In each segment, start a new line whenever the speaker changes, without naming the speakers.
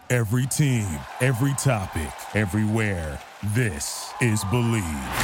Every team, every topic, everywhere. This is Believe.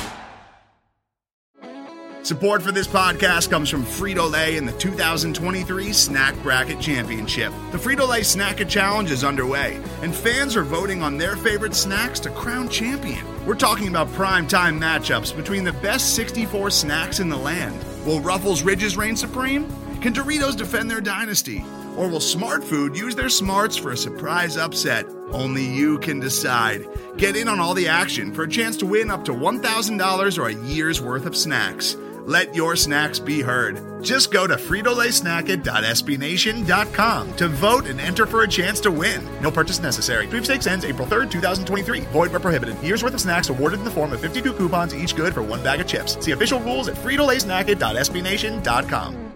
Support for this podcast comes from Frito-Lay and the 2023 Snack Bracket Championship. The Frito-Lay Snack-It Challenge is underway, and fans are voting on their favorite snacks to crown champion. We're talking about prime-time matchups between the best 64 snacks in the land. Will Ruffles Ridges reign supreme? Can Doritos defend their dynasty? Or will Smart Food use their smarts for a surprise upset? Only you can decide. Get in on all the action for a chance to win up to $1,000 or a year's worth of snacks. Let your snacks be heard. Just go to fritolaysnacket.sbnation.com to vote and enter for a chance to win. No purchase necessary. Sweepstakes ends April 3rd, 2023. Void where prohibited. Year's worth of snacks awarded in the form of 52 coupons, each good for one bag of chips. See official rules at fritolaysnacket.sbnation.com.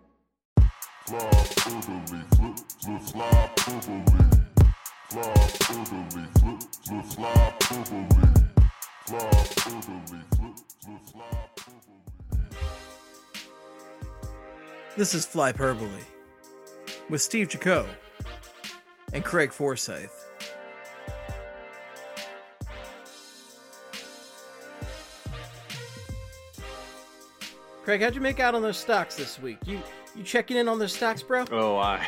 This is Flyperbole with Steve Jaco and Craig Forsyth. Craig, how'd you make out on those stocks this week? You checking in on those stocks, bro?
Oh, I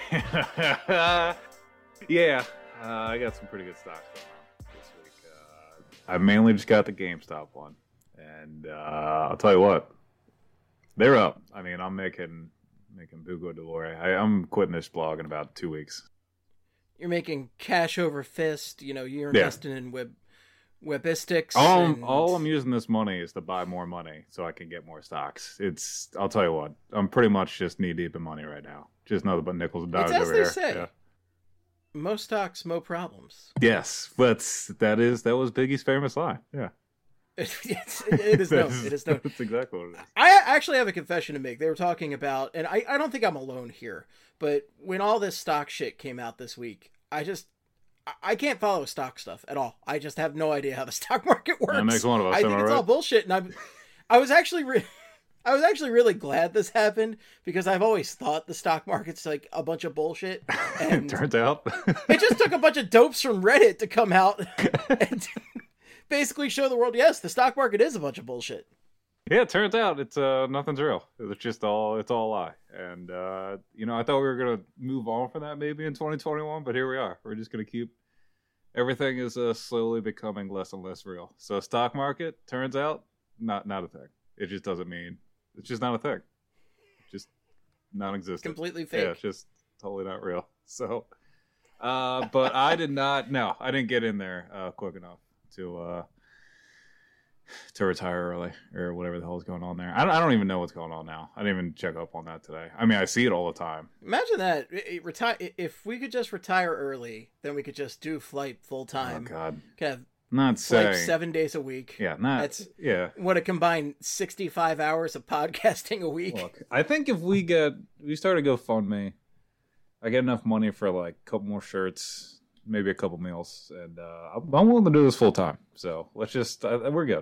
got some pretty good stocks going on this week. I mainly just got the GameStop one, and I'll tell you what, they're up. I mean, I'm making buco dolore. I'm quitting this blog in about 2 weeks.
You're making cash over fist. You know, you're investing in Webistics.
All I'm using this money is to buy more money so I can get more stocks. I'll tell you what, I'm pretty much just knee deep in money right now. Just nothing but nickels and dimes over here.
As they say. Yeah. Most stocks, mo problems.
Yes, but that was Biggie's famous line. Yeah.
It is known. It is known.
That's exactly what it is.
I actually have a confession to make. They were talking about, and I don't think I'm alone here, but when all this stock shit came out this week, I can't follow stock stuff at all. I just have no idea how the stock market works.
That makes one of us.
I think it's all bullshit, and I was actually really glad this happened because I've always thought the stock market's like a bunch of bullshit. And
it turns out
it just took a bunch of dopes from Reddit to come out and basically show the world, yes, the stock market is a bunch of bullshit.
Yeah, it turns out it's nothing's real. It's all a lie. And I thought we were gonna move on from that maybe in 2021, but here we are. We're just gonna keep everything is slowly becoming less and less real. So stock market turns out not a thing. It just doesn't mean it's just not a thing. Just non-existent.
Completely fake.
Yeah, it's just totally not real. So, but I didn't get in there quick enough to retire early or whatever the hell is going on there. I don't even know what's going on now. I didn't even check up on that today. I mean, I see it all the time.
Imagine that. If we could just retire early, then we could just do flight full time.
Oh God.
Could have
not
flight
saying
7 days a week.
Yeah,
What a combined 65 hours of podcasting a week.
Look, I think if we start a GoFundMe, I get enough money for like a couple more shirts, maybe a couple meals, and I'm willing to do this full time. So let's just we're good.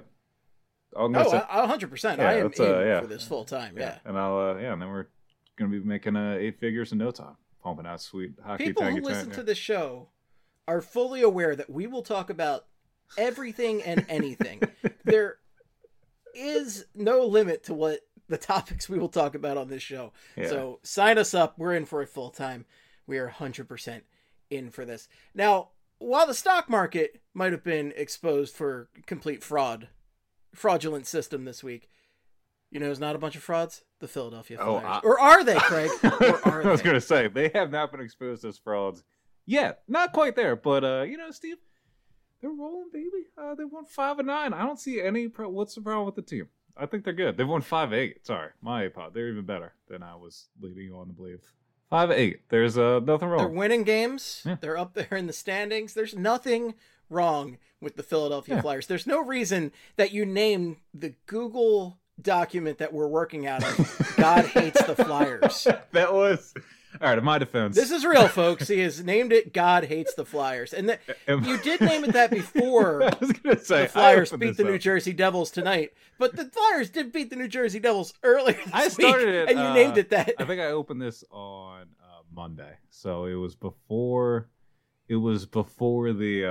100%. I am in for this full time. Yeah.
And and then we're gonna be making 8 figures in no time, pumping out sweet hockey.
People who listen to this show are fully aware that we will talk about everything and anything. There is no limit to what the topics we will talk about on this show. Yeah. So sign us up. We're in for it full time. We are 100% in for this. Now, while the stock market might have been exposed for complete fraudulent system this week, you know, it's not a bunch of frauds. The Philadelphia Flyers, or are they, Craig? Or are they?
I was going to say they have not been exposed as frauds yet. Not quite there, but Steve, they're rolling, baby. They won 5-9. I don't see any. What's the problem with the team? I think they're good. They've won 5-8. Sorry, my pod. They're even better than I was leading you on to believe. 5-8. There's nothing wrong.
They're winning games.
Yeah.
They're up there in the standings. There's nothing wrong with the Philadelphia Flyers. There's no reason that you name the Google document that we're working out of God Hates the Flyers.
That was all right. In my defense,
this is real, folks. He has named it God Hates the Flyers, and you did name it that before.
I was gonna say
the Flyers beat the New Jersey Devils tonight, but the Flyers did beat the New Jersey Devils earlier this week, and you named it that.
I think I opened this on Monday, so it was before it was before the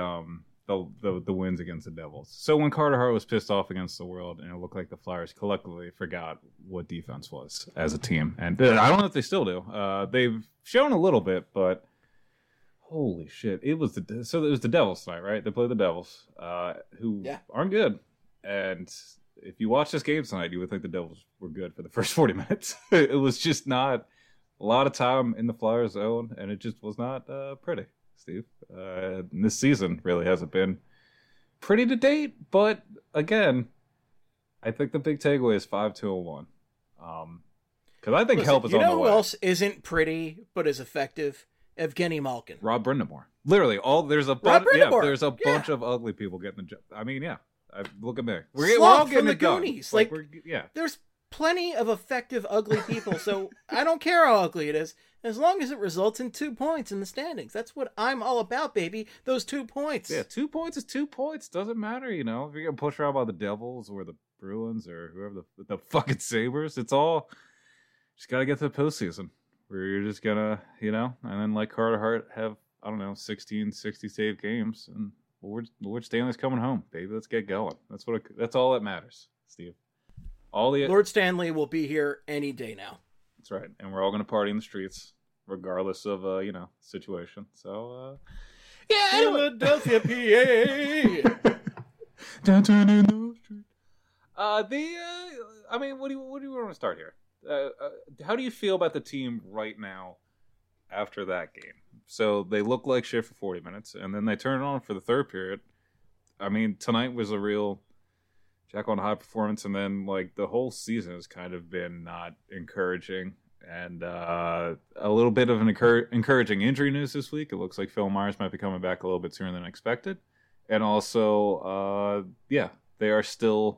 wins against the Devils. So when Carter Hart was pissed off against the World, and it looked like the Flyers collectively forgot what defense was as a team, and I don't know if they still do. They've shown a little bit, but holy shit, it was the Devils tonight, right? They played the Devils, who aren't good, and if you watch this game tonight, you would think the Devils were good for the first 40 minutes. It was just not a lot of time in the Flyers zone, and it just was not pretty, Steve. This season really hasn't been pretty to date, but again, I think the big takeaway is 5-2-1. Because I think help is on the way.
You know who else isn't pretty but is effective? Evgeny Malkin.
Rob Brindamore. Literally, there's a bunch of ugly people getting the job. I mean, yeah. Look at me. We're all getting the Goonies.
There's plenty of effective ugly people, so I don't care how ugly it is, as long as it results in 2 points in the standings. That's what I'm all about, baby. Those 2 points.
Yeah, 2 points is 2 points. Doesn't matter, if you're getting pushed around by the Devils or the Bruins or whoever the fucking Sabres. It's all just got to get to the postseason where you're just gonna, and then like Carter Hart have, 16, 60 save games, and Lord Stanley's coming home, baby. Let's get going. That's all that matters, Steve.
Lord Stanley will be here any day now.
That's right, and we're all going to party in the streets, regardless of situation. So,
Philadelphia, PA.
Downtown in the street. What do you want to start here? How do you feel about the team right now after that game? So they look like shit for 40 minutes, and then they turn it on for the third period. I mean, tonight was a real Jekyll and Hyde performance, and then the whole season has kind of been not encouraging, and a little bit of an encouraging injury news this week. It looks like Phil Myers might be coming back a little bit sooner than expected, and also, they're still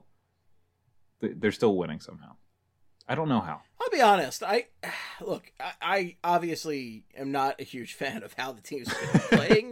winning somehow. I don't know how.
I'll be honest. I obviously am not a huge fan of how the team's been playing,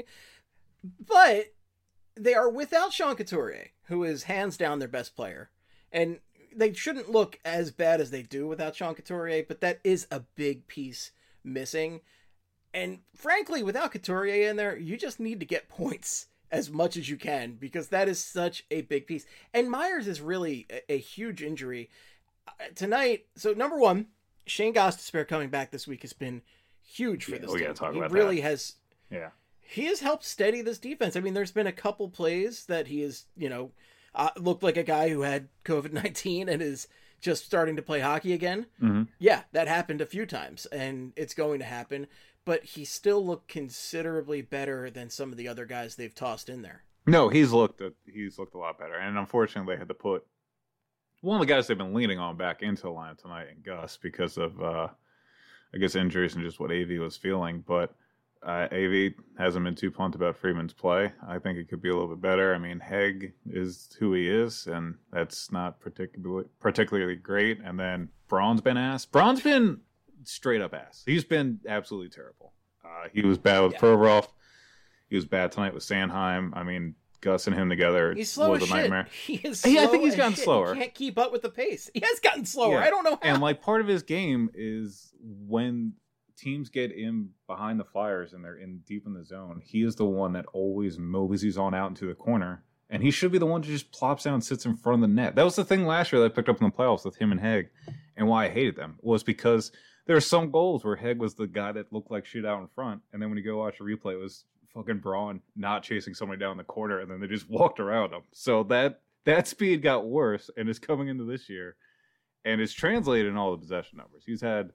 but they are without Sean Couturier, who is hands down their best player. And they shouldn't look as bad as they do without Sean Couturier, but that is a big piece missing. And frankly, without Couturier in there, you just need to get points as much as you can, because that is such a big piece. And Myers is really a huge injury tonight. So number one, Shane Gostisbehere coming back this week has been huge for this team. He really has.
Yeah.
He has helped steady this defense. I mean, there's been a couple plays that he has, looked like a guy who had COVID-19 and is just starting to play hockey again.
Mm-hmm.
Yeah, that happened a few times, and it's going to happen. But he still looked considerably better than some of the other guys they've tossed in there.
No, he's looked a lot better. And unfortunately, they had to put one of the guys they've been leaning on back into the lineup tonight, in Gus, because of, injuries and just what AV was feeling. But AV hasn't been too pumped about Freeman's play. I think it could be a little bit better. I mean, Hegg is who he is, and that's not particularly great. And then Braun's been ass. Braun's been straight up ass. He's been absolutely terrible. He was bad with Provorov. He was bad tonight with Sanheim. I mean, Gus and him together was a nightmare.
He is slow.
I think he's gotten slower.
He can't keep up with the pace. He has gotten slower. I don't know how.
And part of his game is when teams get in behind the Flyers and they're in deep in the zone, he is the one that always moseys on out into the corner, and he should be the one who just plops down and sits in front of the net. That was the thing last year that I picked up in the playoffs with him and Hegg, and why I hated them was because there are some goals where Hegg was the guy that looked like shit out in front, and then when you go watch a replay, it was fucking Braun not chasing somebody down the corner, and then they just walked around him. So that speed got worse and is coming into this year, and is translated in all the possession numbers. He's had,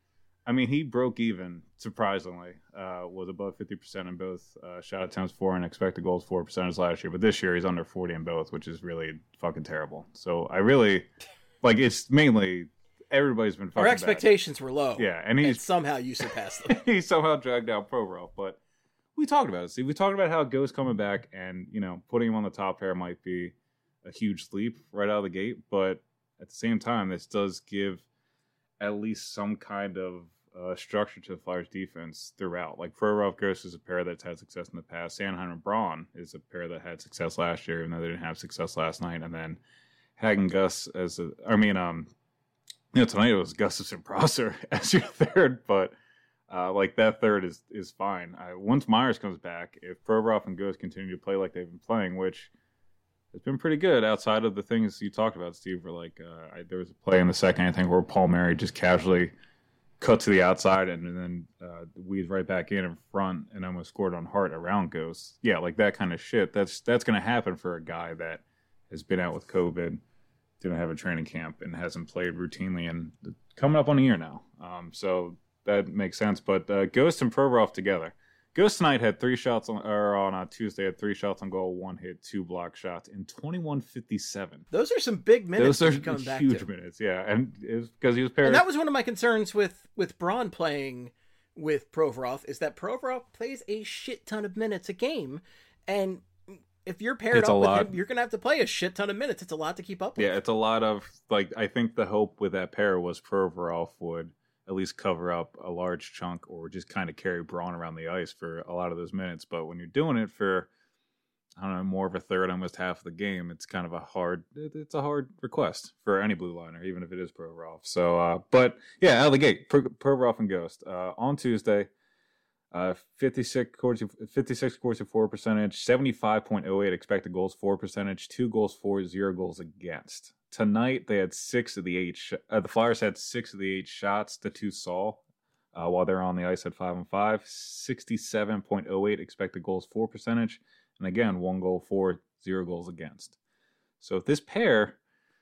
he broke even, surprisingly, was above 50% in both shot attempts for and expected goals for percentage last year. But this year he's under 40 in both, which is really fucking terrible. So I really, it's mainly everybody's been fucking
Our expectations were low.
Yeah, and
somehow you surpassed them.
He somehow dragged down Provorov. But we talked about it. See, we talked about how Ghost coming back and, putting him on the top pair might be a huge leap right out of the gate. But at the same time, this does give at least some kind of structure to the Flyers defense throughout. Provorov Ghost is a pair that's had success in the past. Sanheim and Braun is a pair that had success last year, even though they didn't have success last night. And then Hegg and Gus tonight it was Gustafsson Prosser as your third, but Like that third is fine. Once Myers comes back, if Provorov and Ghost continue to play like they've been playing, which has been pretty good outside of the things you talked about, Steve, where like there was a play in the second, I think, where Palmieri just casually cut to the outside and then weaved right back in front and almost scored on Hart around Ghost. Yeah, like that kind of shit. That's going to happen for a guy that has been out with COVID, didn't have a training camp, and hasn't played routinely and coming up on a year now. So that makes sense. But Ghost and Provorov together. Ghost tonight had 3 shots on Tuesday, had 3 shots on goal, 1 hit, 2 block shots in 21:57.
Those are some big minutes.
Those are
coming back
huge
to.
minutes, yeah. And it was because he was paired.
And that was one of my concerns with Braun playing with Provorov, is that Provorov plays a shit ton of minutes a game, and if you're paired up with him, you're going to have to play a shit ton of minutes. It's a lot to keep up with.
Yeah, it's a lot of, like, I think the hope with that pair was Provorov would at least cover up a large chunk or just kind of carry Braun around the ice for a lot of those minutes. But when you're doing it for, I don't know, more of a third, almost half of the game, it's kind of a hard request for any blue liner, even if it is Provorov. So, but yeah, out of the gate, Provorov and Ghost. On Tuesday, 56 Corsi for percentage, 75.08 expected goals for percentage, 2 goals for, 0 goals against. Tonight they had 6 of the 8. The Flyers had 6 of the 8 shots. The 2 saw while they're on the ice at 5-on-5. 67.08 expected goals for percentage, and again 1 goal for, 0 goals against. So if this pair,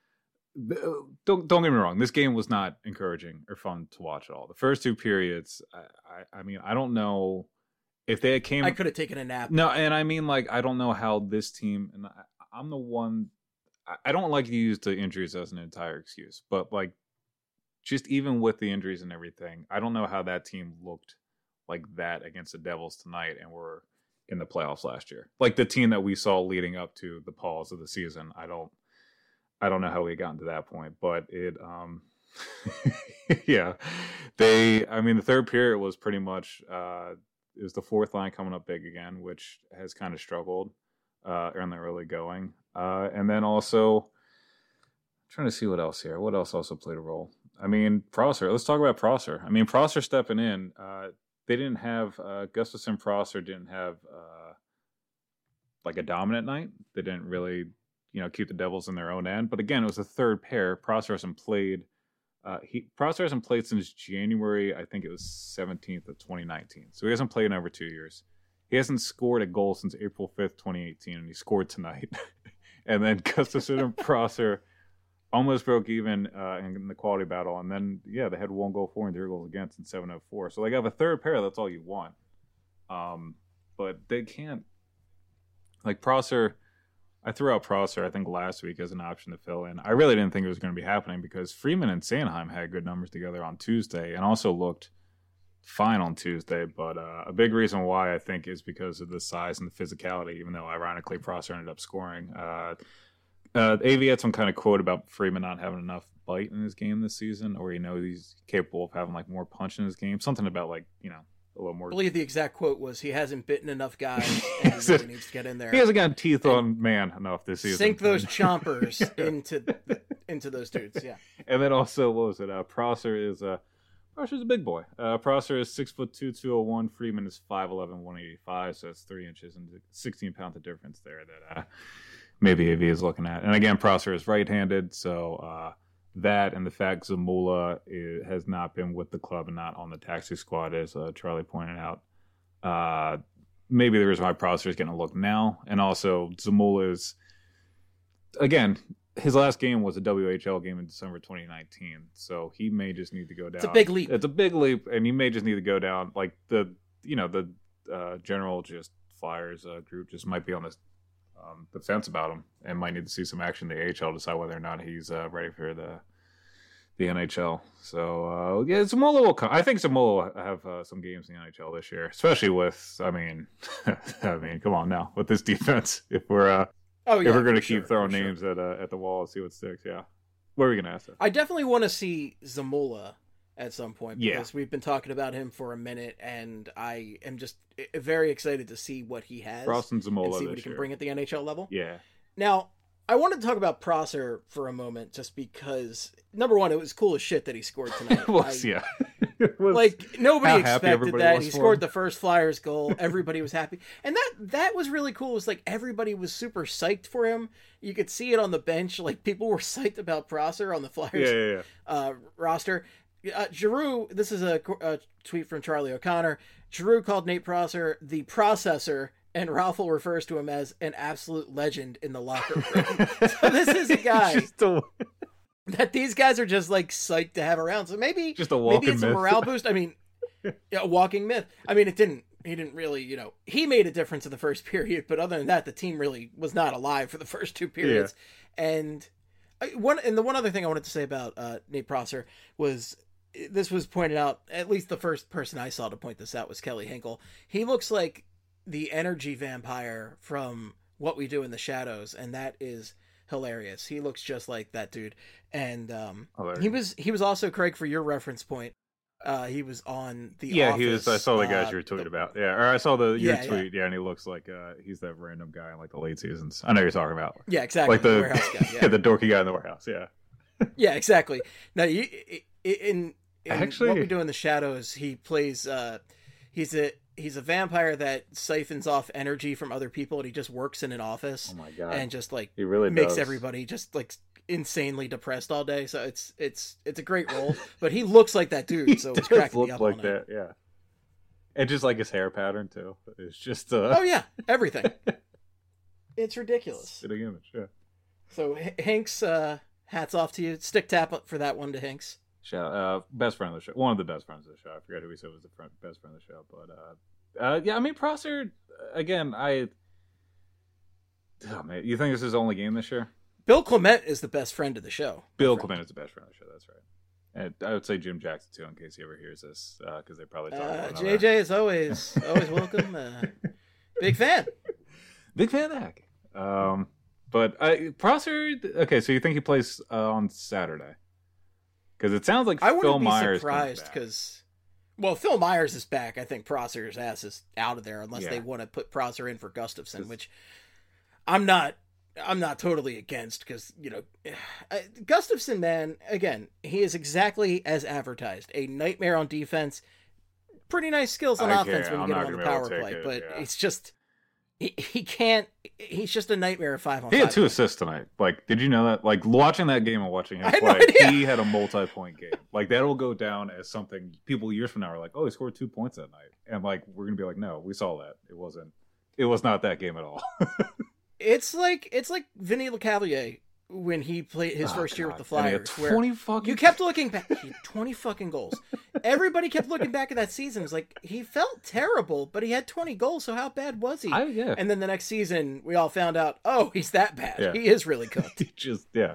don't get me wrong, this game was not encouraging or fun to watch at all. The first 2 periods, I mean, I don't know if they came.
I could have taken a nap.
No, and I mean, like, I don't know how this team. And I'm the one. I don't like to use the injuries as an entire excuse, but like, just even with the injuries and everything, I don't know how that team looked like that against the Devils tonight, and were in the playoffs last year. Like the team that we saw leading up to the pause of the season. I don't know how we got to that point, but it, yeah, the third period was pretty much, it was the fourth line coming up big again, which has kind of struggled in the early going. And then also, I'm trying to see what else here. What else also played a role? I mean, Prosser. Let's talk about Prosser. I mean, Prosser stepping in. They didn't have, Gustafsson, Prosser didn't have like a dominant night. They didn't really, keep the Devils in their own end. But again, it was the third pair. Prosser hasn't played. Prosser hasn't played since January, I think it was 17th of 2019. So he hasn't played in over 2 years. He hasn't scored a goal since April 5th, 2018, and he scored tonight. And then Gustafsson and Prosser almost broke even in the quality battle. And then, yeah, they had 1 goal for and 0 goals against in 704. So they have a third pair. That's all you want. But they can't. Like Prosser, I threw out Prosser, I think, last week as an option to fill in. I really didn't think it was going to be happening because Freeman and Sanheim had good numbers together on Tuesday and also looked fine on Tuesday. But a big reason why, I think, is because of the size and the physicality, even though, ironically, Prosser ended up scoring. AV had some kind of quote about Freeman not having enough bite in his game this season, or he's capable of having, like, more punch in his game. Something about, like, a little more.
I believe the exact quote was, he hasn't bitten enough guys and he really needs to get in there.
He hasn't got teeth on man enough this season.
Sink those chompers into those dudes, yeah.
And then also, what was it? Prosser's a big boy. Prosser is 6'2", 201. Freeman is 5'11", 185. So that's 3 inches and 16 pounds of difference there that maybe AV is looking at. And again, Prosser is right-handed, so that and the fact Zamula has not been with the club and not on the taxi squad, as Charlie pointed out. Maybe the reason why Prosser is getting a look now. And also, Zamula is, again, his last game was a WHL game in December 2019, so he may just need to go down.
It's a big leap.
It's a big leap, and he may just need to go down. Like the general just Flyers group just might be on the fence about him and might need to see some action in the AHL to decide whether or not he's ready for the NHL. So yeah, Zamula will come. I think Zamula will have some games in the NHL this year, especially with. I mean, come on now with this defense. If we're if we're going to keep throwing names at the wall and see what sticks, yeah. What are we going to ask them?
I definitely want to see Zamula at some point because we've been talking about him for a minute, and I am just very excited to see what he has.
Frost and Zamula
and see what he can bring at the NHL level.
Yeah.
Now, I wanted to talk about Prosser for a moment, just because number one, it was cool as shit that he scored tonight.
Yeah.
Like nobody expected that. He scored
him.
the first Flyers goal. Everybody was happy, and that was really cool. It was like everybody was super psyched for him. You could see it on the bench. Like people were psyched about Prosser on the Flyers roster. Giroux. This is a tweet from Charlie O'Connor. Giroux called Nate Prosser the processor, and Raffle refers to him as an absolute legend in the locker room. So this is a guy that these guys are just like psyched to have around. So maybe
just a walking
maybe it's
myth.
a morale boost. I mean, a walking myth. I mean, he didn't really, he made a difference in the first period, but other than that, the team really was not alive for the first two periods. Yeah. And the one other thing I wanted to say about Nate Prosser was, this was pointed out, at least the first person I saw to point this out was Kelly Hinkle. He looks like the energy vampire from What We Do in the Shadows, and that is hilarious. He looks just like that dude. And he was also, Craig, for your reference point, he was on the Office.
He was. I saw the guys you were tweeting about. Yeah, or I saw your tweet. Yeah, and he looks like he's that random guy in like the late seasons. I know you're talking about.
Yeah, exactly.
Like the
warehouse guy. Yeah.
the dorky guy in the warehouse. Yeah.
Yeah, exactly. Now, in
actually,
What We Do in the Shadows, he plays. He's a vampire that siphons off energy from other people, and he just works in an office.
Oh my god!
And just like
he really
makes
does.
Everybody just like insanely depressed all day. So it's a great role, but he looks like that dude. So it's cracking me up
like
all
that,
night.
yeah. And just like his hair pattern too. It's just
oh yeah, everything. It's ridiculous.
Fitting image, yeah.
So Hanks, hats off to you. Stick tap up for that one to Hanks.
Best friend of the show. One of the best friends of the show. I forget who he said was the best friend of the show, but yeah. I mean, Prosser again. Man, you think this is his only game this year?
Bill Clement is the best friend of the show.
Bill Clement is the best friend of the show. That's right. And I would say Jim Jackson too, in case he ever hears this, because they probably talk about
JJ is always welcome. Big fan.
Big fan of that. But Prosser. Okay, so you think he plays on Saturday? Because it sounds like Phil Myers.
I wouldn't be surprised because, well, Phil Myers is back. I think Prosser's ass is out of there unless they want to put Prosser in for Gustafsson, which I'm not totally against because, Gustafsson, man, again, he is exactly as advertised. A nightmare on defense, pretty nice skills on offense when you get him on the power play, but it's just, he can't, he's just a nightmare of 5-on-5.
He had 2 assists tonight. Like, did you know that? Like, watching that game and watching him play, he had a multi-point game. Like, that'll go down as something people years from now are like, oh, he scored 2 points that night. And, like, we're going to be like, no, we saw that. It was not that game at all.
It's like Vinny LeCavalier when he played his first year with the Flyers. You kept looking back. He had 20 fucking goals. Everybody kept looking back at that season. It's like, he felt terrible, but he had 20 goals, so how bad was he? And then the next season, we all found out, oh, he's that bad. Yeah. He is really cooked.
That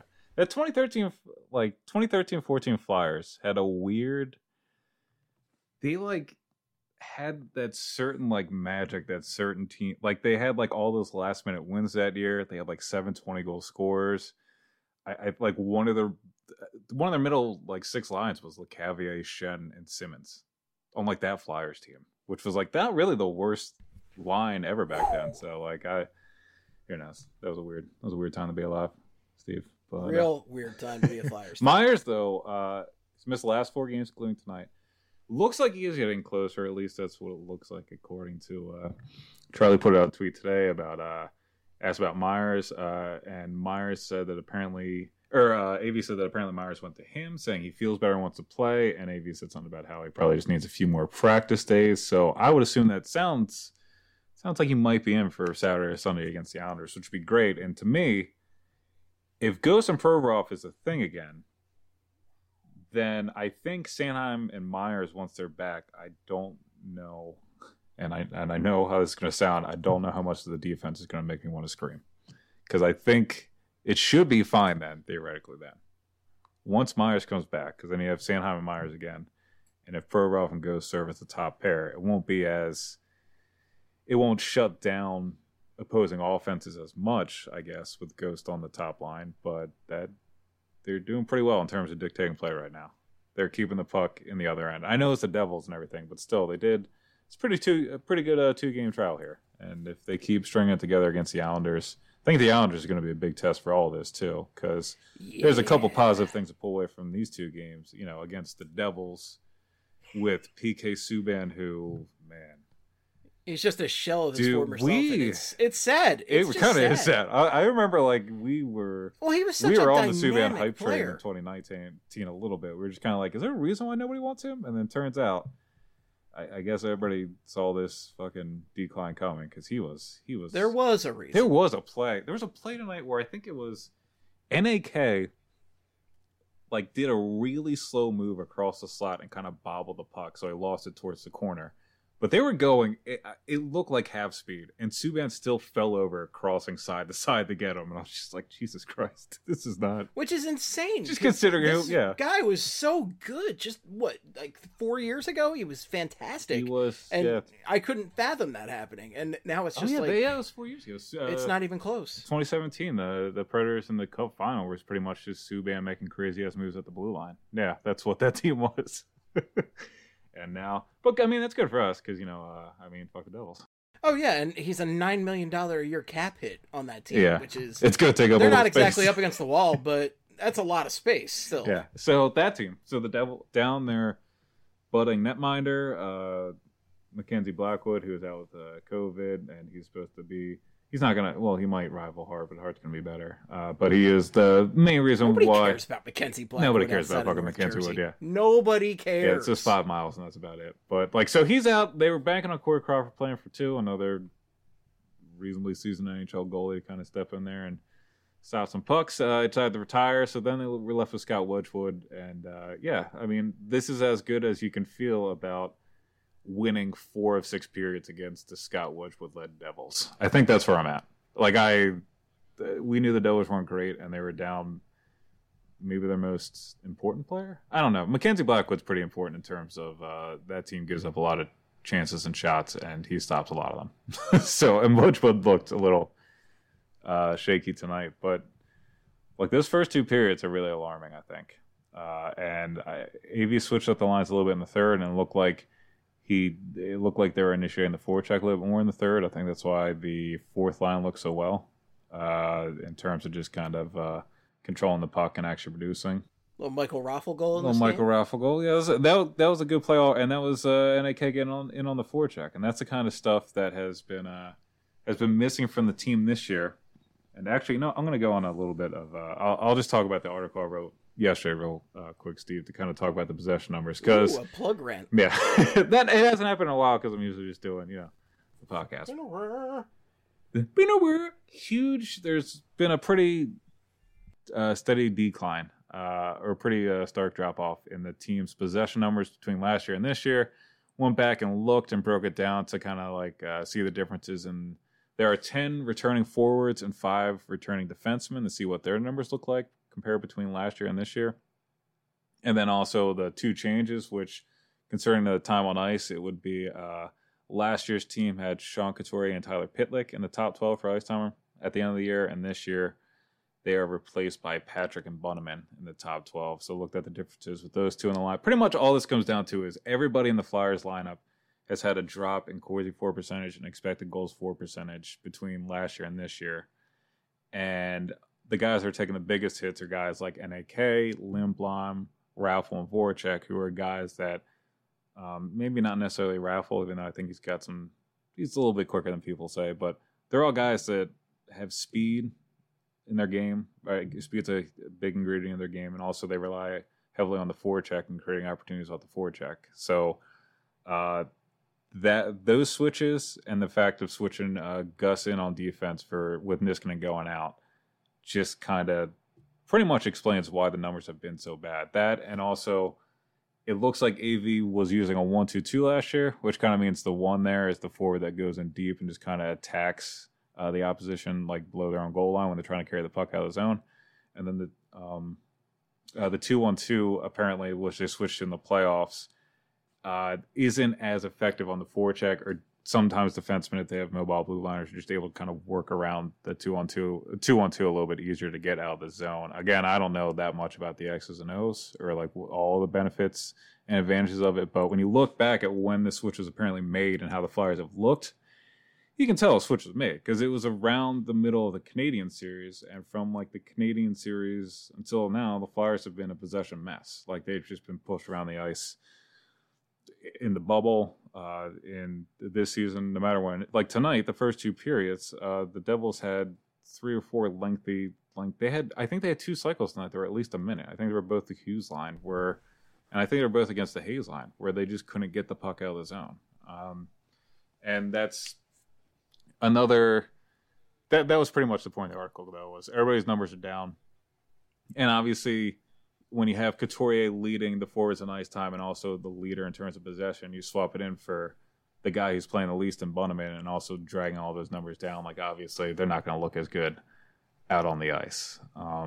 2013-14 Flyers had a weird... They, had that certain magic, that certain team, they had all those last minute wins that year. They had 7 20-goal scorers. I one of their middle 6 lines was LeCavalier, Shen, and Simmons on that Flyers team, which was not really the worst line ever back then. So who knows? That was a weird time to be alive, Steve. But,
weird time to be a Flyers.
Myers though, he's missed the last 4 games, including tonight. Looks like he is getting closer. At least that's what it looks like, according to Charlie put out a tweet today about asked about Myers, and Myers said that apparently, AV said that apparently Myers went to him saying he feels better and wants to play, and AV said something about how he probably just needs a few more practice days. So I would assume that sounds like he might be in for Saturday or Sunday against the Islanders, which would be great. And to me, if Ghost and Provorov is a thing again, then I think Sanheim and Myers, once they're back, I don't know, and I know how this is going to sound, I don't know how much of the defense is going to make me want to scream. Because I think it should be fine then, theoretically then. Once Myers comes back, because then you have Sanheim and Myers again, and if Provorov and Ghost serve as the top pair, it won't shut down opposing offenses as much, I guess, with Ghost on the top line, but they're doing pretty well in terms of dictating play right now. They're keeping the puck in the other end. I know it's the Devils and everything, but still, they did. It's a pretty good 2-game trial here. And if they keep stringing it together against the Islanders, I think the Islanders are going to be a big test for all this too, because there's a couple positive things to pull away from these 2 games. Against the Devils, with PK Subban, who, man,
he's just a shell of his
dude,
former self. And it's sad. It's
it kind of is sad. I remember like we were
on the
Subban hype train
player
in 2019 a little bit. We were just kind of like, is there a reason why nobody wants him? And then turns out, I guess everybody saw this fucking decline coming because he was.
There was a reason.
There was a play. There was a play tonight where I think it was NAK like did a really slow move across the slot and kind of bobbled the puck, so he lost it towards the corner. But they were going, it looked like half speed, and Subban still fell over, crossing side to side to get him. And I was just like, Jesus Christ, this is not...
Which is insane.
Just considering
this
yeah.
guy was so good. Just, like 4 years ago? He was fantastic.
He was,
and
yeah.
I couldn't fathom that happening. And now it's just
it was 4 years ago.
It's not even close.
2017, the Predators in the Cup final was pretty much just Subban making crazy-ass moves at the blue line. Yeah, that's what that team was. And now, but I mean, that's good for us because, fuck the Devils.
Oh, yeah, and he's a $9 million a year cap hit on that team, which is...
It's going to take up a
They're
lot
not
of space.
exactly up against the wall, but that's a lot of space still.
Yeah, so that team. So the Devil down there, budding netminder, Mackenzie Blackwood, who is out with COVID, and he's supposed to be... He's not going to... Well, he might rival Hart, but Hart's going to be better. But he is the main reason
Nobody
why...
Nobody cares about Mackenzie Blackwood.
Nobody cares about fucking Mackenzie Wood, yeah.
Nobody cares.
Yeah, it's just 5 miles, and that's about it. But, so he's out. They were banking on Corey Crawford playing for 2, another reasonably seasoned NHL goalie to kind of step in there and stop some pucks. Decided to retire, so then they were left with Scott Wedgwood. And, this is as good as you can feel about winning 4 of 6 periods against the Scott Wedgwood-led Devils. I think that's where I'm at. We knew the Devils weren't great, and they were down maybe their most important player. I don't know. Mackenzie Blackwood's pretty important in terms of that team gives up a lot of chances and shots, and he stops a lot of them. And Wedgwood looked a little shaky tonight, but those first 2 periods are really alarming, I think. AV switched up the lines a little bit in the third, and it looked like they were initiating the forecheck a little bit more in the third. I think that's why the fourth line looked so well in terms of just kind of controlling the puck and actually producing.
Little Michael Raffle goal.
Raffle goal. Yeah, that was a good play, and that was NAK getting in on the forecheck, and that's the kind of stuff that has been missing from the team this year. And actually, I'm going to go on a little bit of. I'll just talk about the article I wrote yesterday real quick, Steve, to kind of talk about the possession numbers. Because
a plug rant.
Yeah. That it hasn't happened in a while because I'm usually just doing, the podcast. Been nowhere. Huge. There's been a pretty steady decline or pretty stark drop-off in the team's possession numbers between last year and this year. Went back and looked and broke it down to kind of see the differences. And there are 10 returning forwards and 5 returning defensemen to see what their numbers look like compared between last year and this year. And then also the 2 changes, which concerning the time on ice, it would be last year's team had Sean Couturier and Tyler Pitlick in the top 12 for ice time at the end of the year. And this year they are replaced by Patrick and Bunneman in the top 12. So looked at the differences with those 2 in the line. Pretty much all this comes down to is everybody in the Flyers lineup has had a drop in Corsi for percentage and expected goals for percentage between last year and this year. And the guys that are taking the biggest hits are guys like NAK, Lindblom, Raffle, and Voracek, who are guys that maybe not necessarily Raffle, even though I think he's a little bit quicker than people say, but they're all guys that have speed in their game. Right? Speed's a big ingredient in their game, and also they rely heavily on the forecheck and creating opportunities off the forecheck. So those switches and the fact of switching Gus in on defense with Niskanen going out just kind of pretty much explains why the numbers have been so bad. That, and also it looks like AV was using a 1-2-2 last year, which kind of means the 1 there is the forward that goes in deep and just kind of attacks the opposition below their own goal line when they're trying to carry the puck out of the zone. And then the 2-1-2 apparently, which they switched in the playoffs, isn't as effective on the forecheck, or sometimes defensemen, if they have mobile blue liners, are just able to kind of work around the 2-1-2 a little bit easier to get out of the zone. Again, I don't know that much about the X's and O's or all the benefits and advantages of it, but when you look back at when the switch was apparently made and how the Flyers have looked, you can tell a switch was made because it was around the middle of the Canadian series, and from the Canadian series until now, the Flyers have been a possession mess. They've just been pushed around the ice in the bubble, in this season, no matter when. Like tonight, the first two periods, the Devils had 3 or 4 lengthy. I think they had 2 cycles tonight. They were at least a minute. I think they were both the Hughes line and I think they were both against the Hayes line where they just couldn't get the puck out of the zone. And that's another. That was pretty much the point of the article, though, was everybody's numbers are down. And obviously, when you have Couturier leading the forwards in ice time and also the leader in terms of possession, you swap it in for the guy who's playing the least in Bunnaman and also dragging all those numbers down. Like, obviously, they're not going to look as good out on the ice.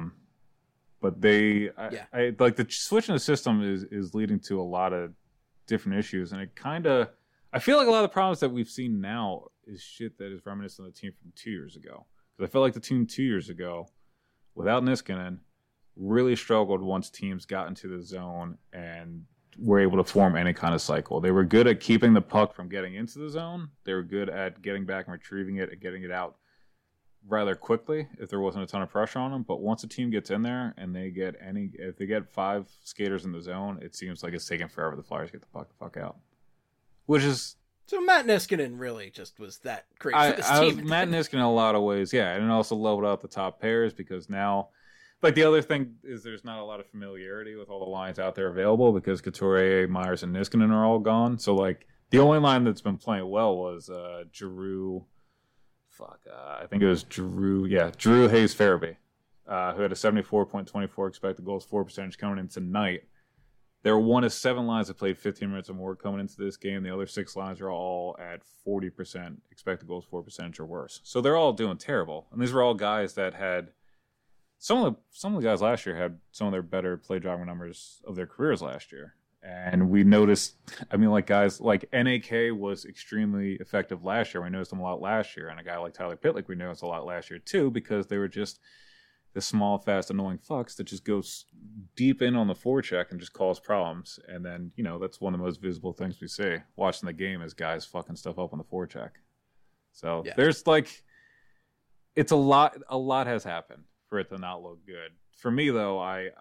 But I like the switch in the system is leading to a lot of different issues. And it kind of, I feel like a lot of the problems that we've seen now is shit that is reminiscent of the team from 2 years ago. Because I feel like the team 2 years ago, without Niskanen, really struggled once teams got into the zone and were able to form any kind of cycle. They were good at keeping the puck from getting into the zone. They were good at getting back and retrieving it and getting it out rather quickly if there wasn't a ton of pressure on them. But once a team gets in there and if they get 5 skaters in the zone, it seems like it's taking forever the Flyers get the fuck out. Which is...
So Matt Niskanen really just was that great for this team.
Matt Niskanen in a lot of ways, yeah. And it also leveled out the top pairs because now... Like, the other thing is there's not a lot of familiarity with all the lines out there available because Couturier, Myers, and Niskanen are all gone. So, like, the only line that's been playing well was Giroux. I think it was Giroux. Yeah, Giroux Hayes Farabee, who had a 74.24 expected goals for percentage coming in tonight. There were 1 of 7 lines that played 15 minutes or more coming into this game. The other 6 lines are all at 40% expected goals for percentage or worse. So they're all doing terrible. And these were all guys that had some of the guys last year had some of their better play driving numbers of their careers last year. And we noticed, I mean, like guys like NAK was extremely effective last year. We noticed him a lot last year. And a guy like Tyler Pitlick, we noticed a lot last year too, because they were just the small, fast, annoying fucks that just goes deep in on the forecheck and just cause problems. And then, you know, that's one of the most visible things we see watching the game is guys fucking stuff up on the forecheck. So there's like, it's a lot has happened for it to not look good. For me though, I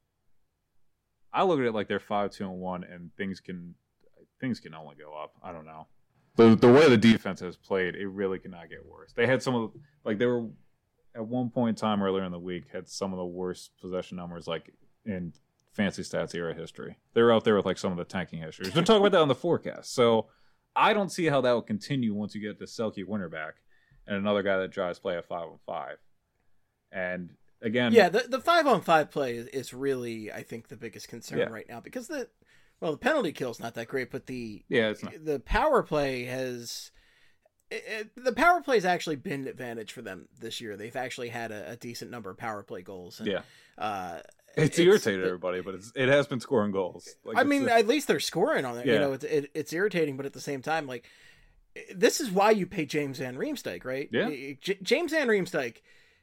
look at it like they're 5-2-1 and things can only go up. I don't know. The way the defense has played, it really cannot get worse. They had some of the, like they were at one point in time earlier in the week had some of the worst possession numbers like in fancy stats era history. They were out there with like some of the tanking histories. We're talking about that on the forecast. So I don't see how that will continue once you get the Selke Winter back and another guy that drives play at 5-on-5. And again,
yeah, the 5-on-5 play is really, I think, the biggest concern right now because the penalty kill is not that great, but the power play has. The power play has actually been an advantage for them this year. They've actually had a decent number of power play goals. And,
it's irritated everybody, but it has been scoring goals. Like,
I mean, at least they're scoring on it. Yeah. You know, it's irritating, but at the same time, like this is why you pay James Van Riemsdyk, right?
Yeah,
James Van Riemsdyk.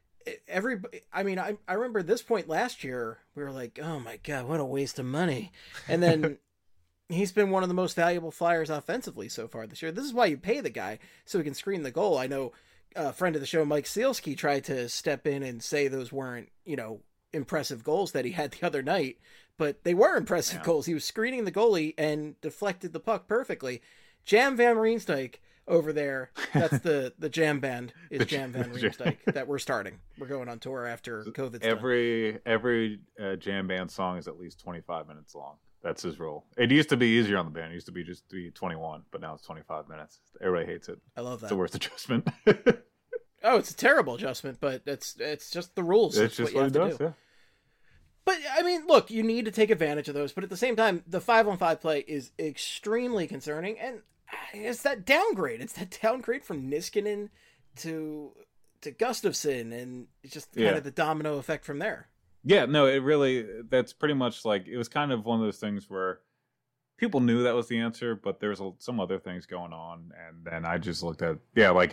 I remember at this point last year, we were like, oh my God, what a waste of money. And then he's been one of the most valuable Flyers offensively so far this year. This is why you pay the guy so he can screen the goal. I know a friend of the show, Mike Sealski, tried to step in and say those weren't, you know, impressive goals that he had the other night, but they were impressive goals. He was screening the goalie and deflected the puck perfectly. Jam Van Riemsdyk over there, that's the jam band is Jam Van Riemsdyk that we're starting. We're going on tour after COVID's done.
Every jam band song is at least 25 minutes long. That's his rule. It used to be easier on the band. It used to be just 21, but now it's 25 minutes. Everybody hates it.
I love that.
It's the worst adjustment.
Oh, it's a terrible adjustment, but it's just the rules.
It's just what it does, yeah.
But, I mean, look, you need to take advantage of those. But at the same time, the 5-on-5 play is extremely concerning. And it's that downgrade. It's that downgrade from Niskanen to Gustafsson. And it's just kind of the domino effect from there.
Yeah, no, it really, that's pretty much like, it was kind of one of those things where people knew that was the answer, but there's some other things going on. And then I just looked at,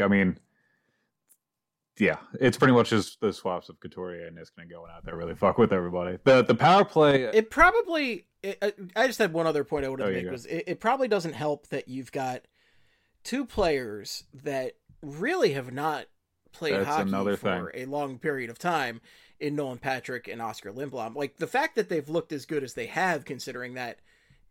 it's pretty much just the swaps of Couturier and Niskanen going out there really fuck with everybody. The power play...
I just had one other point I wanted to make, was it probably doesn't help that you've got two players that really have not played hockey for a long period of time in Nolan Patrick and Oscar Lindblom. Like, the fact that they've looked as good as they have, considering that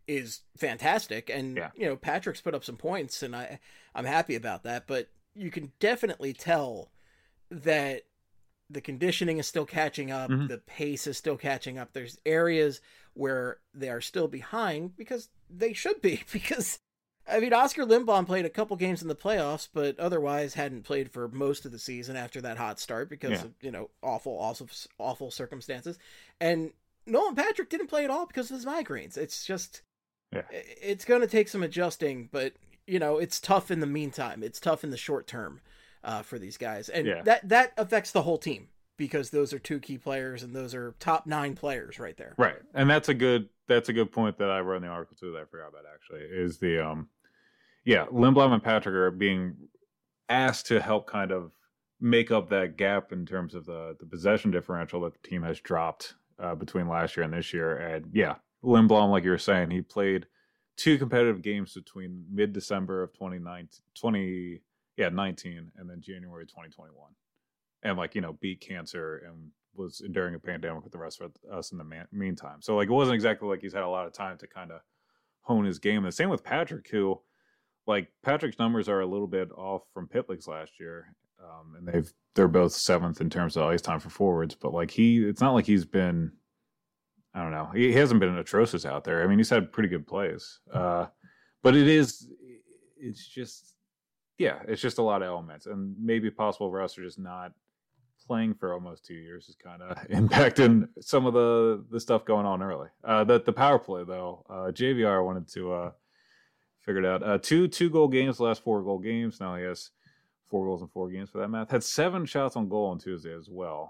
is fantastic. And,
Yeah.
Patrick's put up some points, and I'm happy about that. But you can definitely tell that the conditioning is still catching up.
Mm-hmm.
The pace is still catching up. There's areas where they are still behind because they should be. Because, Oscar Lindblom played a couple games in the playoffs, but otherwise hadn't played for most of the season after that hot start because of, awful circumstances. And Nolan Patrick didn't play at all because of his migraines. It's just, it's going to take some adjusting, but, it's tough in the meantime. It's tough in the short term for these guys. And that affects the whole team because those are two key players and those are top 9 players right there.
Right. And that's a good point that I wrote in the article too that I forgot about actually is the, Lindblom and Patrick are being asked to help kind of make up that gap in terms of the possession differential that the team has dropped between last year and this year. And Lindblom, like you were saying, he played 2 competitive games between mid-December of 2019 and then January 2021. And beat cancer and was enduring a pandemic with the rest of us in the meantime. So it wasn't exactly like he's had a lot of time to kind of hone his game. And the same with Patrick, who Patrick's numbers are a little bit off from Pitlick's last year. And they're both 7th in terms of ice time for forwards, but it's not like he's been, I don't know, he hasn't been atrocious out there. He's had pretty good plays, but it's just a lot of elements, and maybe possible for us are just not playing for almost 2 years is kind of impacting some of the stuff going on early. The power play though, JVR wanted to figure it out. 2 goal games, the last 4 goal games. Now he has 4 goals in 4 games for that math. Had 7 shots on goal on Tuesday as well.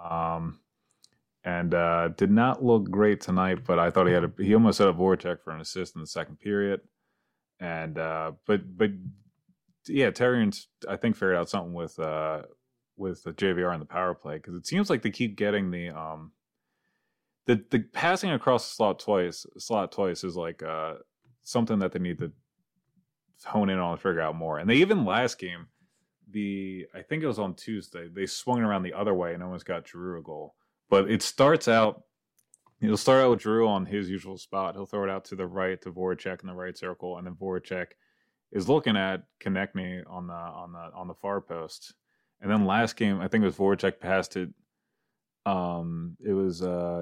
And did not look great tonight, but I thought he almost set up Voracek for an assist in the second period. And but Terrian's I think figured out something with the JVR and the power play, because it seems like they keep getting the passing across the slot twice is something that they need to hone in on and figure out more. And they even last game, I think it was on Tuesday, they swung it around the other way and almost got Giroux a goal. But he'll start out with Giroux on his usual spot. He'll throw it out to the right to Voracek in the right circle, and then Voracek is looking at Konechny on the far post. And then last game, I think it was Voracek passed it. It was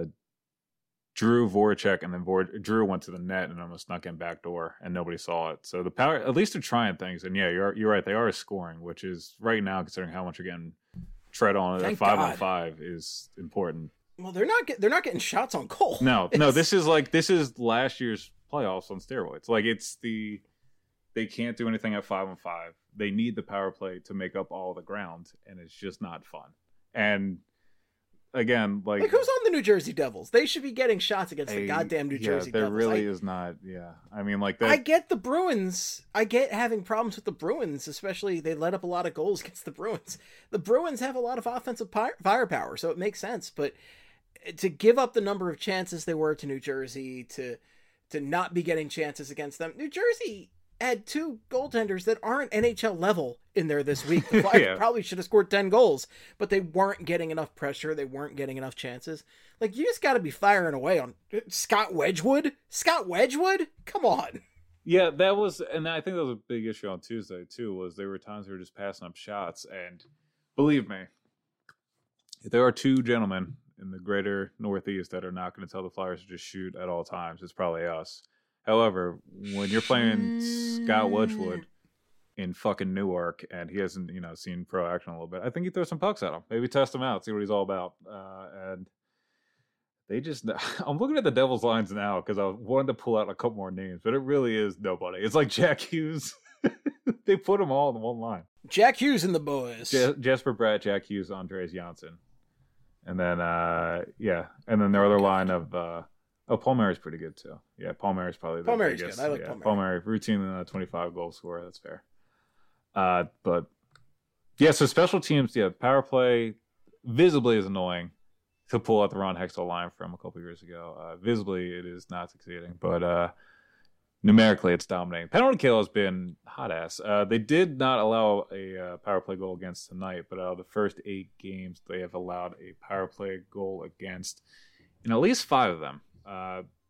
Giroux, Voracek, and then Giroux went to the net and almost snuck in back door, and nobody saw it. So the power, at least they're trying things. And you're right, they are scoring, which is right now, considering how much you're getting tread on at 5-on-5 is important.
Well, they're not getting shots on goal.
No, this is last year's playoffs on steroids. They can't do anything at 5-on-5. They need the power play to make up all the ground, and it's just not fun. And again, who's
on the New Jersey Devils? They should be getting shots against the goddamn New Jersey Devils.
There really is not. Yeah,
I get the Bruins. I get having problems with the Bruins, especially they let up a lot of goals against the Bruins. The Bruins have a lot of offensive firepower, so it makes sense. But to give up the number of chances they were to New Jersey, to not be getting chances against them, New Jersey had 2 goaltenders that aren't NHL level in there this week. The Flyers probably should have scored 10 goals, but they weren't getting enough pressure. They weren't getting enough chances. You just got to be firing away on Scott Wedgwood. Scott Wedgwood? Come on.
Yeah, that was, and I think that was a big issue on Tuesday too, was there were times they were just passing up shots. And believe me, if there are 2 gentlemen in the greater Northeast that are not going to tell the Flyers to just shoot at all times, it's probably us. However, when you're playing Scott Wedgwood in fucking Newark and he hasn't, seen pro action a little bit, I think you throw some pucks at him. Maybe test him out, see what he's all about. And they just, I'm looking at the Devils lines now because I wanted to pull out a couple more names, but it really is nobody. It's like Jack Hughes. They put them all in one line.
Jack Hughes and the boys.
Jesper Bratt, Jack Hughes, Andreas Janssen. And then, and then their other line of, Paul Mary's pretty good too. Yeah, Paul Mary's probably the
Mary's
biggest.
Good. I like
Paul Mary, routine 25 goal scorer. That's fair. But so special teams, power play visibly is annoying to pull out the Ron Hextall line from a couple years ago. Visibly, it is not succeeding, but numerically, it's dominating. Penalty kill has been hot ass. They did not allow a power play goal against tonight, but out of the first 8 games, they have allowed a power play goal against in at least 5 of them.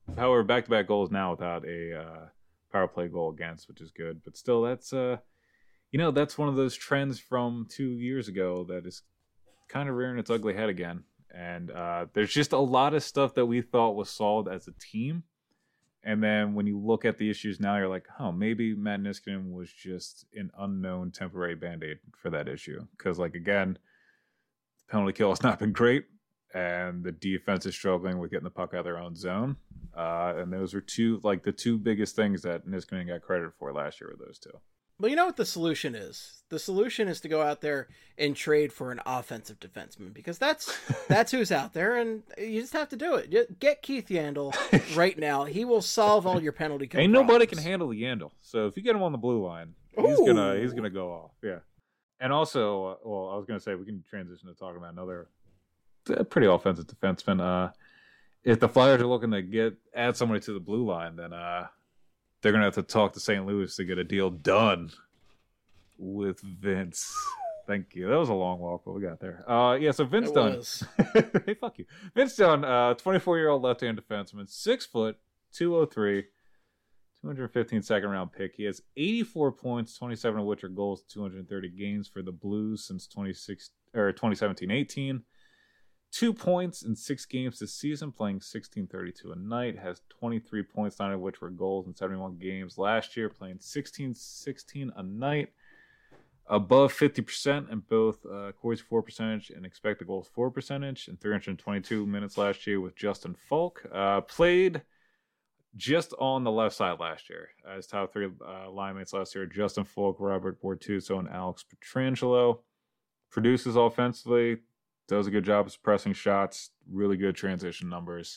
However, back-to-back goals now without a power play goal against, which is good. But still, that's that's one of those trends from 2 years ago that is kind of rearing its ugly head again. And there's just a lot of stuff that we thought was solved as a team. And then when you look at the issues now, you're like, oh, maybe Matt Niskanen was just an unknown temporary Band-Aid for that issue. Because, again, the penalty kill has not been great. And the defense is struggling with getting the puck out of their own zone. And those were the two biggest things that Niskanen got credit for last year were those two.
Well, you know what the solution is? The solution is to go out there and trade for an offensive defenseman, because that's who's out there, and you just have to do it. Get Keith Yandel right now. He will solve all your penalty kill
Ain't
problems.
nobody can handle the Yandel. So if you get him on the blue line, he's gonna go off. Yeah. And also, I was gonna say we can transition to talking about another pretty offensive defenseman. If the Flyers are looking to add somebody to the blue line, then they're going to have to talk to St. Louis to get a deal done with Vince. Thank you. That was a long walk, but we got there. So Vince Dunn. Hey, fuck you. Vince Dunn, 24-year-old left-hand defenseman, 6 foot, 203, 215 second-round pick. He has 84 points, 27 of which are goals, 230 games for the Blues since 2017-18. 2 points in 6 games this season, playing 16:32 a night. Has 23 points, 9 of which were goals in 71 games last year, playing 16:16 a night. Above 50% in both Corey's for percentage and expected goals for percentage in 322 minutes last year with Justin Falk. Played just on the left side last year. His top 3 line mates last year: Justin Falk, Robert Bortuzzo, and Alex Pietrangelo. Produces offensively. Does a good job of suppressing shots. Really good transition numbers.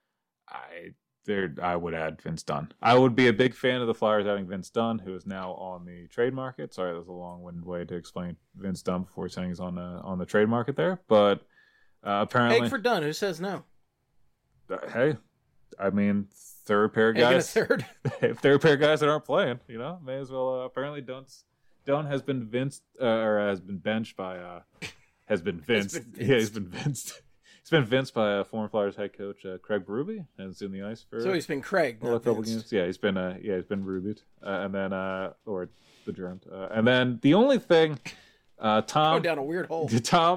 I would add Vince Dunn. I would be a big fan of the Flyers adding Vince Dunn, who is now on the trade market. Sorry, that was a long-winded way to explain Vince Dunn before saying he's on the trade market there. But apparently,
Egg for Dunn. Who says no?
Hey, I mean, third pair of guys. If third pair of guys that aren't playing, may as well. Apparently, Dunn has been benched by. Has been vinced. Yeah, he's been vinced. He's been vinced by former Flyers head coach Craig Berube, and is in the ice for.
So he's been Craig, not
a couple games. Yeah, he's been Rubied, and then or the germed, and then the only thing, Tom
going down a weird hole.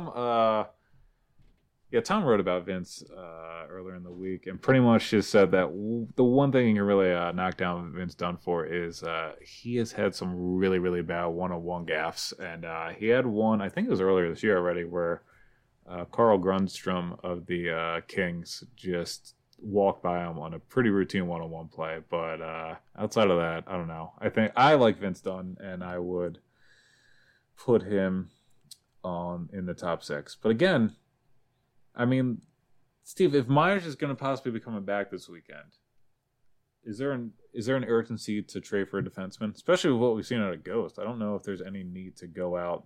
Tom wrote about Vince earlier in the week, and pretty much just said that the one thing you can really knock down Vince Dunn for is he has had some really, really bad one-on-one gaffes, and he had one, I think it was earlier this year already, where Carl Grundstrom of the Kings just walked by him on a pretty routine one-on-one play. But outside of that, I don't know. I think I like Vince Dunn, and I would put him in the top 6. But again, I mean, Steve, if Myers is going to possibly be coming back this weekend, is there an urgency to trade for a defenseman, especially with what we've seen out of Ghost? I don't know if there's any need to go out.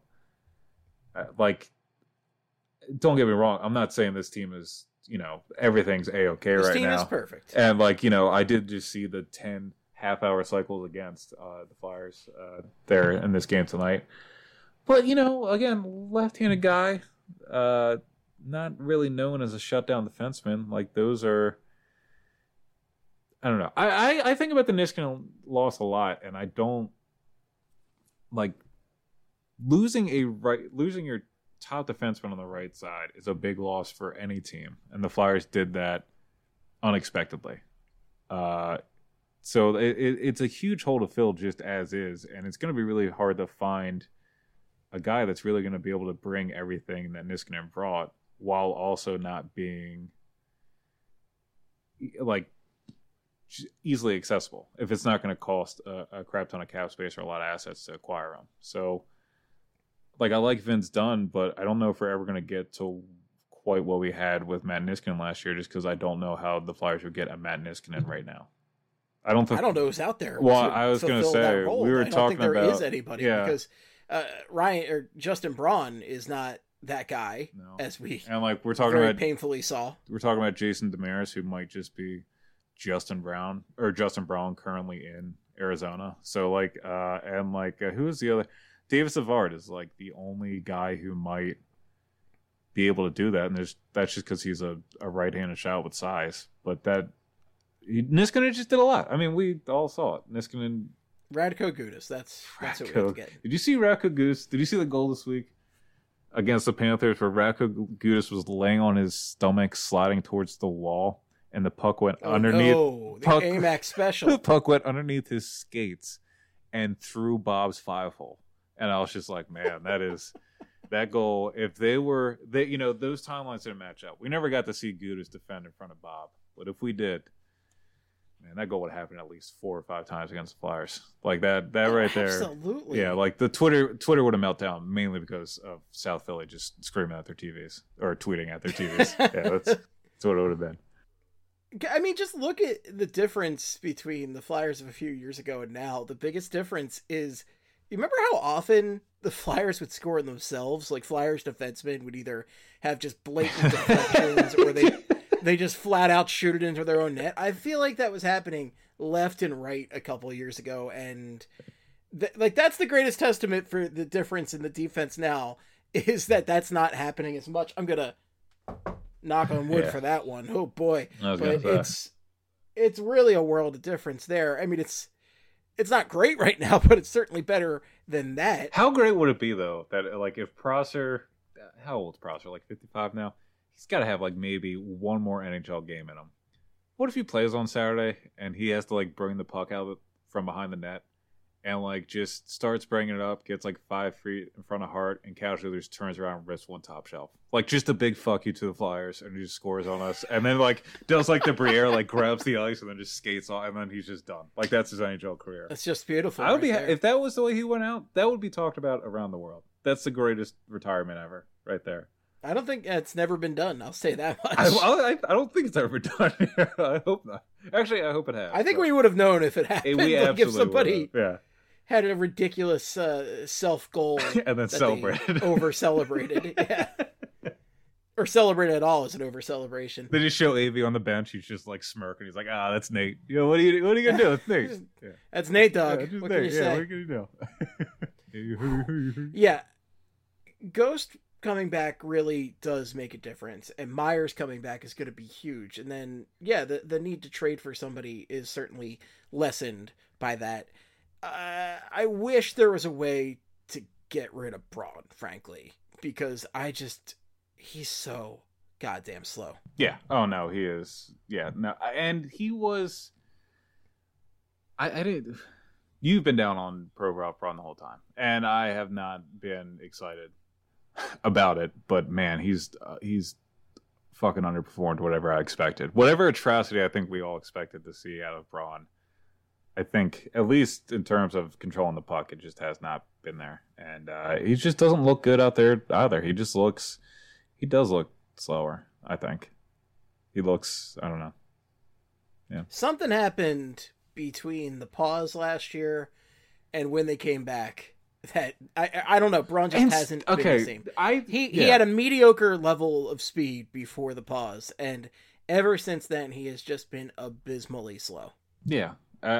Don't get me wrong. I'm not saying this team is, everything's A-okay right now. This team is
perfect.
And I did just see the 10 half-hour cycles against the Flyers there in this game tonight. But, again, left-handed guy, not really known as a shutdown defenseman. Those are, I don't know. I think about the Niskanen loss a lot, and I don't losing your top defenseman on the right side is a big loss for any team, and the Flyers did that unexpectedly. So it's a huge hole to fill just as is, and it's going to be really hard to find a guy that's really going to be able to bring everything that Niskanen brought, while also not being easily accessible, if it's not going to cost a crap ton of cap space or a lot of assets to acquire him. So I like Vince Dunn, but I don't know if we're ever going to get to quite what we had with Matt Niskanen last year, just because I don't know how the Flyers would get a Matt Niskanen right now. I don't know who's
out there.
Well, I was going to say, we were talking about...
there is anybody, because Ryan or Justin Braun is not that guy, as we
we're talking about
painfully saw.
We're talking about Jason Demeris, who might just be Justin Braun currently in Arizona. So who is the other? David Savard is the only guy who might be able to do that, and that's just because he's a right-handed shot with size. But Niskanen just did a lot. I mean, we all saw it. Niskanen.
Radko Gudas. That's what we have to get.
Did you see Radko Gudas? Did you see the goal this week against the Panthers where Radko Gudas was laying on his stomach, sliding towards the wall, and the puck went underneath?
Oh, the AMAC special.
The puck went underneath his skates and through Bob's 5-hole. And I was just like, man, that goal. If those timelines didn't match up. We never got to see Gudas defend in front of Bob, but if we did, man, that goal would happen at least 4 or 5 times against the Flyers. Like that right there.
Absolutely.
Yeah, like the Twitter would have melted down mainly because of South Philly just screaming at their TVs or tweeting at their TVs. Yeah, that's what it would have been.
I mean, just look at the difference between the Flyers of a few years ago and now. The biggest difference is, you remember how often the Flyers would score themselves? Like, Flyers defensemen would either have just blatant deflections or they just flat out shoot it into their own net. I feel like that was happening left and right a couple of years ago, and that's the greatest testament for the difference in the defense now, is that that's not happening as much. I'm gonna knock on wood for that one. Oh boy. But it's really a world of difference there. I mean, it's not great right now, but it's certainly better than that.
How great would it be though that, like, if Prosser, how old is Prosser? Like 55 now? He's got to have like maybe one more NHL game in him. What if he plays on Saturday and he has to like bring the puck out from behind the net and like just starts bringing it up, gets like 5 feet in front of Hart, and casually just turns around and rips one top shelf. Like, just a big fuck you to the Flyers, and he just scores on us. And then like does like the Briere, like grabs the ice and then just skates off, and then he's just done. Like, that's his NHL career.
That's just beautiful.
I would be if that was the way he went out, that would be talked about around the world. That's the greatest retirement ever, right there.
I don't think it's never been done. I'll say that much.
I don't think it's ever been done. I hope not. Actually, I hope it has.
I think we would have known if it happened.
We
like
absolutely
if somebody
would have.
had a ridiculous self goal
and then celebrated,
over celebrated, yeah, or celebrated at all as an over celebration.
They just show AV on the bench. He's just like smirking. He's like, that's Nate. Yo, what are you gonna do? It's Nate.
Yeah. That's Nate, dog.
Yeah,
what can you say?
What can you do?
Yeah, Ghost coming back really does make a difference, and Myers coming back is going to be huge. And then, yeah, the need to trade for somebody is certainly lessened by that. I wish there was a way to get rid of Braun, frankly, because he's so goddamn slow.
Yeah. Oh no, he is. Yeah. No, and he was. I didn't. You've been down on Pro Ralph Braun the whole time, and I have not been excited about it, but man, he's fucking underperformed whatever I expected. Whatever atrocity I think we all expected to see out of Braun, I think, at least in terms of controlling the puck, it just has not been there. And he just doesn't look good out there either. He does look slower, I think. He looks, I don't know. Yeah.
Something happened between the pause last year and when they came back that I don't know. Braun just hasn't been the same. He had a mediocre level of speed before the pause, and ever since then he has just been abysmally slow.
Yeah,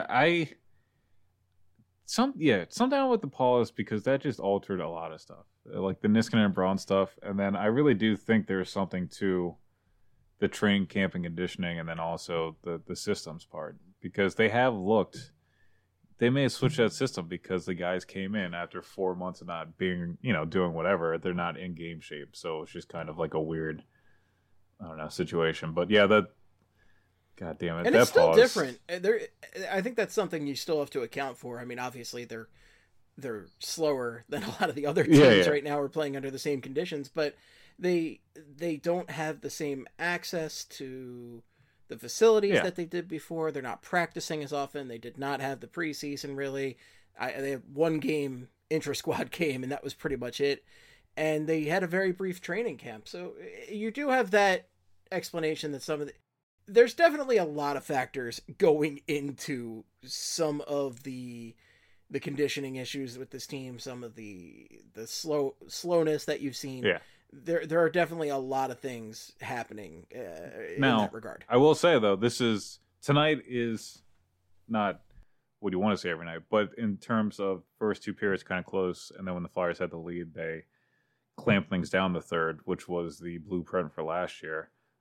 something with the pause, because that just altered a lot of stuff, like the Niskanen and Braun stuff, and then I really do think there's something to the training camp and conditioning, and then also the systems part, because they have looked. They may have switched that system because the guys came in after 4 months of not being, doing whatever. They're not in game shape. So it's just kind of like a weird, I don't know, situation. But yeah, God damn it.
And it's still different. I think that's something you still have to account for. I mean, obviously they're slower than a lot of the other teams right now are playing under the same conditions, but they don't have the same access to the facilities that they did before. They're not practicing as often. They did not have the preseason, really. They had one game, intra-squad game, and that was pretty much it. And they had a very brief training camp. So you do have that explanation that there's definitely a lot of factors going into some of the conditioning issues with this team, some of the slowness that you've seen.
Yeah.
There are definitely a lot of things happening in that regard.
I will say, though, tonight is not what you want to see every night, but in terms of first 2 periods kind of close, and then when the Flyers had the lead, they clamped things down the third, which was the blueprint for last year.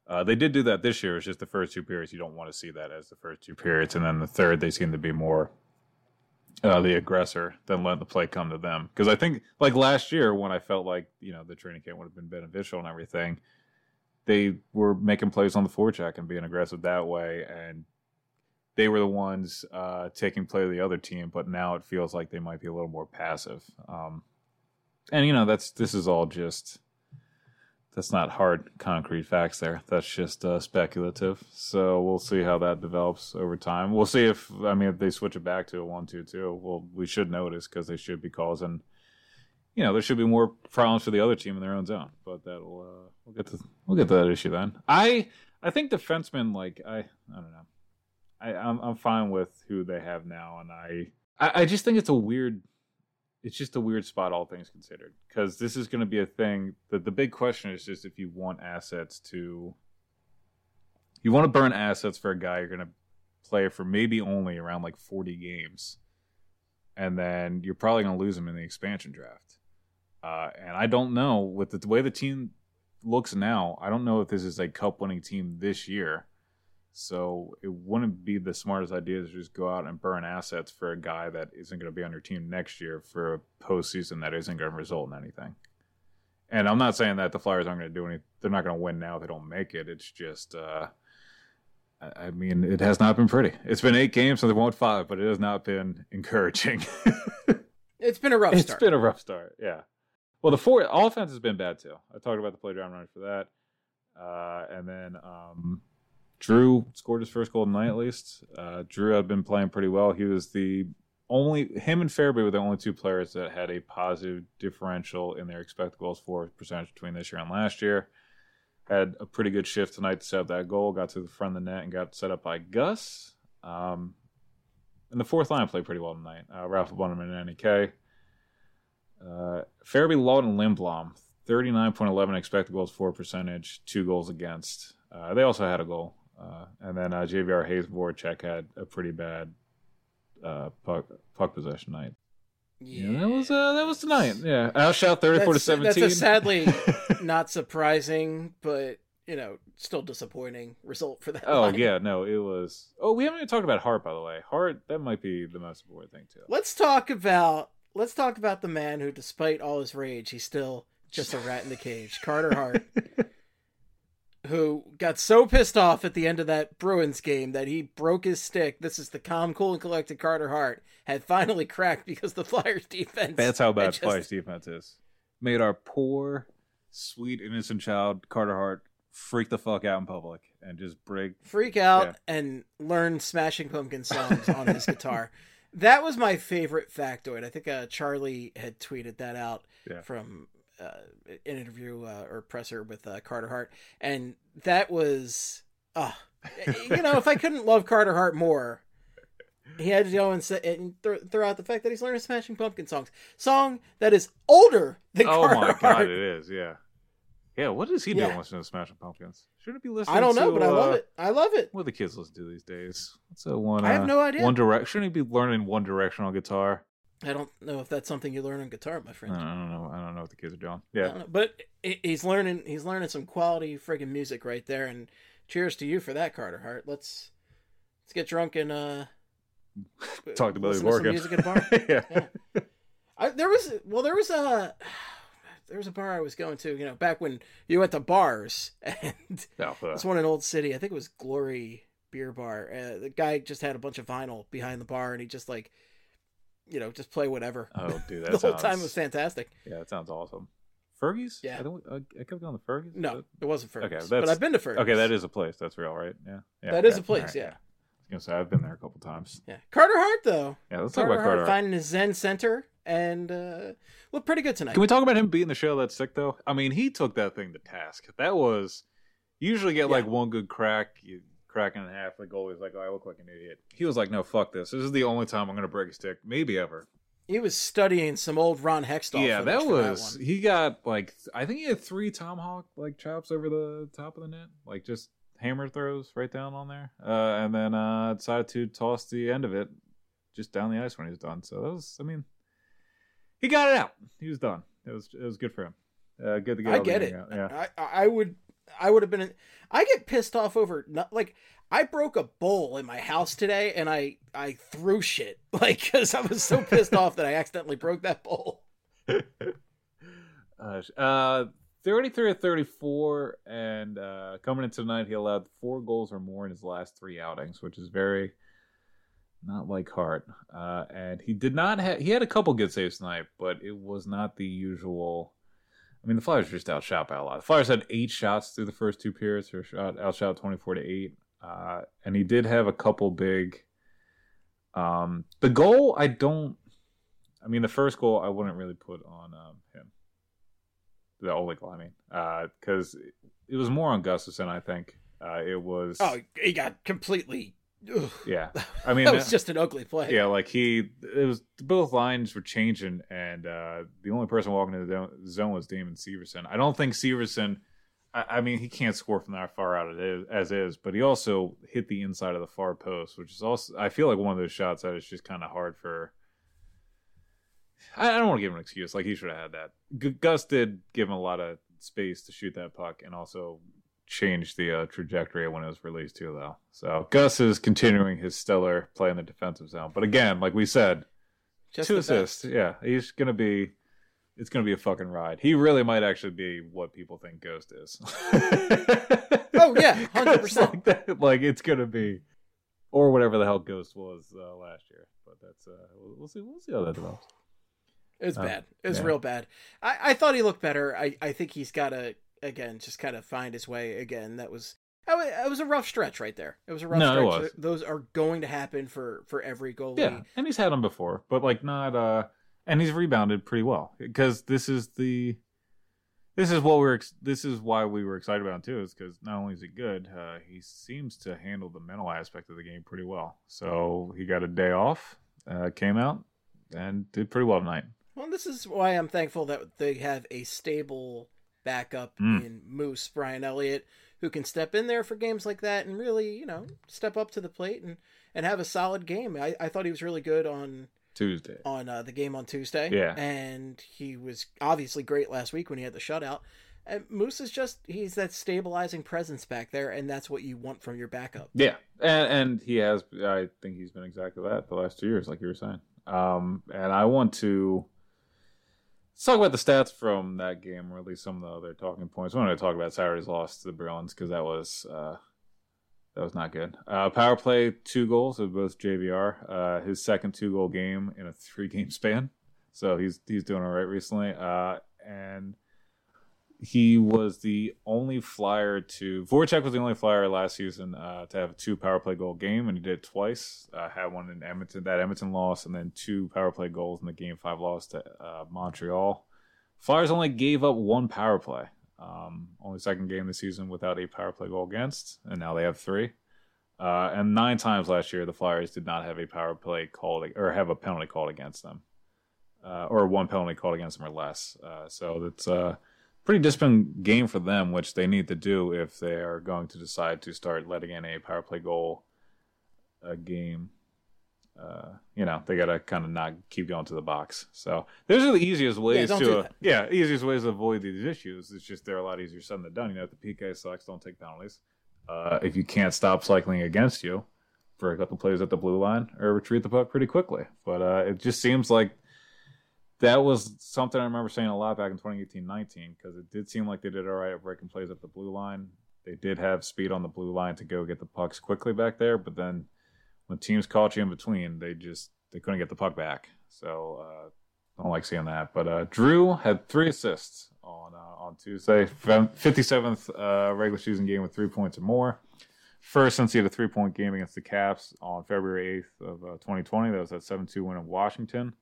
They did do that this year. It's just the first 2 periods. You don't want to see that as the first 2 periods. And then the third, they seem to be more the aggressor than letting the play come to them. Because I think, like last year, when I felt like, the training camp would have been beneficial and everything, they were making plays on the forecheck and being aggressive that way. And they were the ones taking play of the other team. But now it feels like they might be a little more passive. And, this is all just... That's not hard, concrete facts there. That's just speculative. So we'll see how that develops over time. We'll see if they switch it back to a 1-2-2. Well, we should notice because they should be causing, there should be more problems for the other team in their own zone. But that'll we'll get to that issue then. I think defensemen, I don't know. I'm fine with who they have now, and I just think it's just a weird spot, all things considered, because this is going to be a thing that the big question is just if you want to burn assets for a guy you're going to play for maybe only around 40 games. And then you're probably going to lose him in the expansion draft. And I don't know, with the way the team looks now, I don't know if this is a cup winning team this year. So it wouldn't be the smartest idea to just go out and burn assets for a guy that isn't going to be on your team next year for a postseason that isn't going to result in anything. And I'm not saying that the Flyers aren't going to do anything. They're not going to win now if they don't make it. It's just, it has not been pretty. It's been 8 games, so they won 5, but it has not been encouraging.
It's been a rough start.
It's been a rough start, yeah. Well, the offense has been bad too. I talked about the play down runners for that. And then Drew scored his first goal tonight, at least. Drew had been playing pretty well. He was him and Farabee were the only 2 players that had a positive differential in their expected goals for percentage between this year and last year. Had a pretty good shift tonight to set up that goal. Got to the front of the net and got set up by Gus. And the fourth line played pretty well tonight. Ralph Bunneman and NEK. Farabee, Lawton, Lindblom, 39.11 expected goals for percentage, 2 goals against. They also had a goal. And then JVR Hayes Voracek had a pretty bad puck possession night. Yeah, that was tonight. Yeah, outshot 34-17.
That's a sadly not surprising, but still disappointing result for that.
Oh
line.
Yeah, no, it was. Oh, we haven't even talked about Hart, by the way. Hart, that might be the most important thing too.
Let's talk about the man who, despite all his rage, he's still just a rat in the cage. Carter Hart. Who got so pissed off at the end of that Bruins game that he broke his stick. This is the calm, cool, and collected Carter Hart had finally cracked because the Flyers defense.
That's how bad Flyers defense is. Made our poor, sweet, innocent child, Carter Hart, freak the fuck out in public and just freak
out and learn Smashing Pumpkins songs on his guitar. That was my favorite factoid. I think Charlie had tweeted that out from an interview or presser with Carter Hart, and that was if I couldn't love Carter Hart more, he had to go and say and throw out the fact that he's learning Smashing Pumpkin song that is older than Carter Hart.
Oh my god, it is. Yeah, what is he doing listening to Smashing Pumpkins? Shouldn't be listening.
I don't know, but I love it.
What do the kids listen to these days? What's that one?
I have no idea.
One Direction. Shouldn't he be learning One Direction on guitar?
I don't know if that's something you learn on guitar, my friend.
I don't know what the kids are doing. Yeah,
but he's learning some quality friggin' music right there. And cheers to you for that, Carter Hart. Let's get drunk and
talk to Billy Morgan.
Music at a bar. Yeah. There was a bar I was going to, back when you went to bars, and it's one in Old City. I think it was Glory Beer Bar. The guy just had a bunch of vinyl behind the bar, and he just just play whatever.
Oh, dude,
the whole time was fantastic.
Yeah, that sounds awesome. Fergie's?
Yeah.
I kept going to Fergie's?
No, it wasn't Fergie's.
Okay,
but I've been to Fergie's.
Okay, that is a place. That's real, right? Yeah.
That is a place, right, yeah.
I was going to say, I've been there a couple times.
Yeah. Carter Hart, though.
Yeah, let's talk about Carter Hart.
Finding his Zen center and looked pretty good tonight.
Can we talk about him beating the shell that's sick, though? I mean, he took that thing to task. That was... You usually get, one good crack... cracking in half, the goalie's like, oh, I look like an idiot. He was like, no, fuck this. This is the only time I'm going to break a stick. Maybe ever.
He was studying some old Ron Hextall.
Yeah, that was... He got, I think he had 3 tomahawk, chops over the top of the net. Just hammer throws right down on there. And then decided to toss the end of it just down the ice when he was done. So that was, he got it out. He was done. It was good for him. Good to get
I get it.
out. Yeah.
I would have been. I get pissed off over like I broke a bowl in my house today, and I threw shit like because I was so pissed off that I accidentally broke that bowl.
33 of 34, and coming into tonight, he allowed 4 goals or more in his last 3 outings, which is very not like Hart. And he did not have. He had a couple good saves tonight, but it was not the usual. I mean, the Flyers were just outshot by a lot. The Flyers had 8 shots through the first 2 periods, or outshot 24-8. And he did have a couple big. The goal, the first goal, I wouldn't really put on him. The only goal, because it was more on Gustafsson, I think. It was.
Oh, he got completely. Ugh.
Yeah, I mean
that was just an ugly play.
Yeah, like both lines were changing, and the only person walking into the zone was Damon Severson. I don't think Severson. I mean, he can't score from that far out as is, but he also hit the inside of the far post, which is also I feel like one of those shots that is just kind of hard for. I don't want to give him an excuse. Like he should have had that. Gus did give him a lot of space to shoot that puck, and also changed the trajectory when it was released too, though. So Gus is continuing his stellar play in the defensive zone. But again, like we said,
just
2 assists. Yeah, it's gonna be a fucking ride. He really might actually be what people think Ghost is.
Oh yeah, 100%.
Like it's gonna be, or whatever the hell Ghost was last year. But that's we'll see how that develops.
It's bad. It's real bad. I thought he looked better. I think he's got to. Again, just kind of find his way again. It was a rough stretch right there. It was a rough stretch. It was. Those are going to happen for every goalie. Yeah,
and he's had them before, but like not. And he's rebounded pretty well because this is why we were excited about him too. Is because not only is he good, he seems to handle the mental aspect of the game pretty well. So he got a day off, came out, and did pretty well tonight.
Well, this is why I'm thankful that they have a stable backup in Moose, Brian Elliott, who can step in there for games like that and really, step up to the plate and have a solid game. I thought he was really good on
Tuesday.
On the game on Tuesday.
Yeah.
And he was obviously great last week when he had the shutout. And Moose is he's that stabilizing presence back there, and that's what you want from your backup.
Yeah. And he has, I think he's been exactly that the last 2 years, like you were saying. And I want to. Let's talk about the stats from that game, or at least some of the other talking points. I wanted to talk about Saturday's loss to the Bruins because that was not good. Power play, 2 goals of both JVR. His second 2-goal game in a 3-game span, so he's doing all right recently. And he was the only Flyer Voracek was the only Flyer last season to have a 2 power play goal game, and he did it twice. Had one in Edmonton loss, and then 2 power play goals in the Game 5 loss to Montreal. Flyers only gave up 1 power play. Only second game this season without a power play goal against, and now they have 3. And 9 times last year, the Flyers did not have a power play called or have a penalty called against them, or 1 penalty called against them or less. So that's pretty disciplined game for them, which they need to do if they are going to decide to start letting in a power play goal a game. They got to kind of not keep going to the box. So those are the easiest ways easiest ways to avoid these issues. It's just they're a lot easier said than done. If the PK sucks, don't take penalties. If you can't stop cycling against you for a couple plays at the blue line, or retreat the puck pretty quickly. But it just seems like that was something I remember saying a lot back in 2018-19, because it did seem like they did all right at breaking plays at the blue line. They did have speed on the blue line to go get the pucks quickly back there, but then when teams caught you in between, they couldn't get the puck back. So I don't like seeing that. But Drew had 3 assists on Tuesday, 57th regular season game with 3 points or more. First since he had a 3-point game against the Caps on February 8th of 2020. That was that 7-2 win in Washington.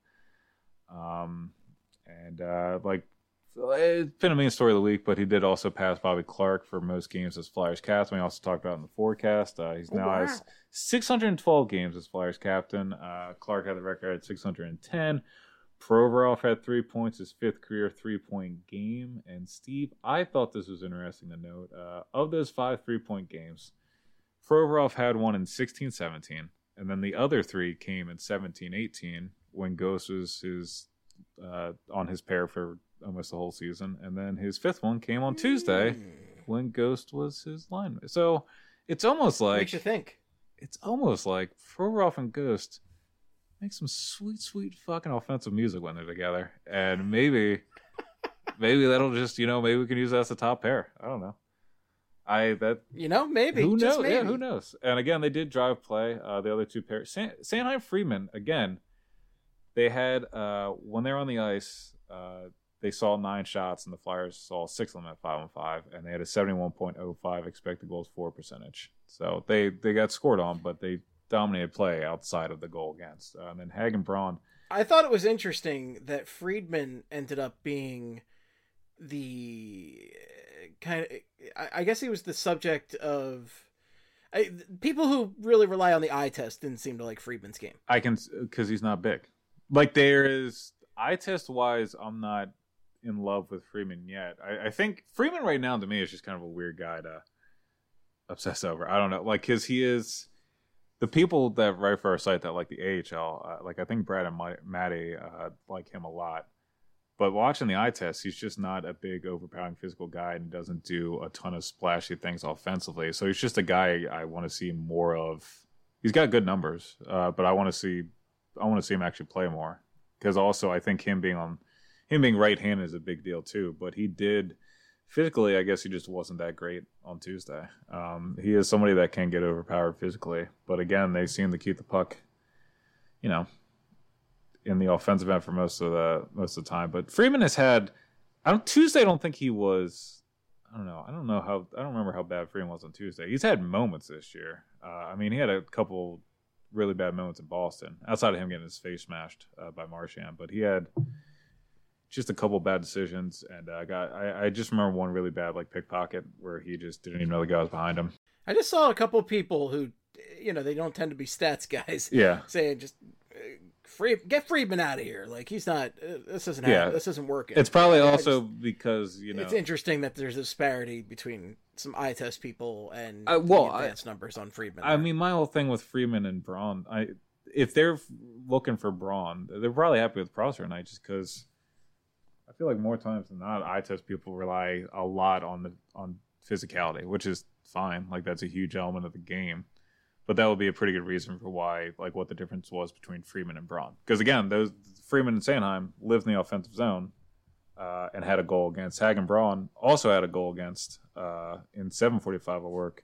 It's been a main story of the week, but he did also pass Bobby Clark for most games as Flyers captain. We also talked about in the forecast. He's now has 612 games as Flyers captain. Clark had the record at 610. Provorov had 3 points, his 5th career 3-point game. And Steve, I thought this was interesting to note. Of those 5 3-point games, Provorov had one in 16-17, and then the other 3 came in 17-18 when Ghost was on his pair for almost the whole season, and then his 5th one came on Tuesday when Ghost was his lineman. So it's almost like
Makes you think.
It's almost like Provorov and Ghost make some sweet, sweet fucking offensive music when they're together, and maybe that'll just maybe we can use that as a top pair. I don't know.
Maybe.
Who knows?
Maybe.
Yeah, who knows? And again, they did drive play. The other two pairs, Sanheim Friedman. Again, they had when they were on the ice, they saw 9 shots, and the Flyers saw 6 of them at 5-on-5, and they had a 71.05 expected goals for percentage. So they got scored on, but they dominated play outside of the goal against. And then Hagen Braun.
I thought it was interesting that Friedman ended up being the kind of, I guess he was the subject of people who really rely on the eye test didn't seem to like Friedman's game.
Because he's not big. Like, there is eye test wise, I'm not in love with Friedman yet. I think Friedman right now to me is just kind of a weird guy to obsess over. I don't know, like, because he is the people that write for our site that like the AHL, like I think Brad and Maddie like him a lot. But watching the eye test, he's just not a big, overpowering physical guy and doesn't do a ton of splashy things offensively. So he's just a guy I want to see more of. He's got good numbers, but I want to see him actually play more. Because also, I think him being right-handed is a big deal too. But he did physically, I guess he just wasn't that great on Tuesday. He is somebody that can get overpowered physically, but again, they seem to keep the puck, in the offensive end for most of the time. But Friedman has had, Tuesday I don't think he was, I don't remember how bad Friedman was on Tuesday. He's had moments this year. He had a couple really bad moments in Boston, outside of him getting his face smashed by Marchand, but he had just a couple bad decisions, and I just remember one really bad pickpocket where he just didn't even know the guy was behind him.
I just saw a couple people who, they don't tend to be stats guys.
Yeah,
saying just get Friedman out of here. Like, he's not. This isn't working.
It's probably because
it's interesting that there's a disparity between some eye test people and advanced numbers on Friedman.
My whole thing with Friedman and Braun, if they're looking for Braun, they're probably happy with Prosser tonight, just because I feel like more times than not, eye test people rely a lot on physicality, which is fine. Like, that's a huge element of the game. But that would be a pretty good reason for why, what the difference was between Friedman and Braun. Because again, those Friedman and Sanheim lived in the offensive zone and had a goal against. Hagen Braun also had a goal against in 7:45 of work.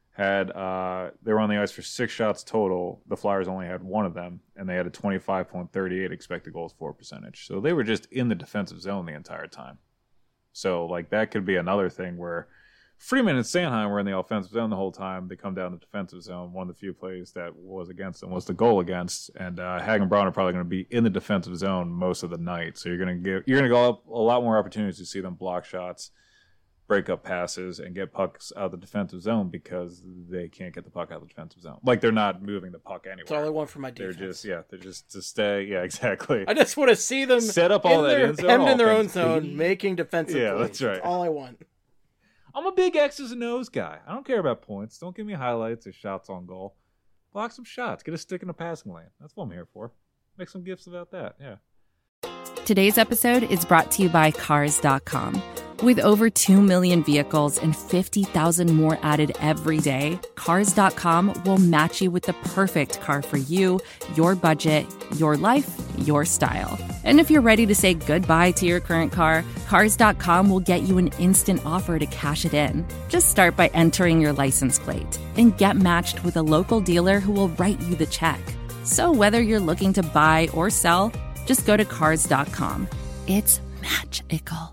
They were on the ice for 6 shots total. The Flyers only had 1 of them, and they had a 25.38 expected goals for percentage. So they were just in the defensive zone the entire time. So that could be another thing where Friedman and Sanheim were in the offensive zone the whole time. They come down to the defensive zone. One of the few plays that was against them was the goal against, and Hagen Braun are probably going to be in the defensive zone most of the night. So you're going to go up a lot more opportunities to see them block shots, break up passes, and get pucks out of the defensive zone because they can't get the puck out of the defensive zone. They're not moving the puck anywhere.
That's all I want for my defense.
They're just to stay. Yeah, exactly.
I just want to see them
set up all that in zone,
hemmed in their own zone, making defensive plays.
That's right.
That's all I want.
I'm a big X's and O's guy. I don't care about points. Don't give me highlights or shots on goal. Block some shots. Get a stick in the passing lane. That's what I'm here for. Make some gifts about that. Yeah.
Today's episode is brought to you by Cars.com. With over 2 million vehicles and 50,000 more added every day, Cars.com will match you with the perfect car for you, your budget, your life, your style. And if you're ready to say goodbye to your current car, Cars.com will get you an instant offer to cash it in. Just start by entering your license plate and get matched with a local dealer who will write you the check. So whether you're looking to buy or sell, just go to Cars.com. It's magical.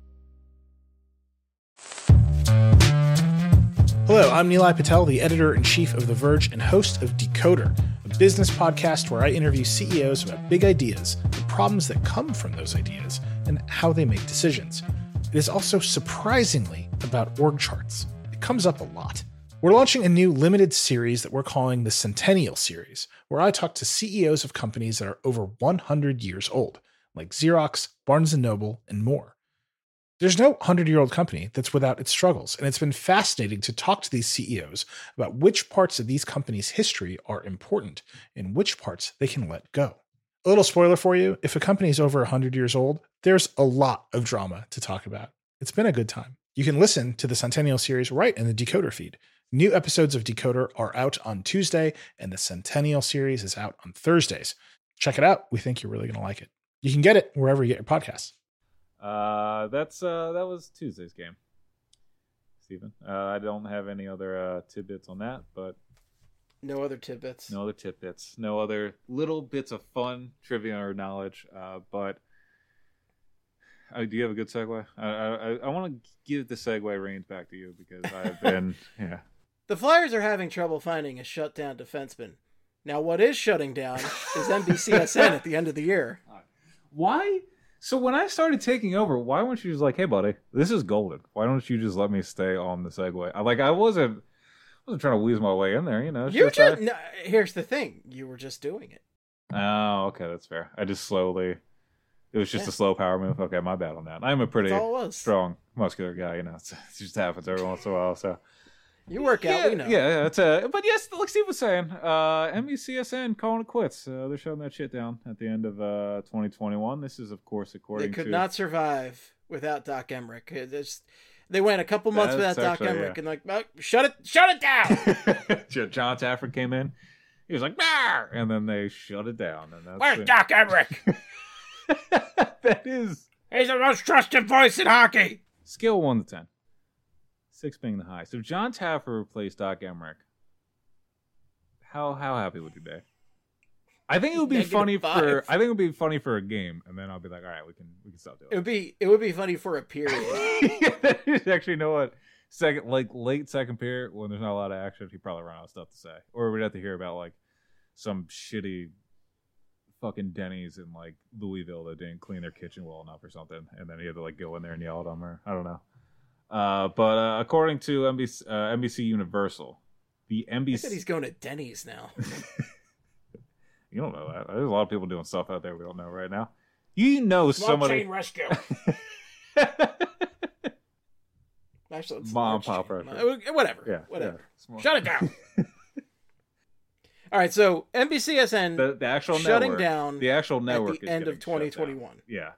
Hello, I'm Nilay Patel, the editor-in-chief of The Verge and host of Decoder, a business podcast where I interview CEOs about big ideas, the problems that come from those ideas, and how they make decisions. It is also surprisingly about org charts. It comes up a lot. We're launching a new limited series that we're calling the Centennial Series, where I talk to CEOs of companies that are over 100 years old, like Xerox, Barnes & Noble, and more. There's no 100-year-old company that's without its struggles, and it's been fascinating to talk to these CEOs about which parts of these companies' history are important and which parts they can let go. A little spoiler for you, if a company is over 100 years old, there's a lot of drama to talk about. It's been a good time. You can listen to the Centennial series right in the Decoder feed. New episodes of Decoder are out on Tuesday, and the Centennial series is out on Thursdays. Check it out. We think you're really going to like it. You can get it wherever you get your podcasts.
That was Tuesday's game, Stephen. I don't have any other tidbits on that, but
no other tidbits.
No other little bits of fun trivia or knowledge. But do you have a good segue? I want to give the segue reins back to you because I've been
The Flyers are having trouble finding a shutdown defenseman. Now, what is shutting down is NBCSN at the end of the year.
Why? So when I started taking over, why weren't you just like, hey, buddy, this is golden. Why don't you just let me stay on the segue? I wasn't trying to wheeze my way in there, you know.
No, here's the thing. You were just doing it.
Oh, okay, that's fair. I just slowly... It was just a slow power move. Okay, my bad on that. I'm a pretty strong, muscular guy, you know. It just happens every once in a while, so...
You work out, we know.
Yeah, it's but yes, like Steve was saying, NBCSN calling it quits. They're shutting that shit down at the end of 2021. This is, of course, according to...
They could not survive without Doc Emmerich. They went a couple months without Doc Emmerich, and like, oh, shut it down!
John Taffer came in. He was like, "Bar!" And then they shut it down. And that's
Where's Doc Emmerich?
That is...
He's the most trusted voice in hockey!
Scale 1 to 10. 6 being the high. So if John Taffer replaced Doc Emmerich, how happy would you be? I think it would be funny for... I think it would be funny for a game, and then I'll be like, all right, we can stop doing it.
It would be funny for a period.
Actually, you know what? Late second period, when there's not a lot of action, he'd probably run out of stuff to say. Or we'd have to hear about like some shitty fucking Denny's in like Louisville that didn't clean their kitchen well enough or something, and then he had to like go in there and yell at them, or I don't know. But according to NBC Universal, the NBC...
I said he's going to Denny's now.
You don't know that. There's a lot of people doing stuff out there we don't know right now. You know, somebody...
Chain rescue. Actually,
Mom, pop rescue.
Whatever.
Yeah,
whatever.
Yeah.
Shut it down. All right, so NBCSN
the actual
shutting
network,
down
the actual network
at the
is
end of 2021.
Yeah.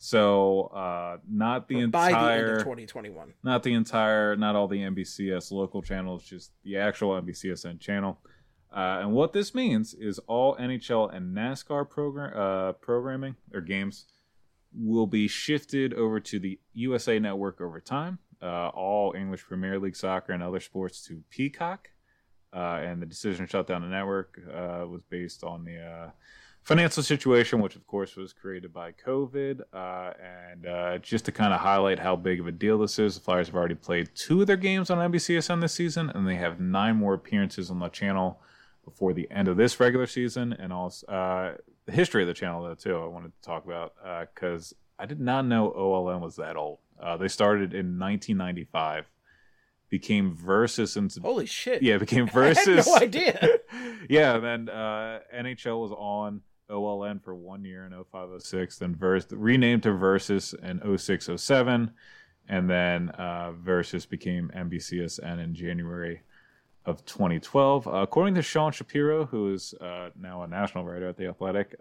So not the
by
entire...
the end of 2021.
Not all the NBCS local channels, just the actual NBCSN channel. And what this means is all NHL and NASCAR programming or games will be shifted over to the USA Network over time. All English Premier League soccer and other sports to Peacock. And the decision to shut down the network was based on the financial situation, which of course was created by COVID. And just to kind of highlight how big of a deal this is, the Flyers have already played 2 of their games on NBCSN this season, and they have 9 more appearances on the channel before the end of this regular season. And also the history of the channel, though, too, I wanted to talk about, because I did not know OLN was that old. They started in 1995. Became Versus into...
Holy shit.
Yeah, became Versus.
I had no idea.
Yeah, then NHL was on OLN for 1 year in 05-06, then renamed to Versus in 06-07, and then Versus became NBCSN in January of 2012. According to Sean Shapiro, who is now a national writer at The Athletic,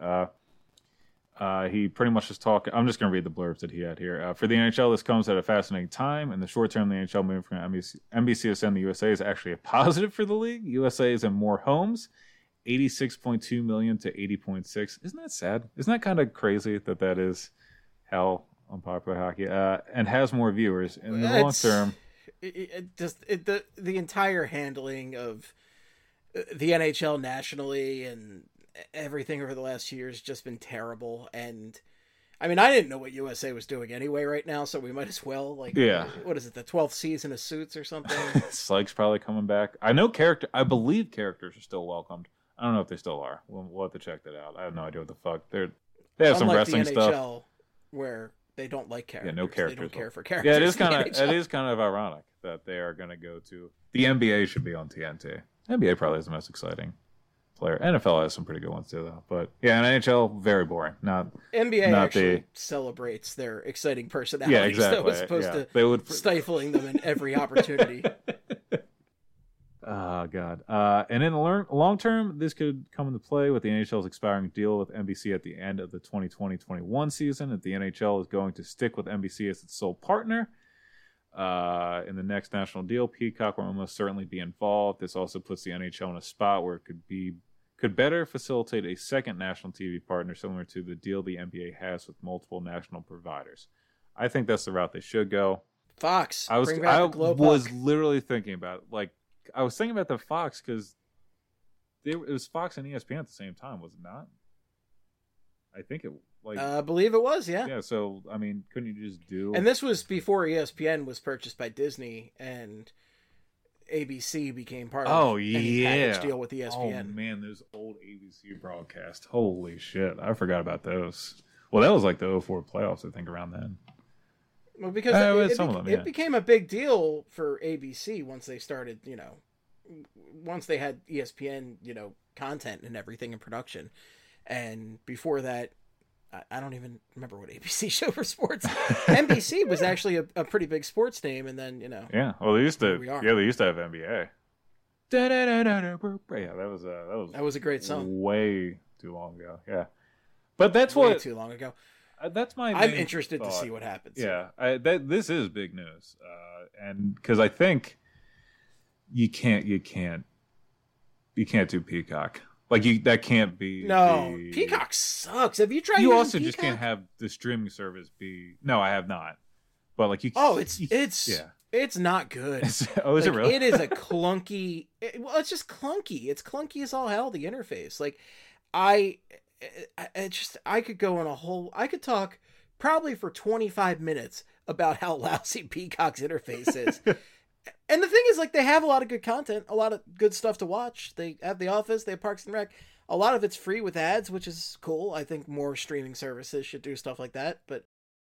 he pretty much is talking... I'm just going to read the blurbs that he had here. For the NHL, this comes at a fascinating time. In the short term, the NHL moving from NBCSN to USA is actually a positive for the league. USA is in more homes, 86.2 million to 80.6. Isn't that sad? Isn't that kind of crazy that is how unpopular hockey... and has more viewers. In the long term...
The entire handling of the NHL nationally and everything over the last year has just been terrible. And I mean, I didn't know what USA was doing anyway right now, so we might as well, like,
yeah.
What is it, the 12th season of Suits or something?
Sykes probably coming back. I believe characters are still welcomed. I don't know if they still are. We'll have to check that out. I have no idea what the fuck. They have some wrestling
the NHL,
stuff
where they don't like characters.
Yeah, no characters.
They don't care for characters.
Yeah, it is kind of ironic that they are going to go to... The NBA should be on TNT. NBA probably is the most exciting player. NFL has some pretty good ones too, though. But yeah, and NHL, very boring.
NBA actually celebrates their exciting personalities.
Yeah, exactly.
As opposed to stifling them in every opportunity.
Oh, God. And in the long term, this could come into play with the NHL's expiring deal with NBC at the end of the 2020-21 season. If the NHL is going to stick with NBC as its sole partner, In the next national deal, Peacock will almost certainly be involved. This also puts the NHL in a spot where it could better facilitate a second national TV partner similar to the deal the NBA has with multiple national providers. I think that's the route they should go.
Fox.
I was
Globepuck.
literally thinking about it. Like, I was thinking about the Fox because it was Fox and ESPN at the same time, was it not? I think it
I believe it was, yeah.
Yeah, so I mean, couldn't you just do?
And this was before ESPN was purchased by Disney and ABC became part of any package deal with ESPN.
Oh man, those old ABC broadcasts. Holy shit, I forgot about those. Well, that was like the 2004 playoffs, I think, around then.
Well, because it became a big deal for ABC once they started, once they had ESPN, content and everything in production. And before that, I don't even remember what ABC show for sports. NBC was actually a pretty big sports name, and then
Yeah, well, they used to. Yeah, they used to have NBA. Yeah, that was
a great song.
Way too long ago. Yeah, but that's
way too long ago.
That's my.
I'm interested to see what happens.
Yeah, this is big news, and because I think you can't do Peacock. Like that can't be.
No, Peacock sucks. Have you tried?
You also
Peacock?
just can't have the streaming service be. No, I have not. But like you.
Oh, it's not good.
Oh, is it really?
It is a clunky. It's just clunky. It's clunky as all hell. The interface, like, I could go on a whole. I could talk probably for 25 minutes about how lousy Peacock's interface is. And the thing is, like, they have a lot of good content, a lot of good stuff to watch. They have The Office, they have Parks and Rec. A lot of it's free with ads, which is cool. I think more streaming services should do stuff like that. But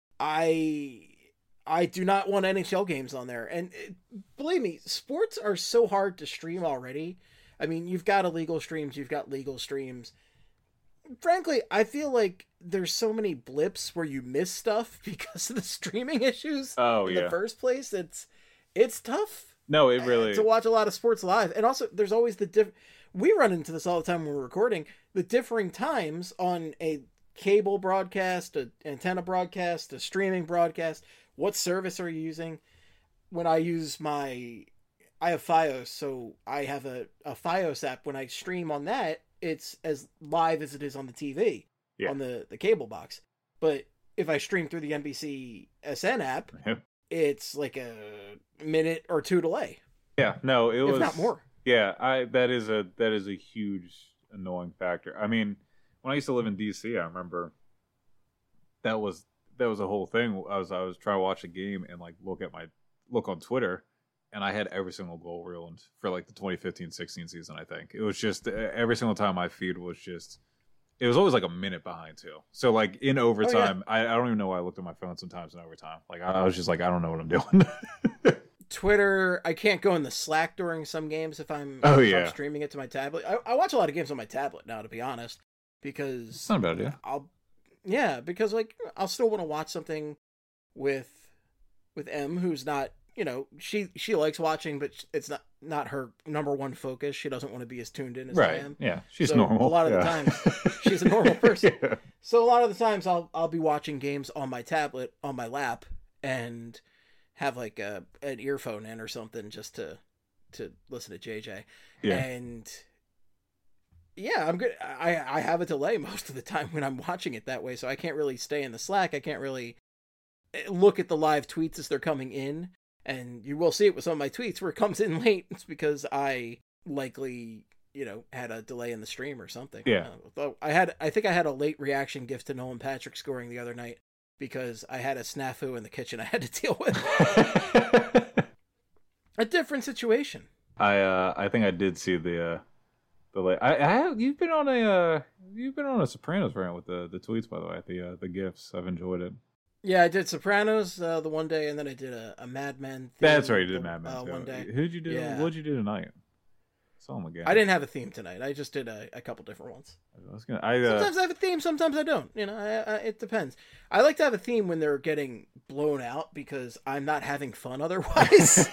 I do not want NHL games on there. And believe me, sports are so hard to stream already. I mean, you've got illegal streams, you've got legal streams. Frankly, I feel like there's so many blips where you miss stuff because of the streaming issues in the first place. It's tough.
No, it really
to watch a lot of sports live, and also there's always we run into this all the time when we're recording, the differing times on a cable broadcast, an antenna broadcast, a streaming broadcast. What service are you using? When I use I have Fios, so I have a Fios app. When I stream on that, it's as live as it is on the TV on the cable box. But if I stream through the NBC SN app. It's like a minute or two delay.
Yeah, no, it was
not more.
Yeah, that is a huge annoying factor. I mean, when I used to live in DC, I remember that was a whole thing. I was trying to watch a game and like look on Twitter, and I had every single goal ruined for like the 2015-16 season. I think it was just every single time my feed was just. It was always like a minute behind too. So like in overtime, I don't even know why I looked at my phone sometimes in overtime. Like I was just like, I don't know what I'm doing.
Twitter, I can't go in the Slack during some games if I'm streaming it to my tablet. I watch a lot of games on my tablet now, to be honest, because
it's not a bad idea.
Because like I'll still want to watch something with M, who's not. She likes watching, but it's not her number one focus. She doesn't want to be as tuned in as I am.
Yeah, she's normal.
A lot of the times, she's a normal person. Yeah. So a lot of the times, I'll be watching games on my tablet, on my lap, and have like an earphone in or something just to listen to JJ.
Yeah.
And yeah, I'm good. I have a delay most of the time when I'm watching it that way, so I can't really stay in the Slack. I can't really look at the live tweets as they're coming in. And you will see it with some of my tweets where it comes in late. It's because I likely, had a delay in the stream or something.
Yeah.
I think I had a late reaction gift to Nolan Patrick scoring the other night because I had a snafu in the kitchen I had to deal with. A different situation.
I think I did see the late. You've been on a Sopranos rant with the tweets, by the way. The gifs. I've enjoyed it.
Yeah, I did Sopranos the one day, and then I did a Mad Men.
That's right, you did Mad Men
one day.
Who'd you do?
Yeah.
What'd you do tonight? Saw him again.
I didn't have a theme tonight. I just did a couple different ones. Sometimes I have a theme, sometimes I don't. It depends. I like to have a theme when they're getting blown out because I'm not having fun otherwise.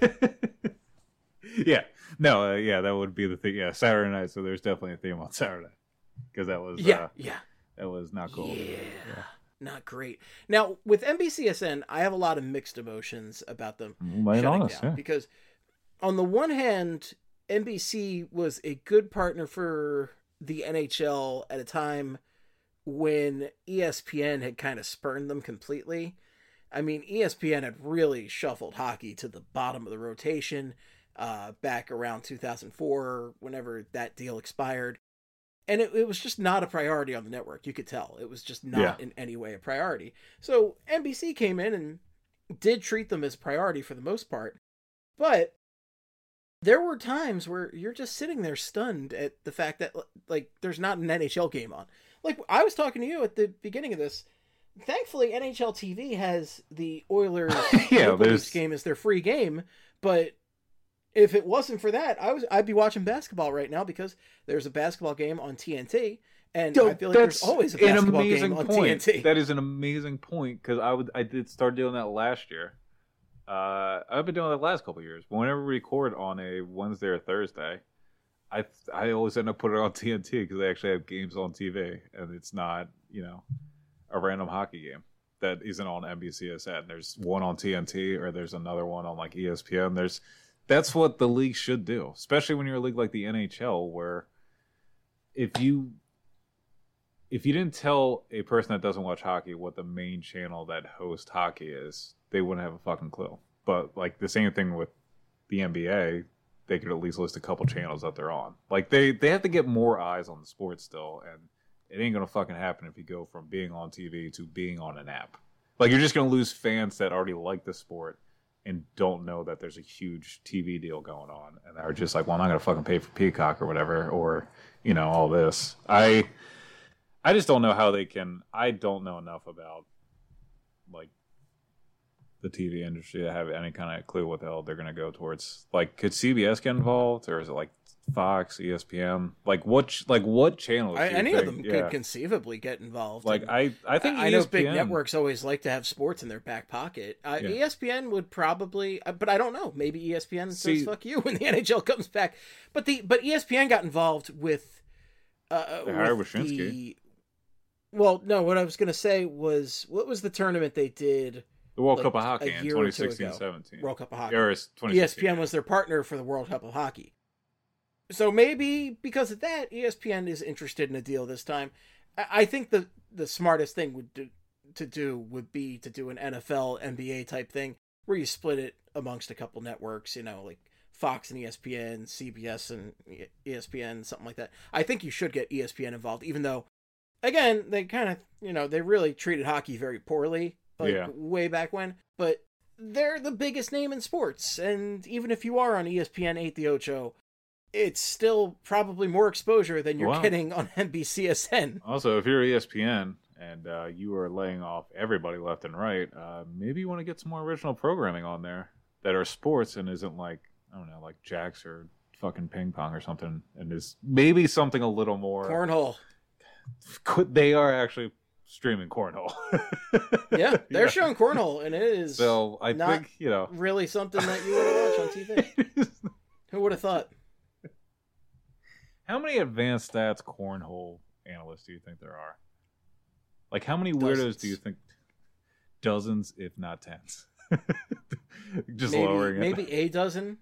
Yeah. No. That would be the thing. Yeah, Saturday night. So there's definitely a theme on Saturday because that was that was not cool.
Yeah. not great. Now, with NBCSN, I have a lot of mixed emotions about them
Might
shutting
honest,
down.
yeah.
Because on the one hand, NBC was a good partner for the NHL at a time when ESPN had kind of spurned them completely. I mean, ESPN had really shuffled hockey to the bottom of the rotation back around 2004, whenever that deal expired. And it was just not a priority on the network. You could tell. It was just not in any way a priority. So NBC came in and did treat them as a priority for the most part. But there were times where you're just sitting there stunned at the fact that, like, there's not an NHL game on. Like, I was talking to you at the beginning of this. Thankfully, NHL TV has the Oilers game as their free game. But if it wasn't for that, I'd be watching basketball right now because there's a basketball game on TNT, and I feel like there's always a basketball game on TNT.
That is an amazing point because I did start doing that last year. I've been doing that the last couple of years. But whenever we record on a Wednesday or Thursday, I always end up putting it on TNT because they actually have games on TV, and it's not a random hockey game that isn't on NBCSN. There's one on TNT or there's another one on like ESPN. That's what the league should do, especially when you're a league like the NHL, where if you didn't tell a person that doesn't watch hockey what the main channel that hosts hockey is, they wouldn't have a fucking clue. But like the same thing with the NBA, they could at least list a couple channels that they're on. Like they have to get more eyes on the sport still, and it ain't gonna fucking happen if you go from being on TV to being on an app. Like you're just gonna lose fans that already like the sport and don't know that there's a huge TV deal going on, and are just like, well, I'm not gonna fucking pay for Peacock or whatever, or all this. I just don't know how they can. I don't know enough about like the TV industry to have any kind of clue what the hell they're gonna go towards. Like, could CBS get involved, or is it like Fox, ESPN? Like what channels?
Any of them could conceivably get involved.
Like I think
I know big networks always like to have sports in their back pocket. ESPN would probably, but I don't know. Maybe ESPN says "fuck you" when the NHL comes back. But ESPN got involved with
Wyshynski.
Well, no. What I was going to say was, what was the tournament they did?
The World Cup of Hockey in 2016-17.
World Cup of Hockey.
ESPN
was their partner for the World Cup of Hockey. So maybe because of that, ESPN is interested in a deal this time. I think the smartest thing would be to do an NFL, NBA type thing where you split it amongst a couple networks, like Fox and ESPN, CBS and ESPN, something like that. I think you should get ESPN involved, even though, again, they kind of, they really treated hockey very poorly, way back when. But they're the biggest name in sports, and even if you are on ESPN 8 the Ocho, it's still probably more exposure than you're getting on NBCSN.
Also, if you're ESPN and you are laying off everybody left and right, maybe you want to get some more original programming on there that are sports and isn't like, I don't know, like jacks or fucking ping pong or something, and is maybe something a little more...
Cornhole.
They are actually streaming cornhole.
Yeah, they're showing cornhole, and it is
I think,
really something that you want to watch on TV. Who would have thought?
How many advanced stats cornhole analysts do you think there are? Like, how many
Dozens.
weirdos do you think? Dozens, if not tens. Just
maybe,
lowering it.
Maybe a dozen.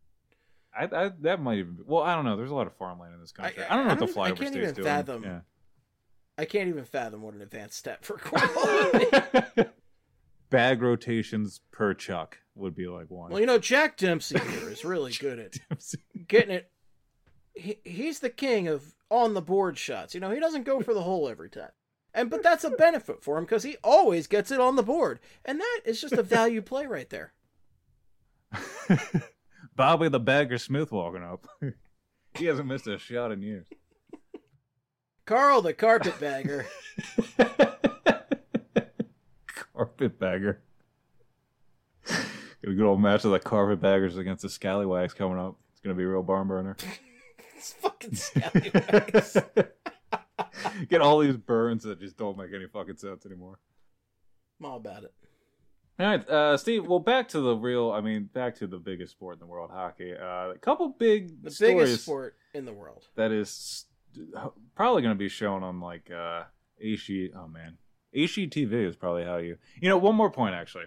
That might even be... Well, I don't know. There's a lot of farmland in this country. I don't know what the flyover state's doing.
I can't even fathom what an advanced stat for cornhole would be.
Bag rotations per chuck would be like one.
Well, Jack Dempsey here is really good at getting it. He's the king of on the board shots. He doesn't go for the hole every time. But that's a benefit for him because he always gets it on the board. And that is just a value play right there.
Bobby the Bagger Smith walking up. He hasn't missed a shot in years.
Carl the Carpetbagger.
Carpetbagger. Got a good old match of the Carpetbaggers against the Scallywags coming up. It's going to be a real barn burner.
It's fucking Scallywags.
Get all these burns that just don't make any fucking sense anymore.
I'm all about it.
All right, Steve, well, back to the biggest sport in the world, hockey. A couple big
The
stories
biggest sport in the world.
that is probably going to be shown on, like, HD. Oh, man. HGTV is probably how you know. One more point actually,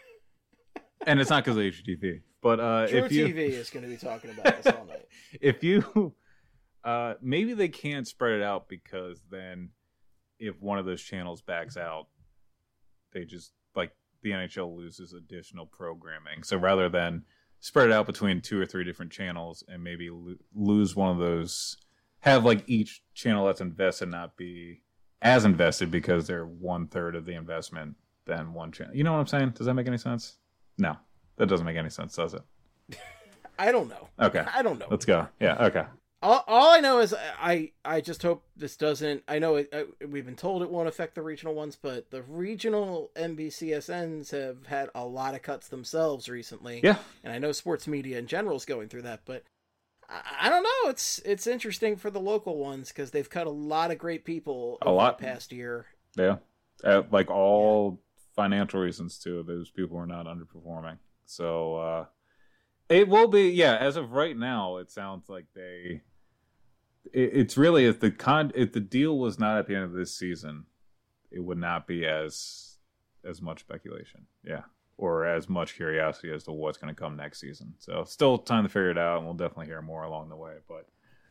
and it's not because of HGTV, but
True
if you
TV is going to be talking about this all night.
if you maybe they can't spread it out because then if one of those channels backs out, they just like the NHL loses additional programming. So rather than spread it out between 2 or 3 different channels and maybe lose one of those, have like each channel that's invested not be as invested because they're 1/3 of the investment than one channel. You know what I'm saying? Does that make any sense? No, that doesn't make any sense, does it?
I don't know.
Okay.
I don't know.
Let's go. Yeah, okay.
All I know is I just hope this doesn't. I know we've been told it won't affect the regional ones, but the regional NBCSNs have had a lot of cuts themselves recently.
Yeah.
And I know sports media in general is going through that, but I don't know. It's interesting for the local ones because they've cut a lot of great people over the past year.
Yeah. Like all financial reasons too. Those people are not underperforming. So it will be, yeah, as of right now, it sounds like it's really if the deal was not at the end of this season, it would not be as much speculation, yeah, or as much curiosity as to what's going to come next season. So still time to figure it out, and we'll definitely hear more along the way. But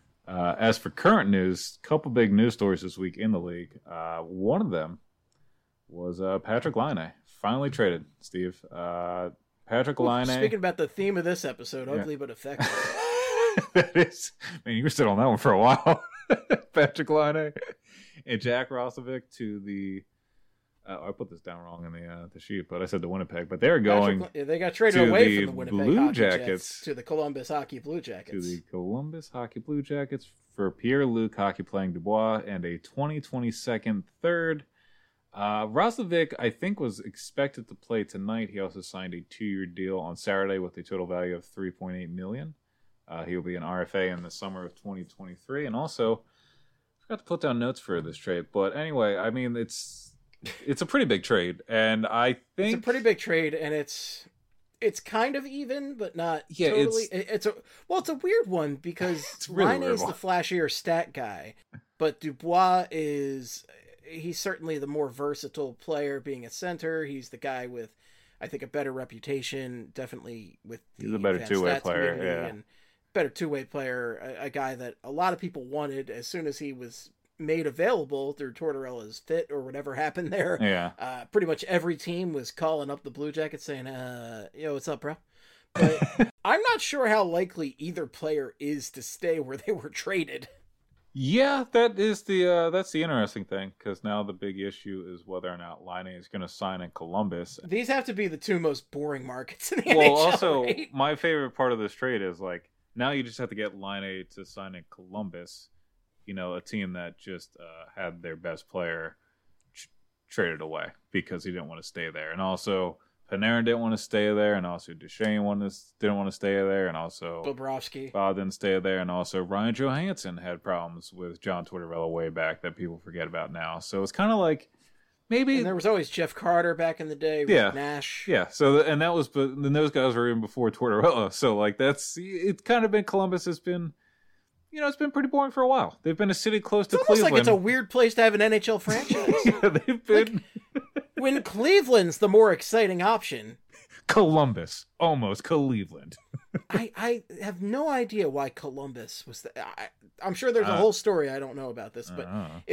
as for current news, a couple big news stories this week in the league. One of them was Patrik Laine finally traded. Steve, Patrik Laine.
Speaking about the theme of this episode, ugly but effective.
That is, man, you were sitting on that one for a while. Patrik Laine and Jack Roslovic to the. I put this down wrong in the sheet, but I said the Winnipeg. But they're going.
They got traded away from the Winnipeg
Blue
Hockey
Jackets
Jets to the Columbus Hockey Blue Jackets.
To the Columbus Hockey Blue Jackets for Pierre-Luc Hockey-Playing Dubois and a 2022 third. Roslovic, I think, was expected to play tonight. He also signed a 2-year deal on Saturday with a total value of $3.8 million. He will be an RFA in the summer of 2023. And also, I forgot to put down notes for this trade. But anyway, I mean, it's a pretty big trade. And I think...
It's a pretty big trade, and it's kind of even, but not totally. It's a weird one because
really
Laine is the flashier stat guy, but Dubois he's certainly the more versatile player being a center. He's the guy with, I think, a better reputation, definitely with
he's a better two-way player, yeah.
And better two-way player, a guy that a lot of people wanted as soon as he was made available through Tortorella's fit or whatever happened there.
Yeah.
Pretty much every team was calling up the Blue Jackets saying, yo, what's up, bro? But I'm not sure how likely either player is to stay where they were traded.
Yeah, that's the interesting thing, because now the big issue is whether or not Laine is going to sign in Columbus.
These have to be the two most boring markets in the NHL.
Well, also,
right?
my favorite part of this trade is, like, now you just have to get Laine to sign in Columbus, you know, a team that just had their best player traded away because he didn't want to stay there. And also, Panarin didn't want to stay there, and also Duchesne didn't want to stay there, and also
Bobrovsky.
Bob didn't stay there, and also Ryan Johansson had problems with John Tortorella way back that people forget about now. So it's kind of like maybe
and there was always Jeff Carter back in the day with Nash.
Yeah. So and that was, but then those guys were even before Tortorella. So like it's kind of been Columbus has been. You know, it's been pretty boring for a while. They've been a city close to Cleveland.
It's like it's a weird place to have an NHL franchise.
Yeah, they've been.
When Cleveland's the more exciting option.
Columbus, almost Cleveland.
I have no idea why Columbus was. I'm sure there's a whole story I don't know about this, but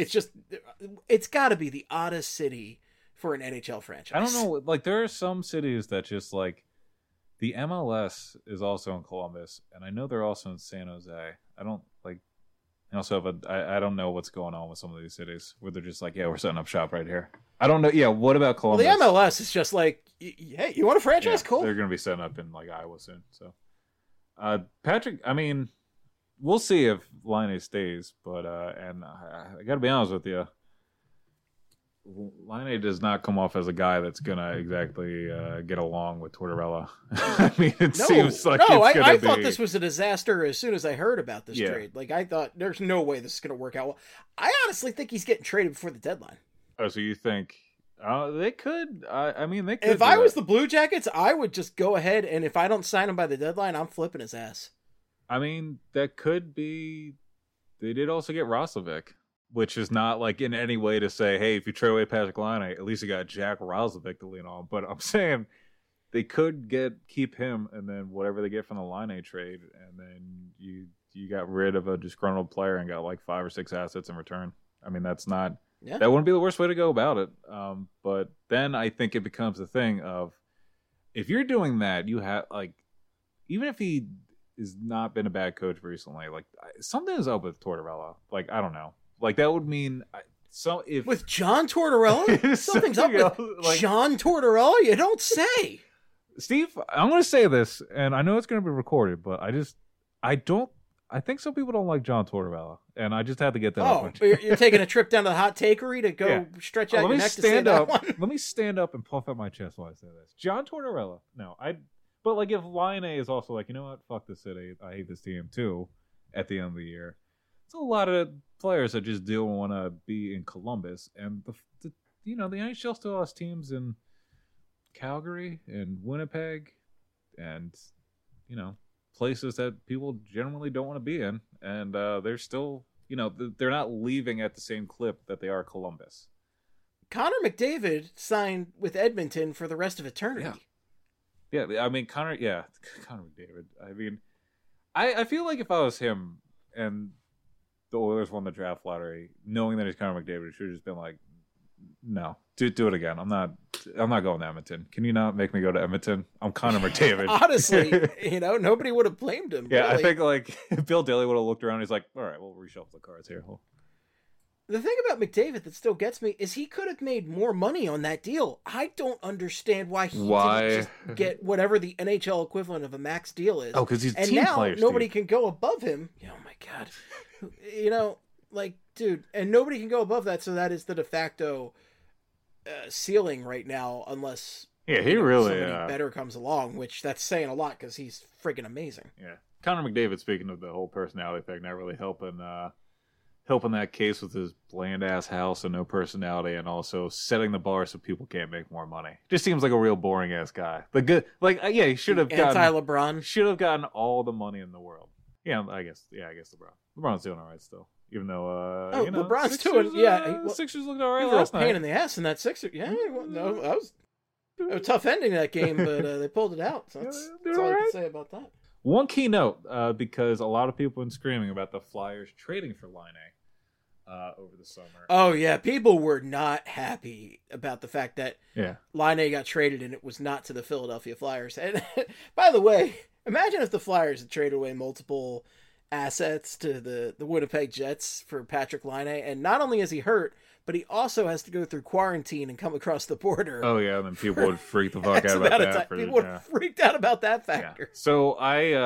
it's got to be the oddest city for an NHL franchise.
I don't know. Like there are some cities that just like the MLS is also in Columbus, and I know they're also in San Jose. I don't like. I also have I don't know what's going on with some of these cities where they're just like, yeah, we're setting up shop right here. I don't know. Yeah, what about Columbus?
Well, the MLS is just like, hey, you want a franchise?
Yeah,
cool.
They're going to be setting up in like Iowa soon. So, Patrick, I mean, we'll see if Laine stays, but and I got to be honest with you, Laine does not come off as a guy that's going to exactly get along with Tortorella. I mean, it seems like
I thought this was a disaster as soon as I heard about this trade. Like, I thought there's no way this is going to work out well. I honestly think he's getting traded before the deadline.
Oh, so you think they could? I mean, they could.
If I was the Blue Jackets, I would just go ahead, and if I don't sign him by the deadline, I'm flipping his ass.
I mean, that could be. They did also get Roslovic. which is not like in any way to say, hey, if you trade away Patrick Laine, at least you got Jack Roslovic to lean on. But I'm saying they could keep him, and then whatever they get from the Laine trade, and then you got rid of a disgruntled player and got like 5 or 6 assets in return. I mean, that wouldn't be the worst way to go about it. But then I think it becomes a thing of, if you're doing that, you have, like, even if he has not been a bad coach recently, like, something is up with Tortorella. Like, I don't know. Like, that would mean
with John Tortorella, something's up with like, John Tortorella. You don't say.
Steve, I'm going to say this, and I know it's going to be recorded, but I think some people don't like John Tortorella, and I just had to get that off.
You're taking a trip down to the hot takery to go stretch out your neck to say that one?
Let me stand up and puff out my chest while I say this. John Tortorella, but like, if Laine is also like, you know what, fuck this city, I hate this team too, at the end of the year, it's a lot of players that just don't want to be in Columbus, and the NHL still has teams in Calgary and Winnipeg and, places that people generally don't want to be in, and they're still, they're not leaving at the same clip that they are Columbus.
Connor McDavid signed with Edmonton for the rest of eternity.
Yeah, I mean, Connor McDavid. I mean, I feel like if I was him and the Oilers won the draft lottery, knowing that he's Connor McDavid, should have just been like, no, do it again. I'm not going to Edmonton. Can you not make me go to Edmonton? I'm Connor McDavid.
Honestly, nobody would have blamed him.
Yeah,
really.
I think like Bill Daly would have looked around. He's like, all right, we'll reshuffle the cards here.
The thing about McDavid that still gets me is he could have made more money on that deal. I don't understand why he didn't just get whatever the NHL equivalent of a max deal is.
Oh, because he's
and
team
now
player,
nobody
Steve.
can go above him. Oh my god, dude, and nobody can go above that. So that is the de facto ceiling right now, unless
he really
somebody better comes along. Which that's saying a lot because he's freaking amazing.
Yeah, Connor McDavid. Speaking of the whole personality thing, not really helping that case with his bland ass house and no personality, and also setting the bar so people can't make more money. Just seems like a real boring ass guy. The good, he should have gotten
anti-LeBron.
Should have gotten all the money in the world. Yeah, I guess LeBron's doing all right still, even though
LeBron's
Sixers,
doing
Sixers looked all right
They were
last
a pain
night.
in the ass in that Sixer. Yeah, no, that was a tough ending to that game, but they pulled it out. So that's all I can say about that.
One key note, because a lot of people have been screaming about the Flyers trading for Laine over the summer.
Oh yeah, people were not happy about the fact that Laine got traded and it was not to the Philadelphia Flyers. And by the way, imagine if the Flyers had traded away multiple assets to the Winnipeg Jets for Patrick Laine, and not only is he hurt, but he also has to go through quarantine and come across the border.
Oh yeah, and then people would freak the fuck out about that.
People would have freaked out about that factor.
Yeah. So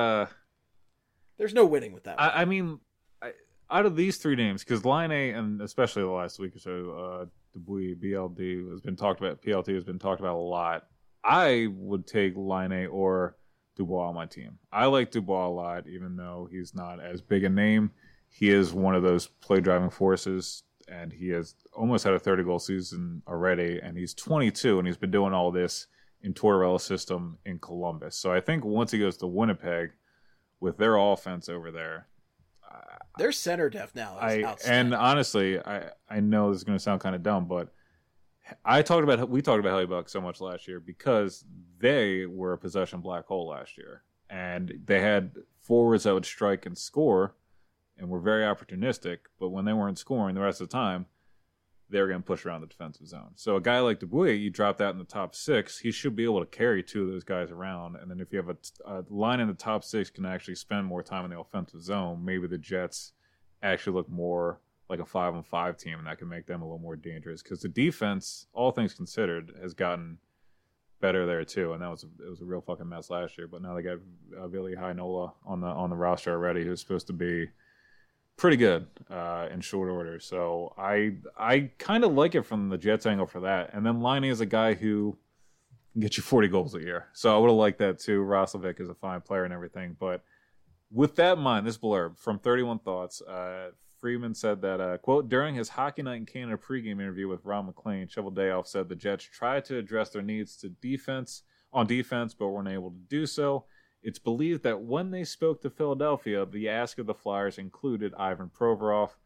there's no winning with that.
I mean, out of these three names, because Laine, and especially the last week or so, Dubuis, BLD has been talked about. PLT has been talked about a lot. I would take Laine or Dubois on my team. I like Dubois a lot, even though he's not as big a name. He is one of those play driving forces, and he has almost had a 30-goal season already, and he's 22, and he's been doing all this in Tortorella's system in Columbus. So I think once he goes to Winnipeg with their offense over there,
their center depth now is outstanding.
And honestly, I know this is going to sound kind of dumb, but we talked about Hellebuck so much last year because they were a possession black hole last year, and they had forwards that would strike and score, and were very opportunistic. But when they weren't scoring the rest of the time, they were getting pushed around the defensive zone. So a guy like Dubuis, you drop that in the top six, he should be able to carry two of those guys around. And then if you have a line in the top six can actually spend more time in the offensive zone, maybe the Jets actually look more like a 5-on-5 team, and that can make them a little more dangerous. Because the defense, all things considered, has gotten better there too, and it was a real fucking mess last year. But now they got Ville Heinola on the roster already, who's supposed to be pretty good in short order. So I kind of like it from the Jets angle for that. And then Laine is a guy who can get you 40 goals a year. So I would have liked that too. Roslovic is a fine player and everything. But with that in mind, this blurb from 31 Thoughts, Freeman said that, quote, during his Hockey Night in Canada pregame interview with Ron McLean, Cheveldayoff said the Jets tried to address their needs to defense, but weren't able to do so. It's believed that when they spoke to Philadelphia, the ask of the Flyers included Ivan Provorov,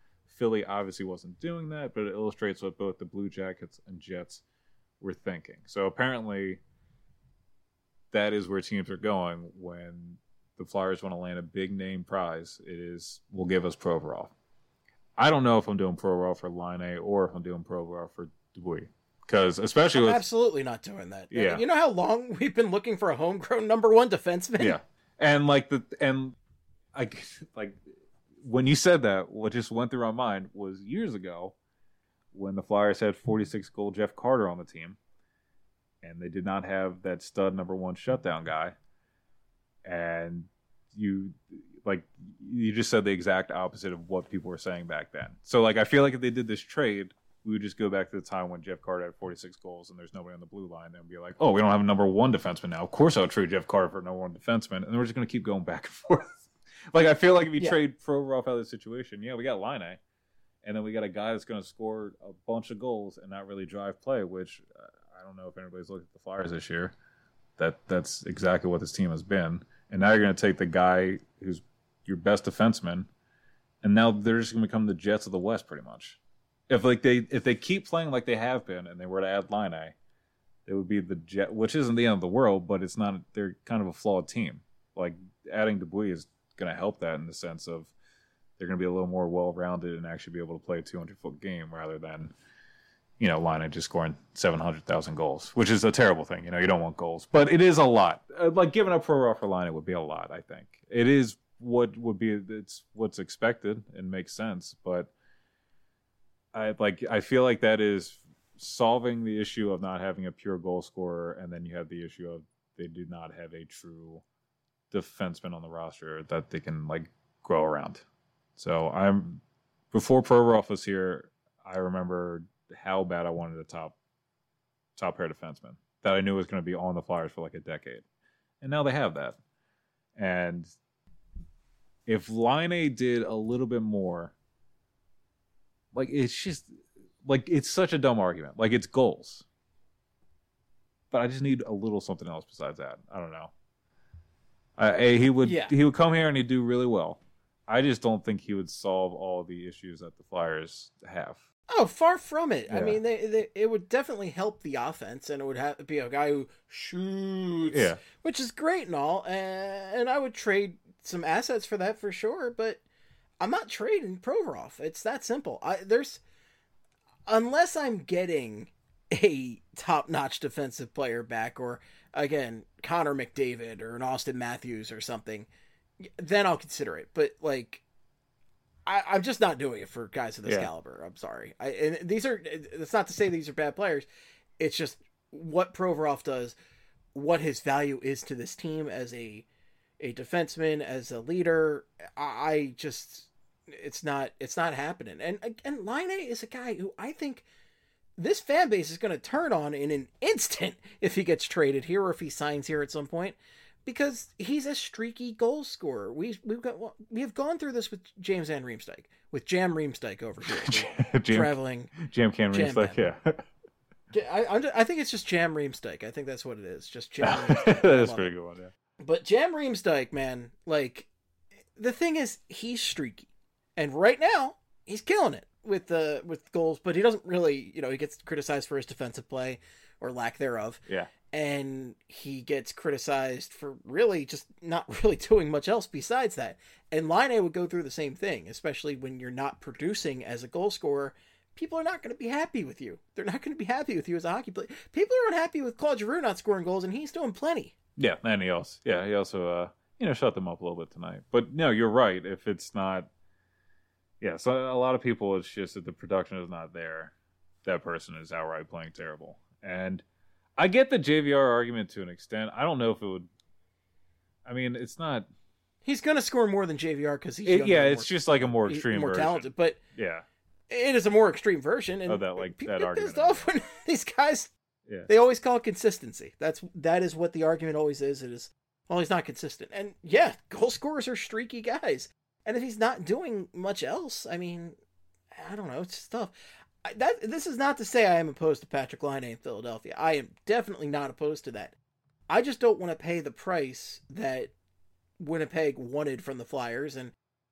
Philly obviously wasn't doing that, but it illustrates what both the Blue Jackets and Jets were thinking. So apparently that is where teams are going when the Flyers want to land a big name prize. It is, will give us Provorov. I don't know if I'm doing Provorov for Laine or if I'm doing Provorov for Dubuis. Because especially
I'm absolutely not doing that.
Yeah.
You know how long we've been looking for a homegrown number one defenseman?
Yeah. And when you said that, what just went through my mind was years ago when the Flyers had 46-goal Jeff Carter on the team, and they did not have that stud number one shutdown guy. And you just said the exact opposite of what people were saying back then. So I feel like if they did this trade, we would just go back to the time when Jeff Carter had 46 goals and there's nobody on the blue line and be like, oh, we don't have a number one defenseman now. Of course I'll trade Jeff Carter for a number one defenseman. And we're just going to keep going back and forth. I feel like if you trade Provorov out of the situation, we got Laine, and then we got a guy that's going to score a bunch of goals and not really drive play, which I don't know if anybody's looked at the Flyers this year. That's exactly what this team has been. And now you're going to take the guy who's your best defenseman, and now they're just going to become the Jets of the West pretty much. If they keep playing like they have been, and they were to add Laine, it would be the Jet, which isn't the end of the world, but it's not. They're kind of a flawed team. Adding Dubuis is going to help that in the sense of they're going to be a little more well-rounded and actually be able to play a 200-foot game rather than Laine just scoring 700,000 goals, which is a terrible thing. You don't want goals, but it is a lot. Giving up Provorov for Laine would be a lot. I think it is it's what's expected and makes sense, but I feel like that is solving the issue of not having a pure goal scorer, and then you have the issue of they do not have a true defenseman on the roster that they can grow around. So before Provorov was here, I remember how bad I wanted a top pair defenseman that I knew was going to be on the Flyers for a decade, and now they have that. And if Laine did a little bit more. It's just it's such a dumb argument. It's goals, but I just need a little something else besides that. I don't know. He would come here and he'd do really well. I just don't think he would solve all the issues that the Flyers have.
Oh, far from it. Yeah. I mean, it would definitely help the offense, and it would have to be a guy who shoots, which is great and all. And I would trade some assets for that for sure, but I'm not trading Provorov. It's that simple. Unless I'm getting a top-notch defensive player back, or again, Connor McDavid or an Austin Matthews or something, then I'll consider it. But I'm just not doing it for guys of this caliber. I'm sorry. That's not to say these are bad players. It's just what Provorov does, what his value is to this team as a defenseman, as a leader. It's not happening. And Laine is a guy who I think this fan base is going to turn on in an instant if he gets traded here or if he signs here at some point, because he's a streaky goal scorer. We have gone through this with James Van Riemsdyk, with Jam Riemsdyk over here, traveling
Jam Riemsdyk. Yeah,
I think it's just Jam Riemsdyk. I think that's what it is. Just Jam. Riemsdyk.
That's a pretty good one. Yeah.
But Jam Riemsdyk, man, the thing is, he's streaky. And right now, he's killing it with goals, but he doesn't really, he gets criticized for his defensive play or lack thereof.
Yeah.
And he gets criticized for really just not really doing much else besides that. And Laine would go through the same thing, especially when you're not producing as a goal scorer. People are not going to be happy with you. They're not going to be happy with you as a hockey player. People are unhappy with Claude Giroux not scoring goals, and he's doing plenty.
Yeah, and he also shut them up a little bit tonight. But no, you're right. If it's not. Yeah, so a lot of people, it's just that the production is not there. That person is outright playing terrible. And I get the JVR argument to an extent. I don't know if it would... I mean, it's not...
He's going to score more than JVR because he's younger.
Yeah, it's just a more extreme
more
version.
Talented, but
yeah,
it is a more extreme version. And
that
people
that argument.
Pissed off when these guys... Yeah. They always call it consistency. That is what the argument always is. It is, well, he's not consistent. And yeah, goal scorers are streaky guys. And if he's not doing much else, I mean, I don't know. It's just tough. This is not to say I am opposed to Patrick Laine in Philadelphia. I am definitely not opposed to that. I just don't want to pay the price that Winnipeg wanted from the Flyers. And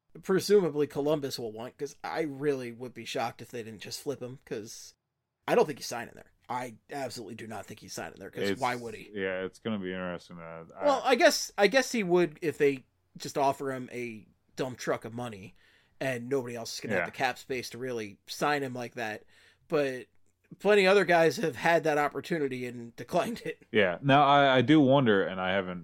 presumably Columbus will want, because I really would be shocked if they didn't just flip him, because I don't think he's signing there. I absolutely do not think he's signing there, because why would he?
Yeah, it's going to be interesting.
Well, I guess he would if they just offer him a dump truck of money and nobody else is going to have the cap space to really sign him like that. But plenty of other guys have had that opportunity and declined it.
Yeah. Now, I do wonder, and I haven't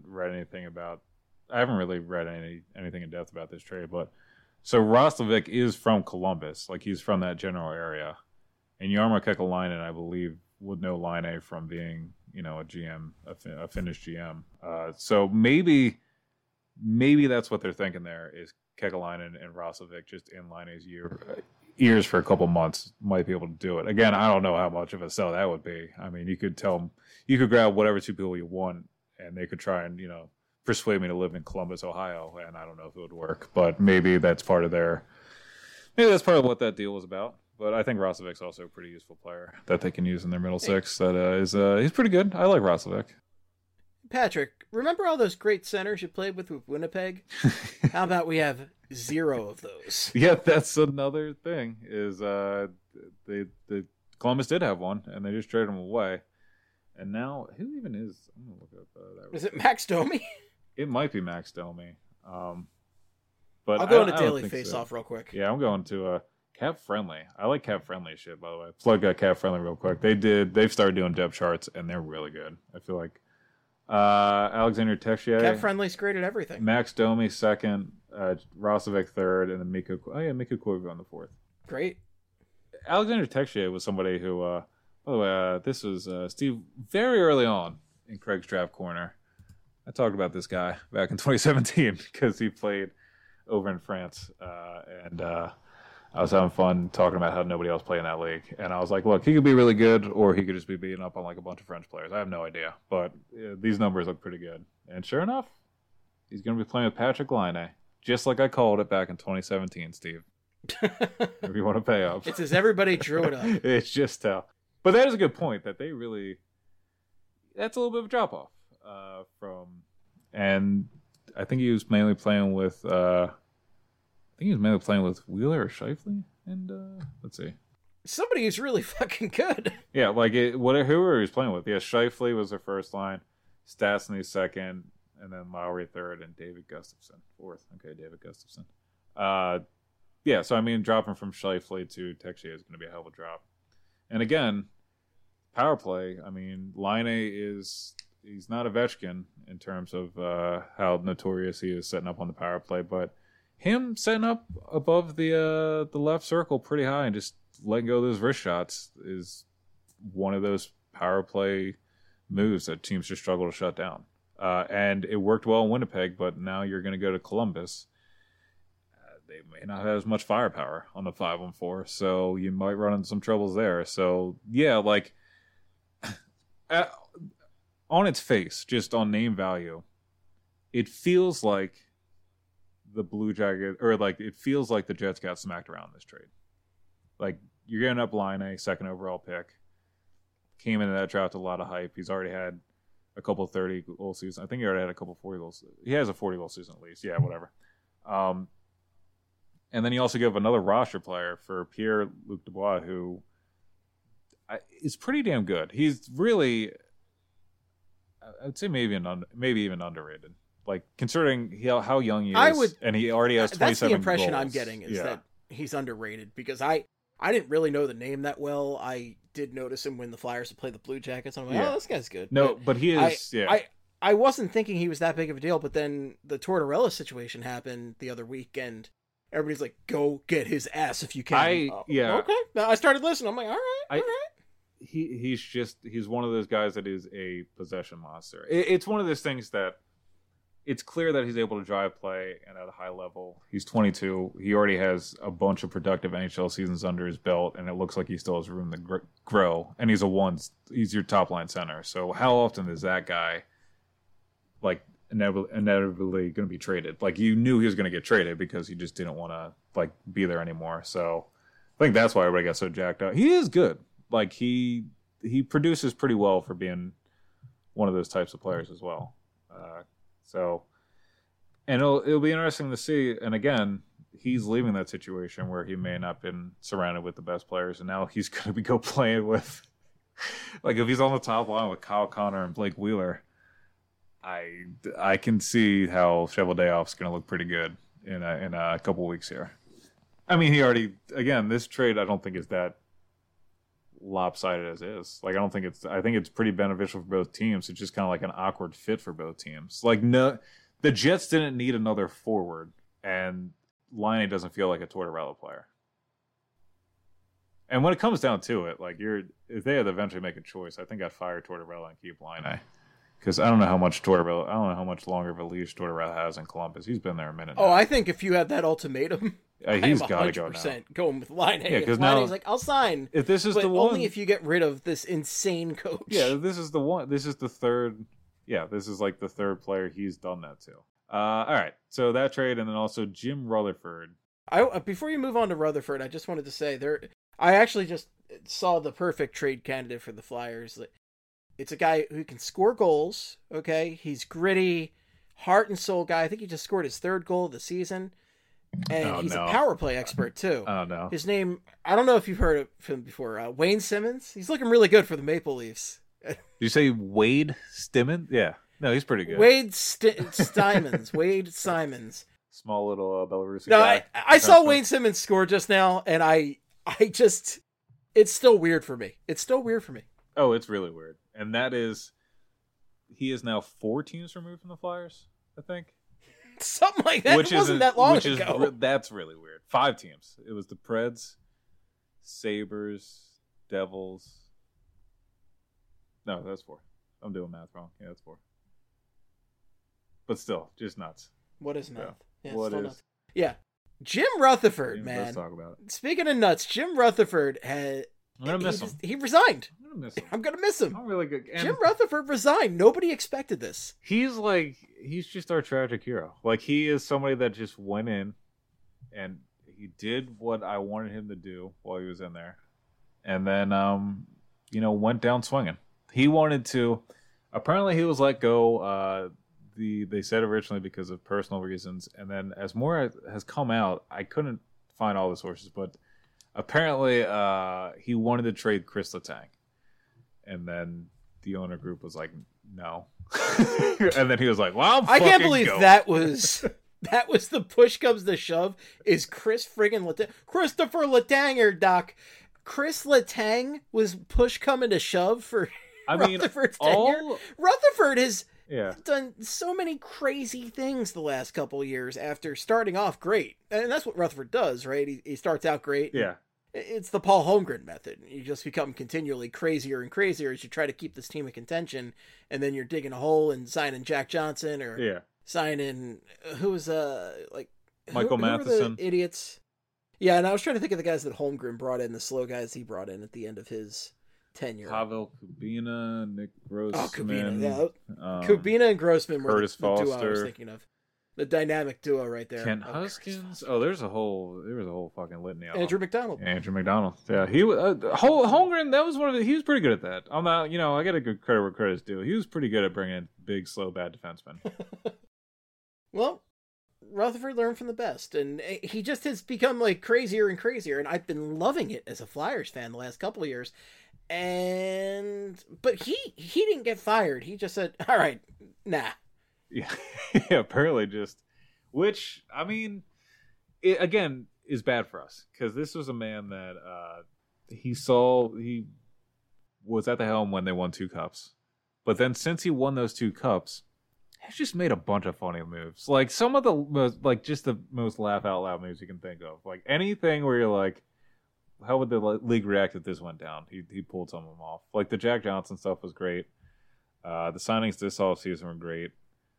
really read anything in depth about this trade, but so Roslovic is from Columbus. Like, he's from that general area. And Jarmo Kekalainen, I believe, would know Laine from being, a GM, a Finnish GM. So maybe that's what they're thinking there is Kekalainen and Roslovic just in Laine's ears for a couple months might be able to do it. Again, I don't know how much of a sell that would be. I mean, you could tell them, you could grab whatever two people you want, and they could try and, persuade me to live in Columbus, Ohio, and I don't know if it would work. But maybe that's part of what that deal was about. But I think Roslovic's also a pretty useful player that they can use in their middle six. He's pretty good. I like Roslovic.
Patrick, remember all those great centers you played with Winnipeg? How about we have 0 of those?
Yeah, that's another thing. Is the Columbus did have one, and they just traded him away. And now, who even is? I'm gonna look up that.
Is it Max Domi?
It might be Max Domi. But
I'll go into Daily Face-Off real quick.
Yeah, I'm going to Cap Friendly. I like Cap Friendly shit, by the way. Plug Cap Friendly real quick. They've started doing depth charts, and they're really good. I feel like Alexander Texier.
Cap Friendly's great at everything.
Max Domi second, Roslovic third, and then Mikko Koivu on the fourth.
Great.
Alexander Texier was somebody who, by the way, this was Steve very early on in Craig's Draft Corner. I talked about this guy back in 2017 because he played over in France, and I was having fun talking about how nobody else played in that league. And I was like, look, he could be really good, or he could just be beating up on like a bunch of French players. I have no idea, but these numbers look pretty good. And sure enough, he's going to be playing with Patrick Laine, just like I called it back in 2017, Steve. If you want to pay up.
It's as everybody drew it up.
It's just how. But that is a good point that they really. That's a little bit of a drop off from, and I think he was mainly playing with. Wheeler or Scheifele, and let's see.
Somebody who's really fucking good.
Yeah, like whoever he was playing with. Yeah, Scheifele was their first line, Stastny second, and then Lowry third, and David Gustafsson fourth. Okay, David Gustafsson. Yeah, so I mean, dropping from Scheifele to Texier is going to be a hell of a drop. And again, power play. I mean, Laine he's not Ovechkin in terms of how notorious he is setting up on the power play, but him setting up above the left circle pretty high and just letting go of those wrist shots is one of those power play moves that teams just struggle to shut down. And it worked well in Winnipeg, but now you're going to go to Columbus. They may not have as much firepower on the 5-on-4, so you might run into some troubles there. So, yeah, like, on its face, just on name value, it feels like the Blue Jackets, or like it feels like the Jets got smacked around this trade. Like, you're getting up Laine, second overall pick. Came into that draft with a lot of hype. He's already had a couple 30-goal seasons. I think he already had a couple 40 goals. He has a 40-goal season at least. Yeah, whatever. And then you also give another roster player for Pierre-Luc Dubois, who is pretty damn good. He's really, I would say maybe even underrated. Like, considering how young he is, and he already has 27 goals. That's the impression
I'm getting, is that he's underrated, because I didn't really know the name that well. I did notice him when the Flyers would play the Blue Jackets. I'm like, oh, this guy's good.
No, but he is,
I wasn't thinking he was that big of a deal, but then the Tortorella situation happened the other week, and everybody's like, go get his ass if you can. Okay. I started listening. I'm like, all right.
He's one of those guys that is a possession monster. It's one of those things that it's clear that he's able to drive play and at a high level. He's 22. He already has a bunch of productive NHL seasons under his belt, and it looks like he still has room to grow. And he's your top line center. So how often is that guy like inevitably going to be traded? Like, you knew he was going to get traded because he just didn't want to like be there anymore. So I think that's why everybody got so jacked up. He is good. Like, he produces pretty well for being one of those types of players as well. So, and it'll be interesting to see. And again, he's leaving that situation where he may not have been surrounded with the best players, and now he's going to go playing with, like, if he's on the top line with Kyle Connor and Blake Wheeler, I can see how Cheveldayoff's going to look pretty good in a couple weeks here. I mean, this trade I don't think is that lopsided as is. Like, I think it's pretty beneficial for both teams. It's just kind of like an awkward fit for both teams. Like, no, the Jets didn't need another forward, and Laine doesn't feel like a Tortorella player. And when it comes down to it, like, if they had to eventually make a choice, I think I'd fire Tortorella and keep Laine. Because I don't know how much longer of a leash Tortorella has in Columbus. He's been there a minute now.
Oh, I think if you had that ultimatum,
he's got to go now.
Going with Laine.
Yeah, because
now
he's
like, I'll sign.
If this is
but
the one,
only if you get rid of this insane coach.
Yeah, this is the one. This is the third. Yeah, this is like the third player he's done that to. All right, so that trade, and then also Jim Rutherford.
Before you move on to Rutherford, I just wanted to say I actually just saw the perfect trade candidate for the Flyers. It's a guy who can score goals, okay? He's gritty, heart and soul guy. I think he just scored his 3rd goal of the season. And he's a power play expert, too.
Oh, no.
His name, I don't know if you've heard of him before, Wayne Simmons. He's looking really good for the Maple Leafs.
Did you say Wade Stimmons? Yeah. No, he's pretty good.
Wade Simons. Wade Simons.
Small little Belarusian guy.
I saw Wayne Simmons score just now, and I just, it's still weird for me.
Oh, it's really weird. And that is, he is now 4 teams removed from the Flyers, I think.
Something like that. It wasn't that long ago.
That's really weird. 5 teams. It was the Preds, Sabres, Devils. No, that's 4. I'm doing math wrong. Yeah, that's 4. But still, just nuts.
What is math?
Yeah, what is?
Nuts. Yeah. Jim Rutherford, man.
Let's talk about it.
Speaking of nuts, Jim Rutherford had...
I'm going to miss him.
He resigned.
I'm
going to miss him.
I'm really good. And
Jim Rutherford resigned. Nobody expected this.
He's just our tragic hero. Like, he is somebody that just went in and he did what I wanted him to do while he was in there. And then, went down swinging. He wanted to, apparently he was let go, they said originally because of personal reasons. And then as more has come out, I couldn't find all the sources, but apparently, he wanted to trade Chris Letang, and then the owner group was like, "No," and then he was like, "Well, I can't believe
that was the push comes to shove." Is Christopher Letang, Doc? Chris Letang was push coming to shove for Rutherford's tenure. Rutherford has done so many crazy things the last couple of years after starting off great, and that's what Rutherford does, right? He starts out great.
Yeah.
It's the Paul Holmgren method. You just become continually crazier and crazier as you try to keep this team in contention, and then you're digging a hole and signing Jack Johnson or signing
Michael Matheson.
The idiots. Yeah, and I was trying to think of the guys that Holmgren brought in, the slow guys he brought in at the end of his tenure.
Pavel Kubina, Nick Grossman.
Oh, Kubina, yeah. Kubina and Grossman were
Curtis
the duo
Foster.
I was thinking of. The dynamic duo right there.
Kent Huskins. Oh, there was a whole fucking litany.
Andrew McDonald.
Yeah, he Holmgren. That was he was pretty good at that. I'm not, I got to give credit where credit's due. He was pretty good at bringing in big, slow, bad defensemen.
Well, Rutherford learned from the best, and he just has become like crazier and crazier. And I've been loving it as a Flyers fan the last couple of years. But he didn't get fired. He just said, "All right, nah."
Yeah, apparently which, I mean, it, again, is bad for us. Because this was a man that he was at the helm when they won 2 cups. But then since he won those 2 cups, he's just made a bunch of funny moves. Like, some of the most laugh-out-loud moves you can think of. Like, anything where you're like, how would the league react if this went down? He pulled some of them off. Like, the Jack Johnson stuff was great. The signings this offseason were great.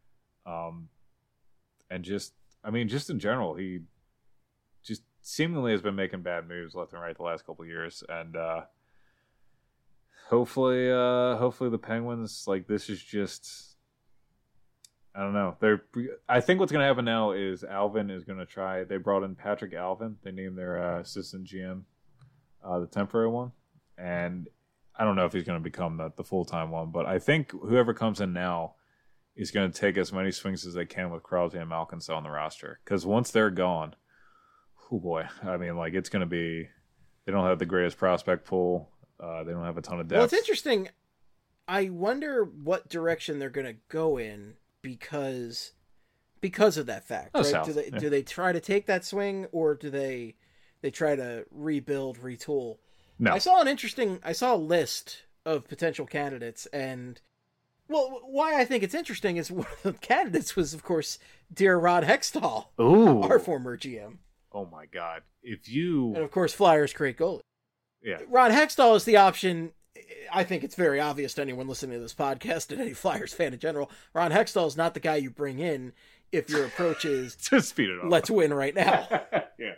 And just in general, he just seemingly has been making bad moves left and right the last couple of years. And hopefully the Penguins, like, this is just, I don't know. I think what's going to happen now is Alvin is going to try. They brought in Patrick Alvin. They named their assistant GM, the temporary one. And I don't know if he's going to become the full-time one, but I think whoever comes in now is going to take as many swings as they can with Crosby and Malkinson on the roster. Because once they're gone, oh boy, I mean, like it's going to be. They don't have the greatest prospect pool. They don't have a ton of depth.
Well, it's interesting. I wonder what direction they're going to go in because of that fact.
Oh,
right?
south.
Do they try to take that swing, or do they try to rebuild, retool?
No.
I saw a list of potential candidates, and well, why I think it's interesting is one of the candidates was, of course, dear Ron Hextall,
Ooh.
our former GM.
Oh my God! If you
And of course, Flyers great goalie.
yeah,
Ron Hextall is the option. I think it's very obvious to anyone listening to this podcast and any Flyers fan in general. Ron Hextall is not the guy you bring in if your approach is
to speed it up.
let's win right now.
Yeah.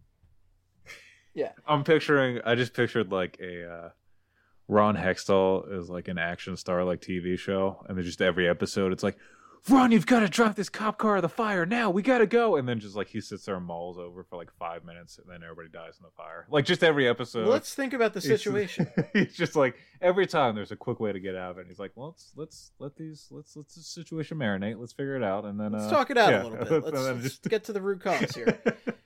Yeah.
I just pictured like a Ron Hextall is like an action star like TV show, and then just every episode it's like, Ron, you've got to drop this cop car in the fire now. We got to go. And then just like he sits there and mulls over for like 5 minutes, and then everybody dies in the fire. Like just every episode.
Let's think about the situation.
He's just like every time there's a quick way to get out of it. And he's like, well, let's let the situation marinate. Let's figure it out, and then
Let's talk it out a little bit.
And then
Let's get to the root cause here.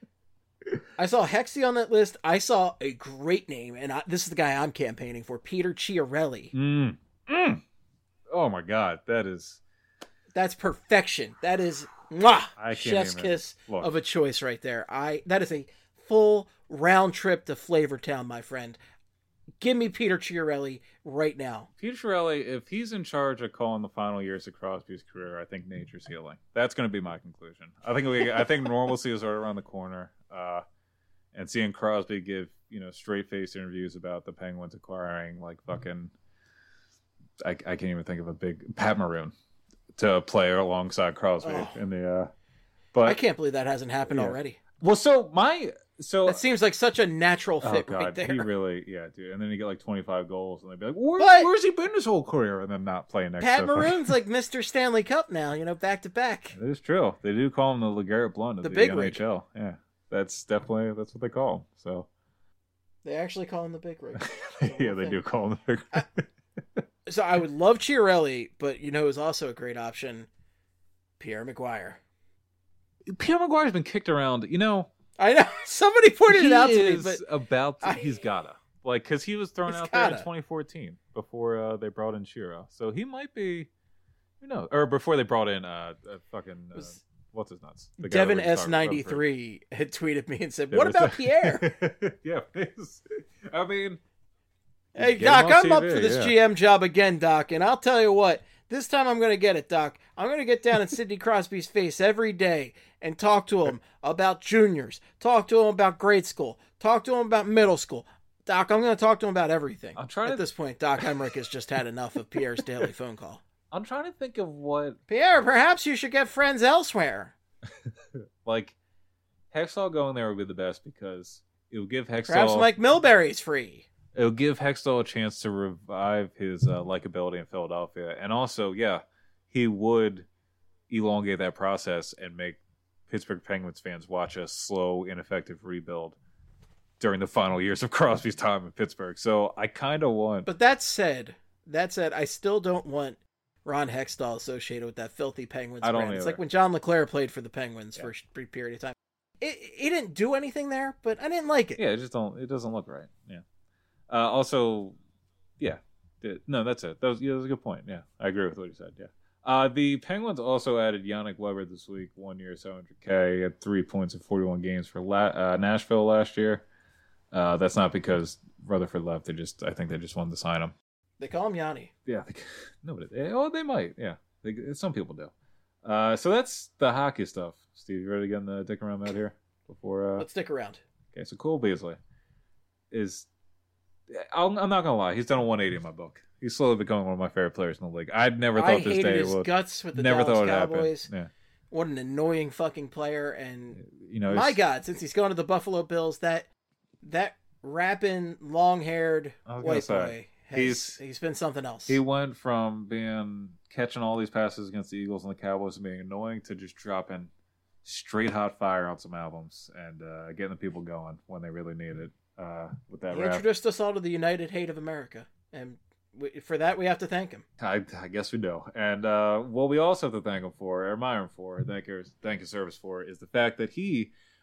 I saw Hexy on that list. I saw a great name, and this is the guy I'm campaigning for, Peter Chiarelli.
Oh my God,
That's perfection. That is mwah,
I can't
chef's
even
kiss
look.
of a choice right there. That is a full round trip to Flavortown, my friend. Give me Peter Chiarelli right now.
Peter Chiarelli, if he's in charge of calling the final years of Crosby's career, I think nature's healing. That's going to be my conclusion. I think normalcy is right around the corner. And seeing Crosby give straight-faced interviews about the Penguins acquiring like fucking, I can't even think of a big Pat Maroon to play alongside Crosby in the. But
I can't believe that hasn't happened already.
Well,
That seems like such a natural fit right there.
He really, dude. And then you get like 25 goals, and they'd be like, "Where's he been his whole career?" And then not playing next.
Pat
to
Maroon's like Mr. Stanley Cup now, back to back.
It is true. They do call him the LeGarrette Blount of the
big
NHL.
rig.
Yeah, that's what they call him. So
They actually call him the big rig.
yeah, they do call him the big rig.
So I would love Chiarelli, but who's also a great option? Pierre McGuire.
Pierre McGuire's been kicked around.
I know. Somebody pointed it out to me, but
he's gotta. Like, because he was thrown out there in 2014 before they brought in Shiro. So he might be, or before they brought in what's his nuts? The guy
Devin
that we started
S93 had tweeted me and said, "What about Pierre?"
Yeah, I mean,
hey
get
Doc,
him on
I'm up
TV,
for this
yeah.
GM job again, Doc, and I'll tell you what. This time I'm going to get it, Doc. I'm going to get down in Sidney Crosby's face every day and talk to him about juniors, talk to him about grade school, talk to him about middle school. Doc, I'm going to talk to him about everything. At this point, Doc Emmerich has just had enough of Pierre's daily phone call.
I'm trying to think of what...
Pierre, perhaps you should get friends elsewhere.
Like, Hextall going there would be the best because it would give Hextall...
Perhaps Mike Milbury's free.
It'll give Hextall a chance to revive his likability in Philadelphia. And also, he would elongate that process and make Pittsburgh Penguins fans watch a slow, ineffective rebuild during the final years of Crosby's time in Pittsburgh. So I kind of want...
But that said, I still don't want Ron Hextall associated with that filthy Penguins brand. It's like when John LeClaire played for the Penguins for a brief period of time. It didn't do anything there, but I didn't like it.
Yeah, it doesn't look right. Yeah. Also, no, that's it. That was a good point. Yeah, I agree with what you said. Yeah. The Penguins also added Yannick Weber this week, 1 year, $700K, had 3 points in 41 games for Nashville last year. That's not because Rutherford left. I think they just wanted to sign him.
They call him Yanni.
Yeah. They might. Yeah. Some people do. So that's the hockey stuff. Steve, you ready to get in the dick around that here?
Let's stick around.
Okay, so Cole Beasley is... I'm not gonna lie, he's done a 180 in my book. He's slowly becoming one of my favorite players in the league. I'd never thought this day
his
would.
Guts with the
never
Dallas
thought it
Cowboys.
happened. Yeah.
What an annoying fucking player! And
my
God, since he's going to the Buffalo Bills, that rapping, long-haired white boy, he's been something else.
He went from catching all these passes against the Eagles and the Cowboys and being annoying to just dropping straight hot fire on some albums and getting the people going when they really need it. With that
he
rap.
introduced us all to the United Hate of America, and for that we have to thank him.
I guess we do. And what we also have to thank him for, or admire him for, thank his service for, is the fact that he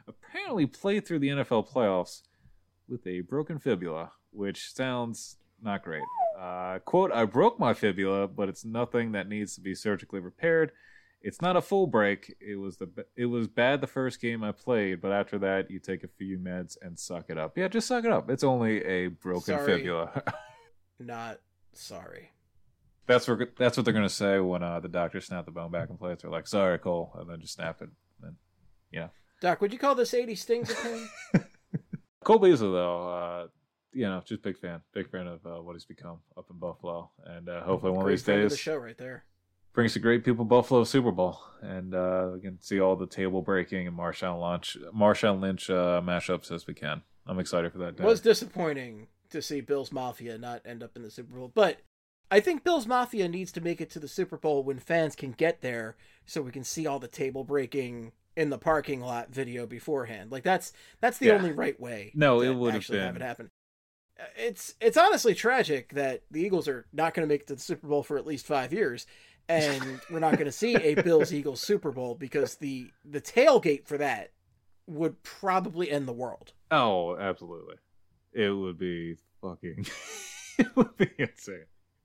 apparently played through the NFL playoffs with a broken fibula, which sounds not great. Quote, I broke my fibula, but it's nothing that needs to be surgically repaired. It's not a full break. It was bad the first game I played, but after that, you take a few meds and suck it up. Yeah, just suck it up. It's only a broken fibula.
Not sorry.
That's what they're gonna say when the doctor snapped the bone back in place. They're like, "Sorry, Cole," and then just snap it. And
Doc, would you call this 80 stings of pain?
Cole Beasley, though, just big fan of what he's become up in Buffalo, and hopefully one of these days,
the show right there,
brings the great people Buffalo Super Bowl, and we can see all the table breaking and Marshawn Lynch mashups as we can. I'm excited for that day.
It was disappointing to see Bills Mafia not end up in the Super Bowl, but I think Bills Mafia needs to make it to the Super Bowl when fans can get there, so we can see all the table breaking in the parking lot video beforehand. Like that's the only right way.
No,
to
it would
actually
have
have it happen. It's honestly tragic that the Eagles are not going to make it to the Super Bowl for at least 5 years, and we're not going to see a Bills-Eagles Super Bowl because the tailgate for that would probably end the world.
Oh, absolutely. It would be fucking... it would be insane.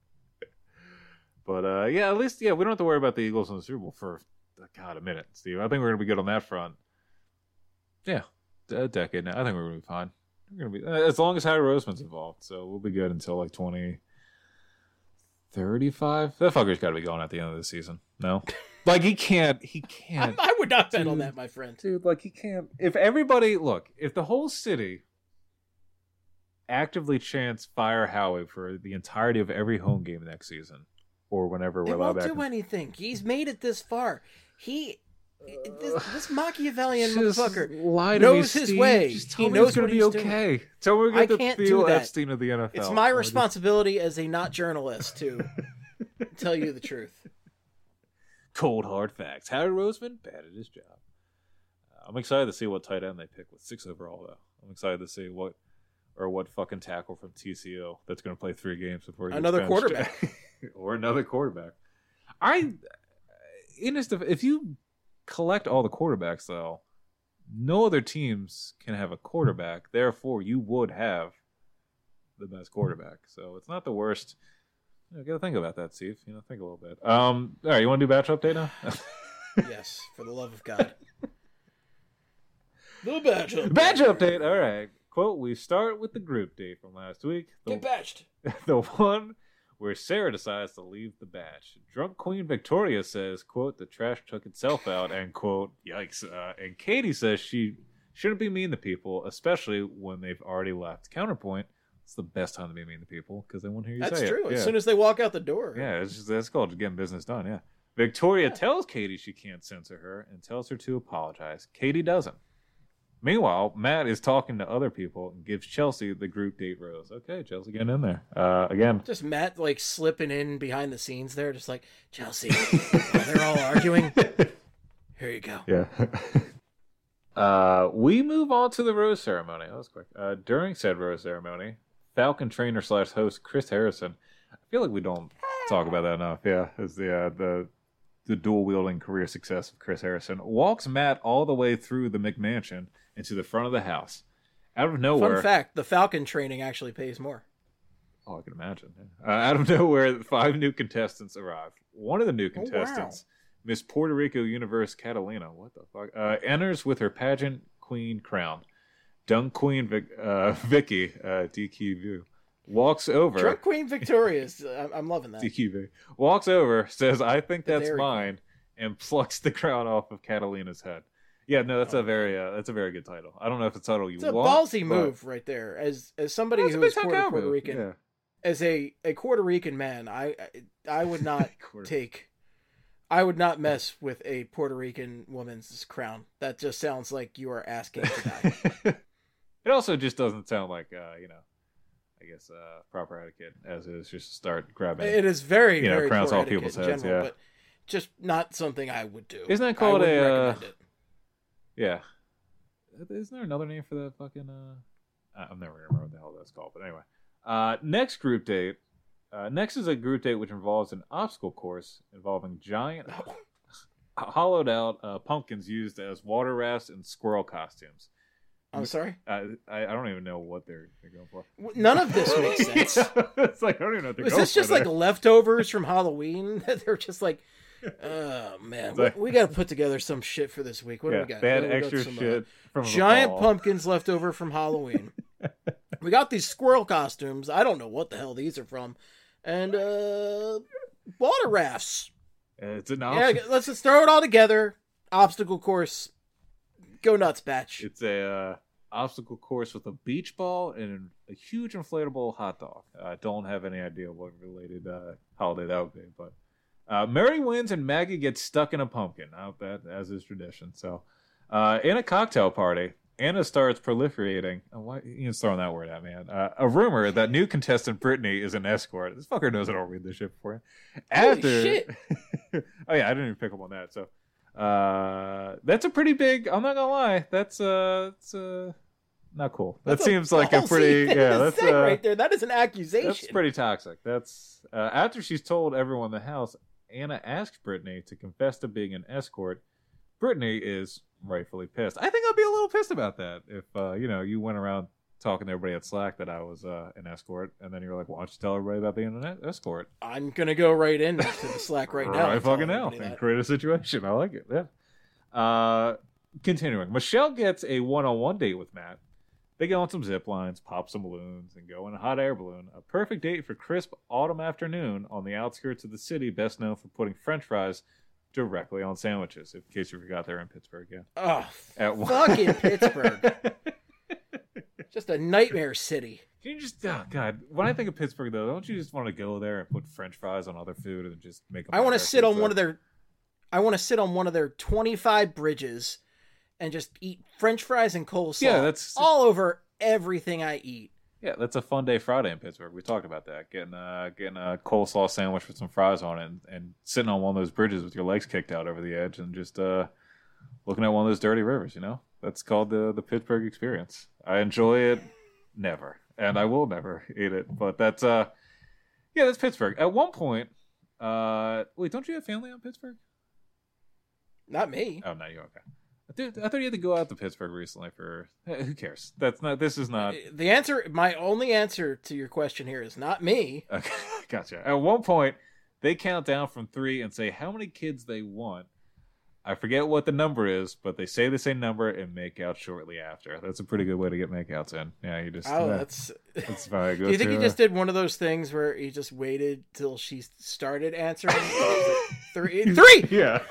But, at least, we don't have to worry about the Eagles in the Super Bowl for, a minute, Steve. I think we're going to be good on that front. Yeah, a decade now. I think we're going to be fine. We're going to be, as long as Howie Roseman's involved, so we'll be good until, 2035. That fucker's got to be going at the end of the season. No? He can't.
I would not bet on that, my friend.
Dude, he can't. If the whole city actively chants fire Howie for the entirety of every home game next season, or whenever we're allowed back.
He won't do anything. He's made it this far. This Machiavellian motherfucker knows his way. He knows what he's doing.
Tell me we're going to Theo Epstein of the NFL.
It's my responsibility as a not journalist to tell you the truth.
Cold hard facts. Howie Roseman, bad at his job. I'm excited to see what tight end they pick with 6 overall, though. I'm excited to see what fucking tackle from TCU that's going to play 3 games before he
another quarterback.
Or another quarterback. If you collect all the quarterbacks, though, no other teams can have a quarterback. Therefore, you would have the best quarterback. So it's not the worst. You got to think about that, Steve. Think a little bit. All right, you want to do batch update now?
Yes, for the love of God. The batch update.
Batch update. All right. Quote, we start with the group date from last week.
Get batched.
The one where Sarah decides to leave the batch. Drunk Queen Victoria says, quote, the trash took itself out, end quote, yikes. And Katie says she shouldn't be mean to people, especially when they've already left. Counterpoint, it's the best time to be mean to people because they won't hear you say it.
That's true.
Yeah.
As soon as they walk out the door.
Yeah, that's called getting business done, yeah. Victoria tells Katie she can't censor her and tells her to apologize. Katie doesn't. Meanwhile, Matt is talking to other people and gives Chelsea the group date rose. Okay, Chelsea getting in there. Again.
Just Matt slipping in behind the scenes there, just like, Chelsea, while they're all arguing. Here you go.
Yeah. We move on to the rose ceremony. That was quick. During said rose ceremony, Falcon trainer / host Chris Harrison, I feel like we don't talk about that enough. Yeah, as the dual wielding career success of Chris Harrison walks Matt all the way through the McMansion into the front of the house. Out of nowhere.
Fun fact: the Falcon training actually pays more.
Oh, I can imagine. Out of nowhere, 5 new contestants arrive. One of the new contestants, Miss Puerto Rico Universe Catalina, what the fuck, enters with her pageant queen crown. Dunk Queen Vicky, DQV, walks over.
Drunk Queen Victoria's. I'm loving that.
DQV walks over, says, "I think that's mine," and plucks the crown off of Catalina's head. Yeah, no, that's a very good title. I don't know if it's a title you want.
It's a ballsy move right there. As somebody who is Puerto Rican, yeah. As a Puerto Rican man, I would not I would not mess with a Puerto Rican woman's crown. That just sounds like you are asking to die.
It also just doesn't sound like I guess proper etiquette, as is just start grabbing.
It is very very
crowns
off
people's heads,
general, but just not something I would do.
Isn't that called
recommend it.
Yeah. Isn't there another name for that fucking I'm never gonna remember what the hell that's called, but anyway. Next group date. Next is a group date which involves an obstacle course involving giant hollowed out pumpkins used as water rafts and squirrel costumes.
I'm sorry?
I don't even know what they're going for.
None of this makes sense.
It's like, I don't even know what they're
Is
going
this just
for
like
there.
leftovers from Halloween? They're just like, oh, man.
like-
we got to put together some shit for this week. What do we got?
bad
We got
extra
some,
shit from the
giant
fall.
pumpkins left over from Halloween. We got these squirrel costumes. I don't know what the hell these are from. And water rafts.
It's an
Yeah,
option.
let's just throw it all together. Obstacle course. Go nuts, batch.
It's a obstacle course with a beach ball and a huge inflatable hot dog. I don't have any idea what related holiday that would be, but Mary wins and Maggie gets stuck in a pumpkin. That as is tradition. So, in a cocktail party, Anna starts proliferating. Why Ian's throwing that word at me? A rumor that new contestant Brittany is an escort. This fucker knows I don't read this shit before you.
Holy shit.
Oh yeah, I didn't even pick up on that. So. That's a pretty big. I'm not gonna lie. That's it's not cool. That seems like a pretty. Yeah, that's
right there. That is an accusation.
That's pretty toxic. That's after she's told everyone in the house. Anna asks Brittany to confess to being an escort. Brittany is rightfully pissed. I think I'd be a little pissed about that if you went around talking to everybody at Slack that I was an escort, and then you're like, "Why don't you tell everybody about being an escort?"
I'm gonna go right into the Slack right now.
Right
and tell
fucking now.
everybody
And
that.
create a situation. I like it. Yeah. Continuing. Michelle gets a one-on-one date with Matt. They go on some zip lines, pop some balloons, and go in a hot air balloon. A perfect date for crisp autumn afternoon on the outskirts of the city, best known for putting French fries directly on sandwiches. In case you forgot, they're in Pittsburgh. Yeah.
Oh,
At one-
fucking Pittsburgh. Just a nightmare city.
Can you just, oh God, when I think of Pittsburgh though, don't you just want to go there and put French fries on other food and just make them?
I want to sit on one of their 25 bridges and just eat French fries and coleslaw.
Yeah, that's
all over everything I eat.
Yeah, that's a fun day Friday in Pittsburgh. We talked about that. Getting a coleslaw sandwich with some fries on it and sitting on one of those bridges with your legs kicked out over the edge and just looking at one of those dirty rivers, That's called the Pittsburgh experience. I enjoy it never. And I will never eat it. But that's that's Pittsburgh. At one point, wait, don't you have family out in Pittsburgh?
Not me.
Oh, no, you're okay. Dude, I thought you had to go out to Pittsburgh recently for who cares? This is not
My only answer to your question here is not me.
Okay, gotcha. At one point, they count down from 3 and say how many kids they want. I forget what the number is, but they say the same number and make out shortly after. That's a pretty good way to get makeouts in. Yeah, you just. That's very good.
Do you think he just did one of those things where he just waited till she started answering? Three.
Yeah.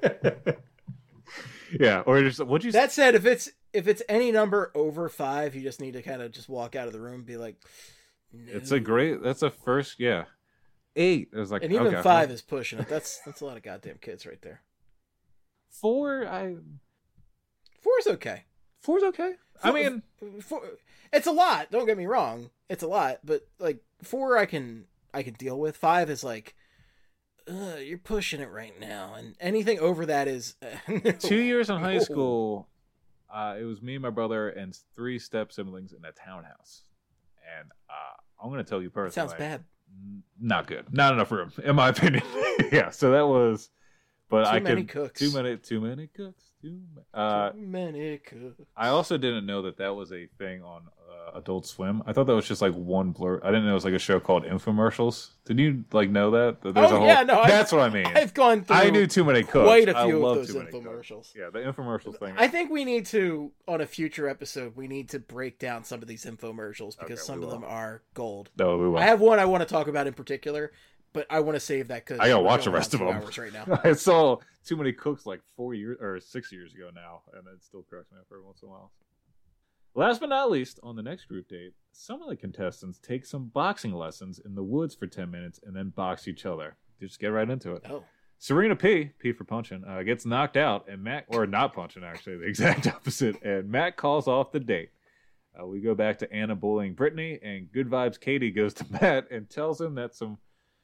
Yeah, or just what'd you?
That said, if it's any number over 5, you just need to kind of just walk out of the room and be like, no.
It's a great. That's a first. Yeah, 8. It was like,
and even
okay,
5 is pushing it. That's a lot of goddamn kids right there.
4.
4's okay.
4's okay. I mean,
4, it's a lot. Don't get me wrong. It's a lot, but like 4, I can deal with. 5 is like, you're pushing it right now, and anything over that is. No.
2 years in high school, it was me, my brother, and 3 step siblings in a townhouse, and I'm going to tell you personally,
Sounds bad.
Not good. Not enough room, in my opinion. Yeah, so that was. But
Too many cooks.
Too many cooks.
Too many cooks.
I also didn't know that was a thing on Adult Swim. I thought that was just like one blur. I didn't know it was like a show called Infomercials. Did you know that? There's that's what I mean.
I've gone through.
I knew Too Many Cooks.
Quite a few
of
those infomercials.
Yeah, the infomercials thing.
I think we need to, on a future episode, we need to break down some of these infomercials because some of them are gold.
No, we will.
I have one I want to talk about in particular, but I want to save that because
I gotta watch the rest of them.
Right now.
I saw Too Many Cooks like 4 years or 6 years ago now, and it still cracks me up every once in a while. Last but not least, on the next group date, some of the contestants take some boxing lessons in the woods for 10 minutes and then box each other. Just get right into it.
Oh.
Serena P for punching, gets knocked out, and Matt, or not punching actually, the exact opposite, and Matt calls off the date. We go back to Anna bullying Brittany, and Good Vibes Katie goes to Matt and tells him that some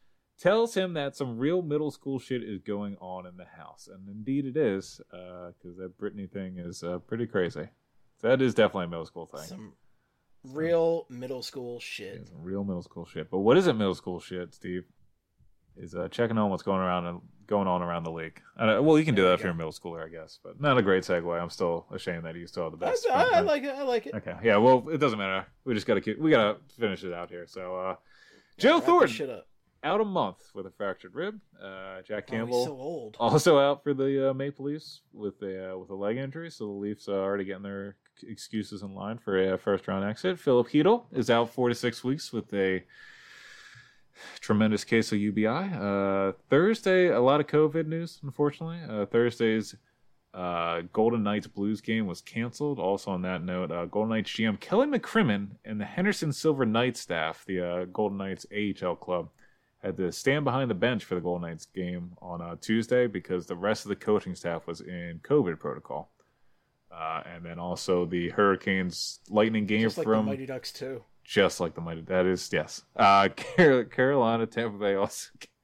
real middle school shit is going on in the house. And indeed it is, because that Brittany thing is pretty crazy. That is definitely a middle school thing.
Some real middle school shit.
Yeah, some real middle school shit. But what isn't middle school shit, Steve? is checking on what's going on around the league. Well, you can do that if you're a middle schooler, I guess, but not a great segue. I'm still ashamed that you still have the best.
I like it. I like it.
Okay, yeah. Well, it doesn't matter. We just gotta finish it out here. So, Joe Thornton out a month with a fractured rib. Jack Campbell,
he's so old.
Also out for the Maple Leafs with a leg injury. So the Leafs are already getting their excuses in line for a first round exit. Philip Hedl is out 4 to 6 weeks with a tremendous case of UBI. Thursday, a lot of COVID news, unfortunately. Thursday's Golden Knights Blues game was canceled. Also on that note, Golden Knights GM Kelly McCrimmon and the Henderson Silver Knights staff, the Golden Knights AHL club, had to stand behind the bench for the Golden Knights game on Tuesday because the rest of the coaching staff was in COVID protocol. And then also the Hurricanes Lightning game
just like
from
the Mighty Ducks too.
Just like the Mighty. That is, yes. Carolina, Tampa Bay also.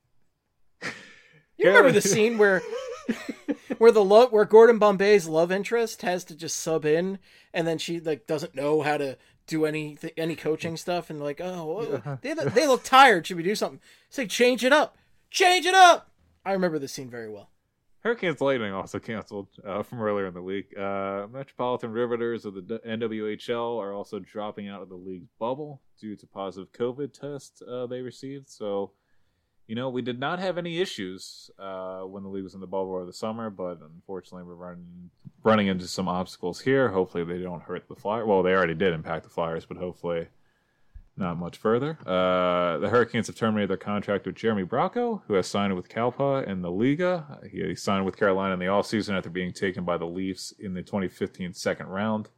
You remember the scene where Gordon Bombay's love interest has to just sub in, and then she doesn't know how to do any coaching stuff, and they look tired. Should we do something? Say change it up. I remember the scene very well.
Hurricanes Lightning also canceled from earlier in the week. Metropolitan Riveters of the NWHL are also dropping out of the league's bubble due to positive COVID tests they received. So, we did not have any issues when the league was in the bubble over the summer, but unfortunately we're running into some obstacles here. Hopefully they don't hurt the Flyers. Well, they already did impact the Flyers, but hopefully not much further. The Hurricanes have terminated their contract with Jeremy Bracco, who has signed with Kalpa in the Liga. He signed with Carolina in the offseason after being taken by the Leafs in the 2015 second round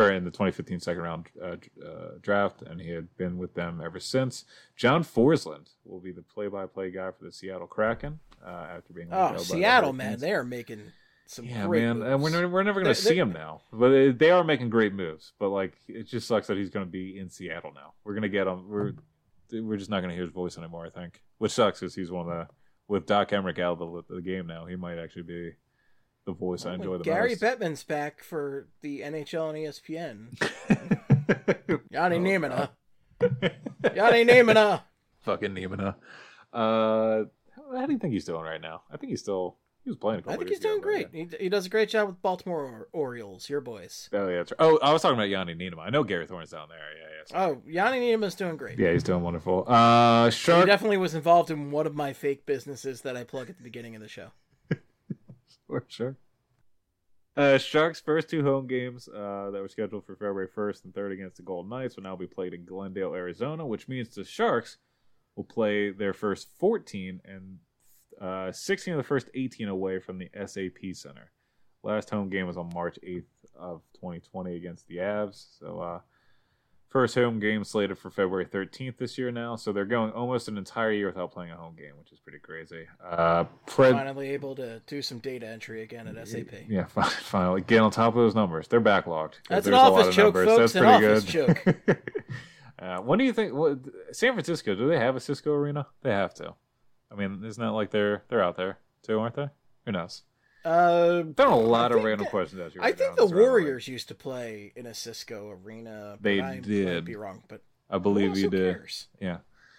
draft, and he had been with them ever since. John Forsland will be the play-by-play guy for the Seattle Kraken after being.
Seattle, man, they are making some great moves.
And we're never going to see him now. But they are making great moves. But it just sucks that he's going to be in Seattle now. We're going to get him. We're just not going to hear his voice anymore, I think. Which sucks because he's one of the, with Doc Emmerich out of the game now, he might actually be the voice I enjoy the
Gary
most.
Gary Bettman's back for the NHL and ESPN. Yanni Niemina. Yanni Niemina.
Fucking Niemina. How do you think he's doing right now? I think he was playing a couple
I think
years
he's doing
ago,
great.
Right?
He does a great job with Baltimore Orioles, your boys.
Oh, yeah, that's right. Oh, I was talking about Yanni Niemina. I know Gary Thorne's down there. Yeah.
Oh, Yanni Niemima's doing great.
Yeah, he's doing wonderful.
He definitely was involved in one of my fake businesses that I plug at the beginning of the show.
Sure. Sharks' first 2 home games that were scheduled for February 1st and 3rd against the Golden Knights will now be played in Glendale, Arizona, which means the Sharks will play their first 14 and 16 of the first 18 away from the SAP Center. Last home game was on March 8th of 2020 against the Avs. So first home game slated for February 13th this year now. So they're going almost an entire year without playing a home game, which is pretty crazy.
Finally able to do some data entry again at SAP.
Yeah, finally. Get on top of those numbers. They're backlogged.
That's an office joke, folks.
That's
an office joke.
When do you think... San Francisco, do they have a Cisco Arena? They have to. I mean, isn't that like they're out there too, aren't they? Who knows? Done a lot of random questions out here.
I think the Warriors used to play in a Cisco Arena.
They did.
I might be wrong, but
I believe you did.
Cares?
Yeah.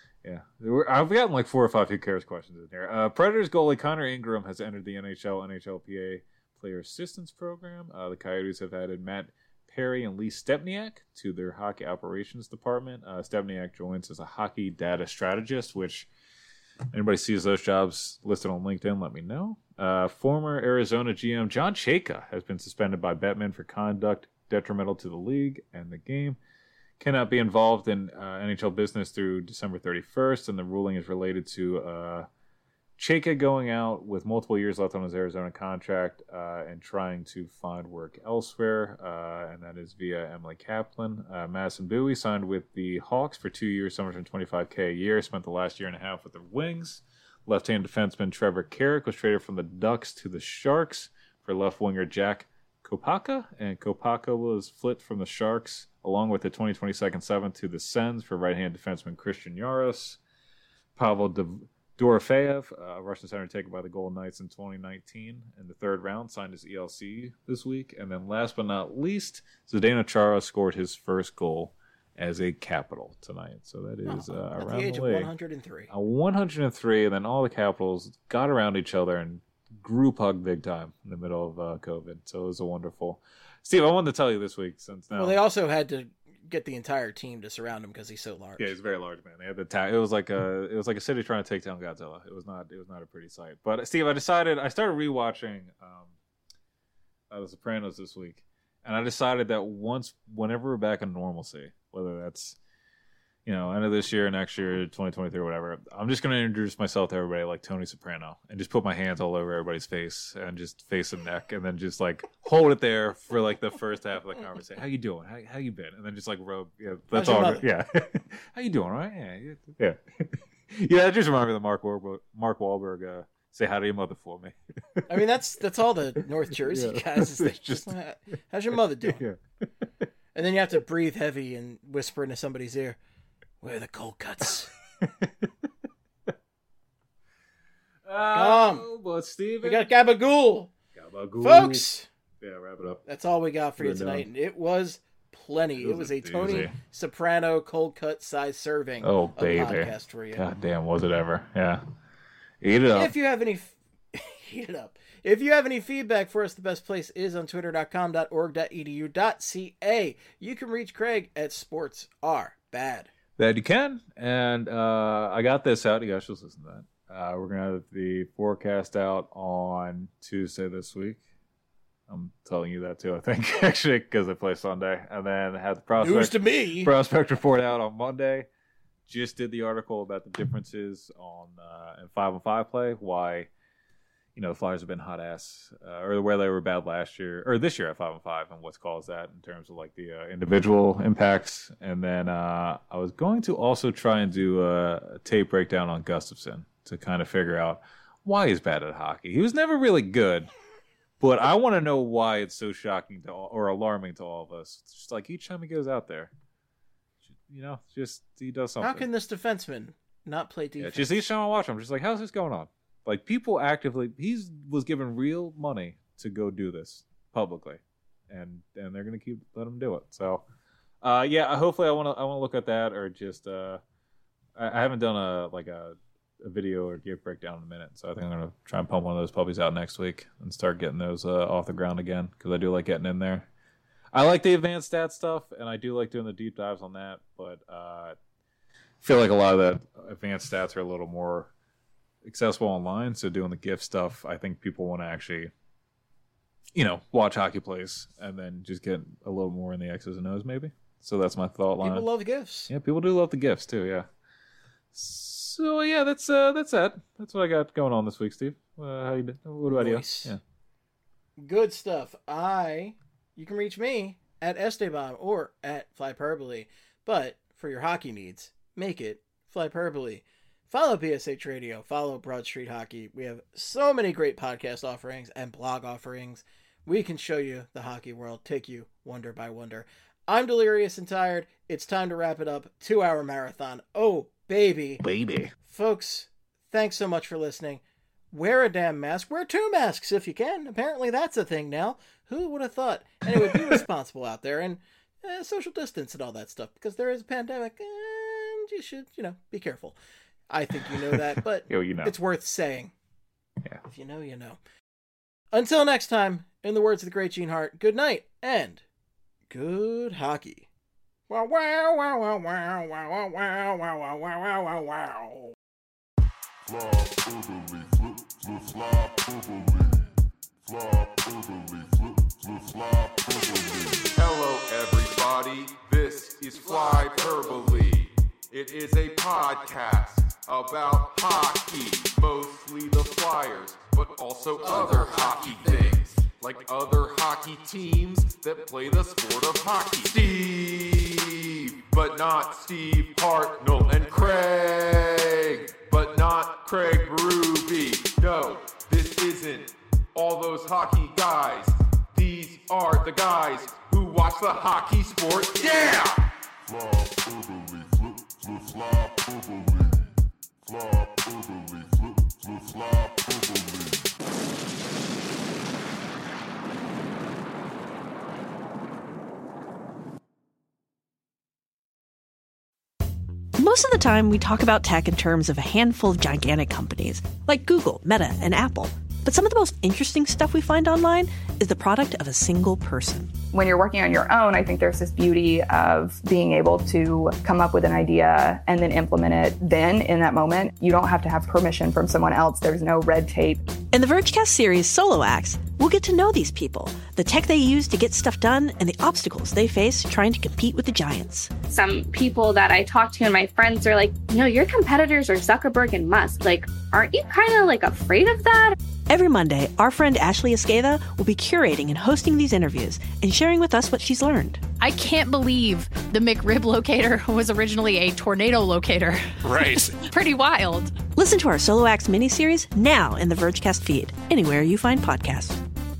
I've gotten like 4 or 5 who cares questions in here. Predators goalie Connor Ingram has entered the NHLPA Player Assistance Program. The Coyotes have added Matt Perry and Lee Stepniak to their hockey operations department. Stepniak joins as a hockey data strategist, which anybody sees those jobs listed on LinkedIn, let me know. Former Arizona GM John Chayka has been suspended by Bettman for conduct detrimental to the league and the game. Cannot be involved in NHL business through December 31st, and the ruling is related to Chayka going out with multiple years left on his Arizona contract and trying to find work elsewhere, and that is via Emily Kaplan. Madison Bowie signed with the Hawks for 2 years, $725K a year, spent the last year and a half with the Wings. Left-hand defenseman Trevor Carrick was traded from the Ducks to the Sharks for left winger Jack Kopaka, and Kopaka was flipped from the Sharks along with the 2020 second seventh to the Sens for right-hand defenseman Christian Yaros. Pavel Dorofeyev, Russian center taken by the Golden Knights in 2019 in the 3rd round, signed his ELC this week. And then last but not least, Zdeno Chara scored his first goal as a Capital tonight. So that is
at
around
the age
the
of
league.
103.
103, and then all the Capitals got around each other and group hug big time in the middle of COVID. So it was a wonderful. Steve, I wanted to tell you this week since now.
Well, they also had to get the entire team to surround him because he's so large.
Yeah, he's a very large man. They had the it was like a city trying to take down Godzilla. It was not a pretty sight. But Steve, I started rewatching The Sopranos this week, and I decided that whenever we're back in normalcy, whether that's end of this year, next year, 2023, or whatever, I'm just going to introduce myself to everybody like Tony Soprano and just put my hands all over everybody's face and just face and neck, and then just like hold it there for like the first half of the conversation. How you doing? How you been? And then just like rub. Yeah, that's all. Yeah. How you doing? All right. Yeah. Yeah. That just reminded me of the Mark Wahlberg. Say hi to your mother for me.
I mean, that's all the North Jersey guys. Is just how's your mother doing?
Yeah.
And then you have to breathe heavy and whisper into somebody's ear, "Where are the cold cuts?"
But Steven,
we got Gabagool, folks.
Yeah, wrap it up.
That's all we got for you tonight, and it was plenty. It was a Tony Soprano cold cut size serving.
Oh, baby,
podcast for you.
God damn, was it ever? Yeah, eat it up.
If you have any, eat it up. If you have any feedback for us, the best place is on twitter.com.org.edu.ca. You can reach Craig at sportsarbad.
That you can, and I got this out. You guys should listen to that. We're gonna have the forecast out on Tuesday this week. I'm telling you that too, I think, actually, because I play Sunday, and then have the
News to me.
prospect report out on Monday. Just did the article about the differences on in 5-on-5 play. Why, the Flyers have been hot ass, or where they were bad last year or this year at 5-on-5, and what's caused that in terms of like the individual impacts. And then I was going to also try and do a tape breakdown on Gustafsson to kind of figure out why he's bad at hockey. He was never really good, but I want to know why it's so shocking or alarming to all of us. It's just like each time he goes out there, just he does something.
How can this defenseman not play defense?
Yeah, just each time I watch him, I'm just like, how's this going on? Like, people actively, he was given real money to go do this publicly, and they're gonna keep letting him do it. So, hopefully I want to look at that, or just I haven't done a video or game breakdown in a minute, so I think I'm gonna try and pump one of those puppies out next week and start getting those off the ground again, because I do like getting in there. I like the advanced stat stuff, and I do like doing the deep dives on that, but I feel like a lot of the advanced stats are a little more accessible online. So doing the GIF stuff, I think people want to actually, watch hockey plays and then just get a little more in the X's and O's, maybe. So that's my thought line.
People love GIFs.
Yeah, people do love the GIFs too. Yeah. So yeah, that's it. That's what I got going on this week, Steve. How you doing? What about you? Yeah.
Good stuff. You can reach me at Esteban or at Flyperbole, but for your hockey needs, make it Flyperbole. Follow BSH Radio. Follow Broad Street Hockey. We have so many great podcast offerings and blog offerings. We can show you the hockey world, take you wonder by wonder. I'm delirious and tired. It's time to wrap it up. 2-hour marathon. Oh, baby.
Baby.
Folks, thanks so much for listening. Wear a damn mask. Wear 2 masks if you can. Apparently that's a thing now. Who would have thought? Anyway, be responsible out there and social distance and all that stuff, because there is a pandemic and you should, be careful. I think you know that, but it's worth saying.
Yeah.
If you know, you know. Until next time, in the words of the great Gene Hart, good night and good hockey. Wow, wow, wow, wow, wow, wow, wow, wow, wow, wow, wow, wow.
Hello everybody, this is Flyperbole. It is a podcast about hockey, mostly the Flyers, but also other hockey things, like other hockey teams that play the sport of hockey. Steve, but not Steve Hartnell, and Craig, but not Craig Berube. No, this isn't all those hockey guys. These are the guys who watch the hockey sport. Yeah! Flyperbole,
Most of the time, we talk about tech in terms of a handful of gigantic companies, like Google, Meta, and Apple. But some of the most interesting stuff we find online is the product of a single person.
When you're working on your own, I think there's this beauty of being able to come up with an idea and then implement it then in that moment. You don't have to have permission from someone else. There's no red tape.
In the Vergecast series Solo Acts, we'll get to know these people, the tech they use to get stuff done, and the obstacles they face trying to compete with the giants.
Some people that I talk to and my friends are like, your competitors are Zuckerberg and Musk. Like, aren't you kind of like afraid of that?
Every Monday, our friend Ashley Esqueda will be curating and hosting these interviews and sharing with us what she's learned.
I can't believe the McRib locator was originally a tornado locator.
Right.
Pretty wild.
Listen to our Solo Acts miniseries now in the Vergecast feed, anywhere you find podcasts.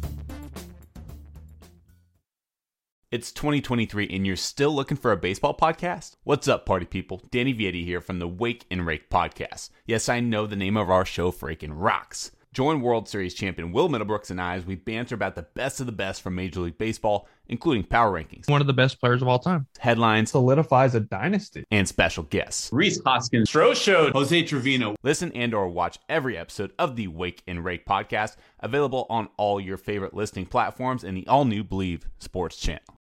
It's 2023 and you're still looking for a baseball podcast? What's up, party people? Danny Vietti here from the Wake and Rake podcast. Yes, I know the name of our show freaking rocks. Join World Series champion Will Middlebrooks and I as we banter about the best of the best from Major League Baseball, including power rankings,
one of the best players of all time,
headlines,
solidifies a dynasty,
and special guests.
Rhys Hoskins, Stroh Show, Jose Trevino.
Listen and or watch every episode of the Wake and Rake podcast, available on all your favorite listening platforms and the all-new Believe Sports channel.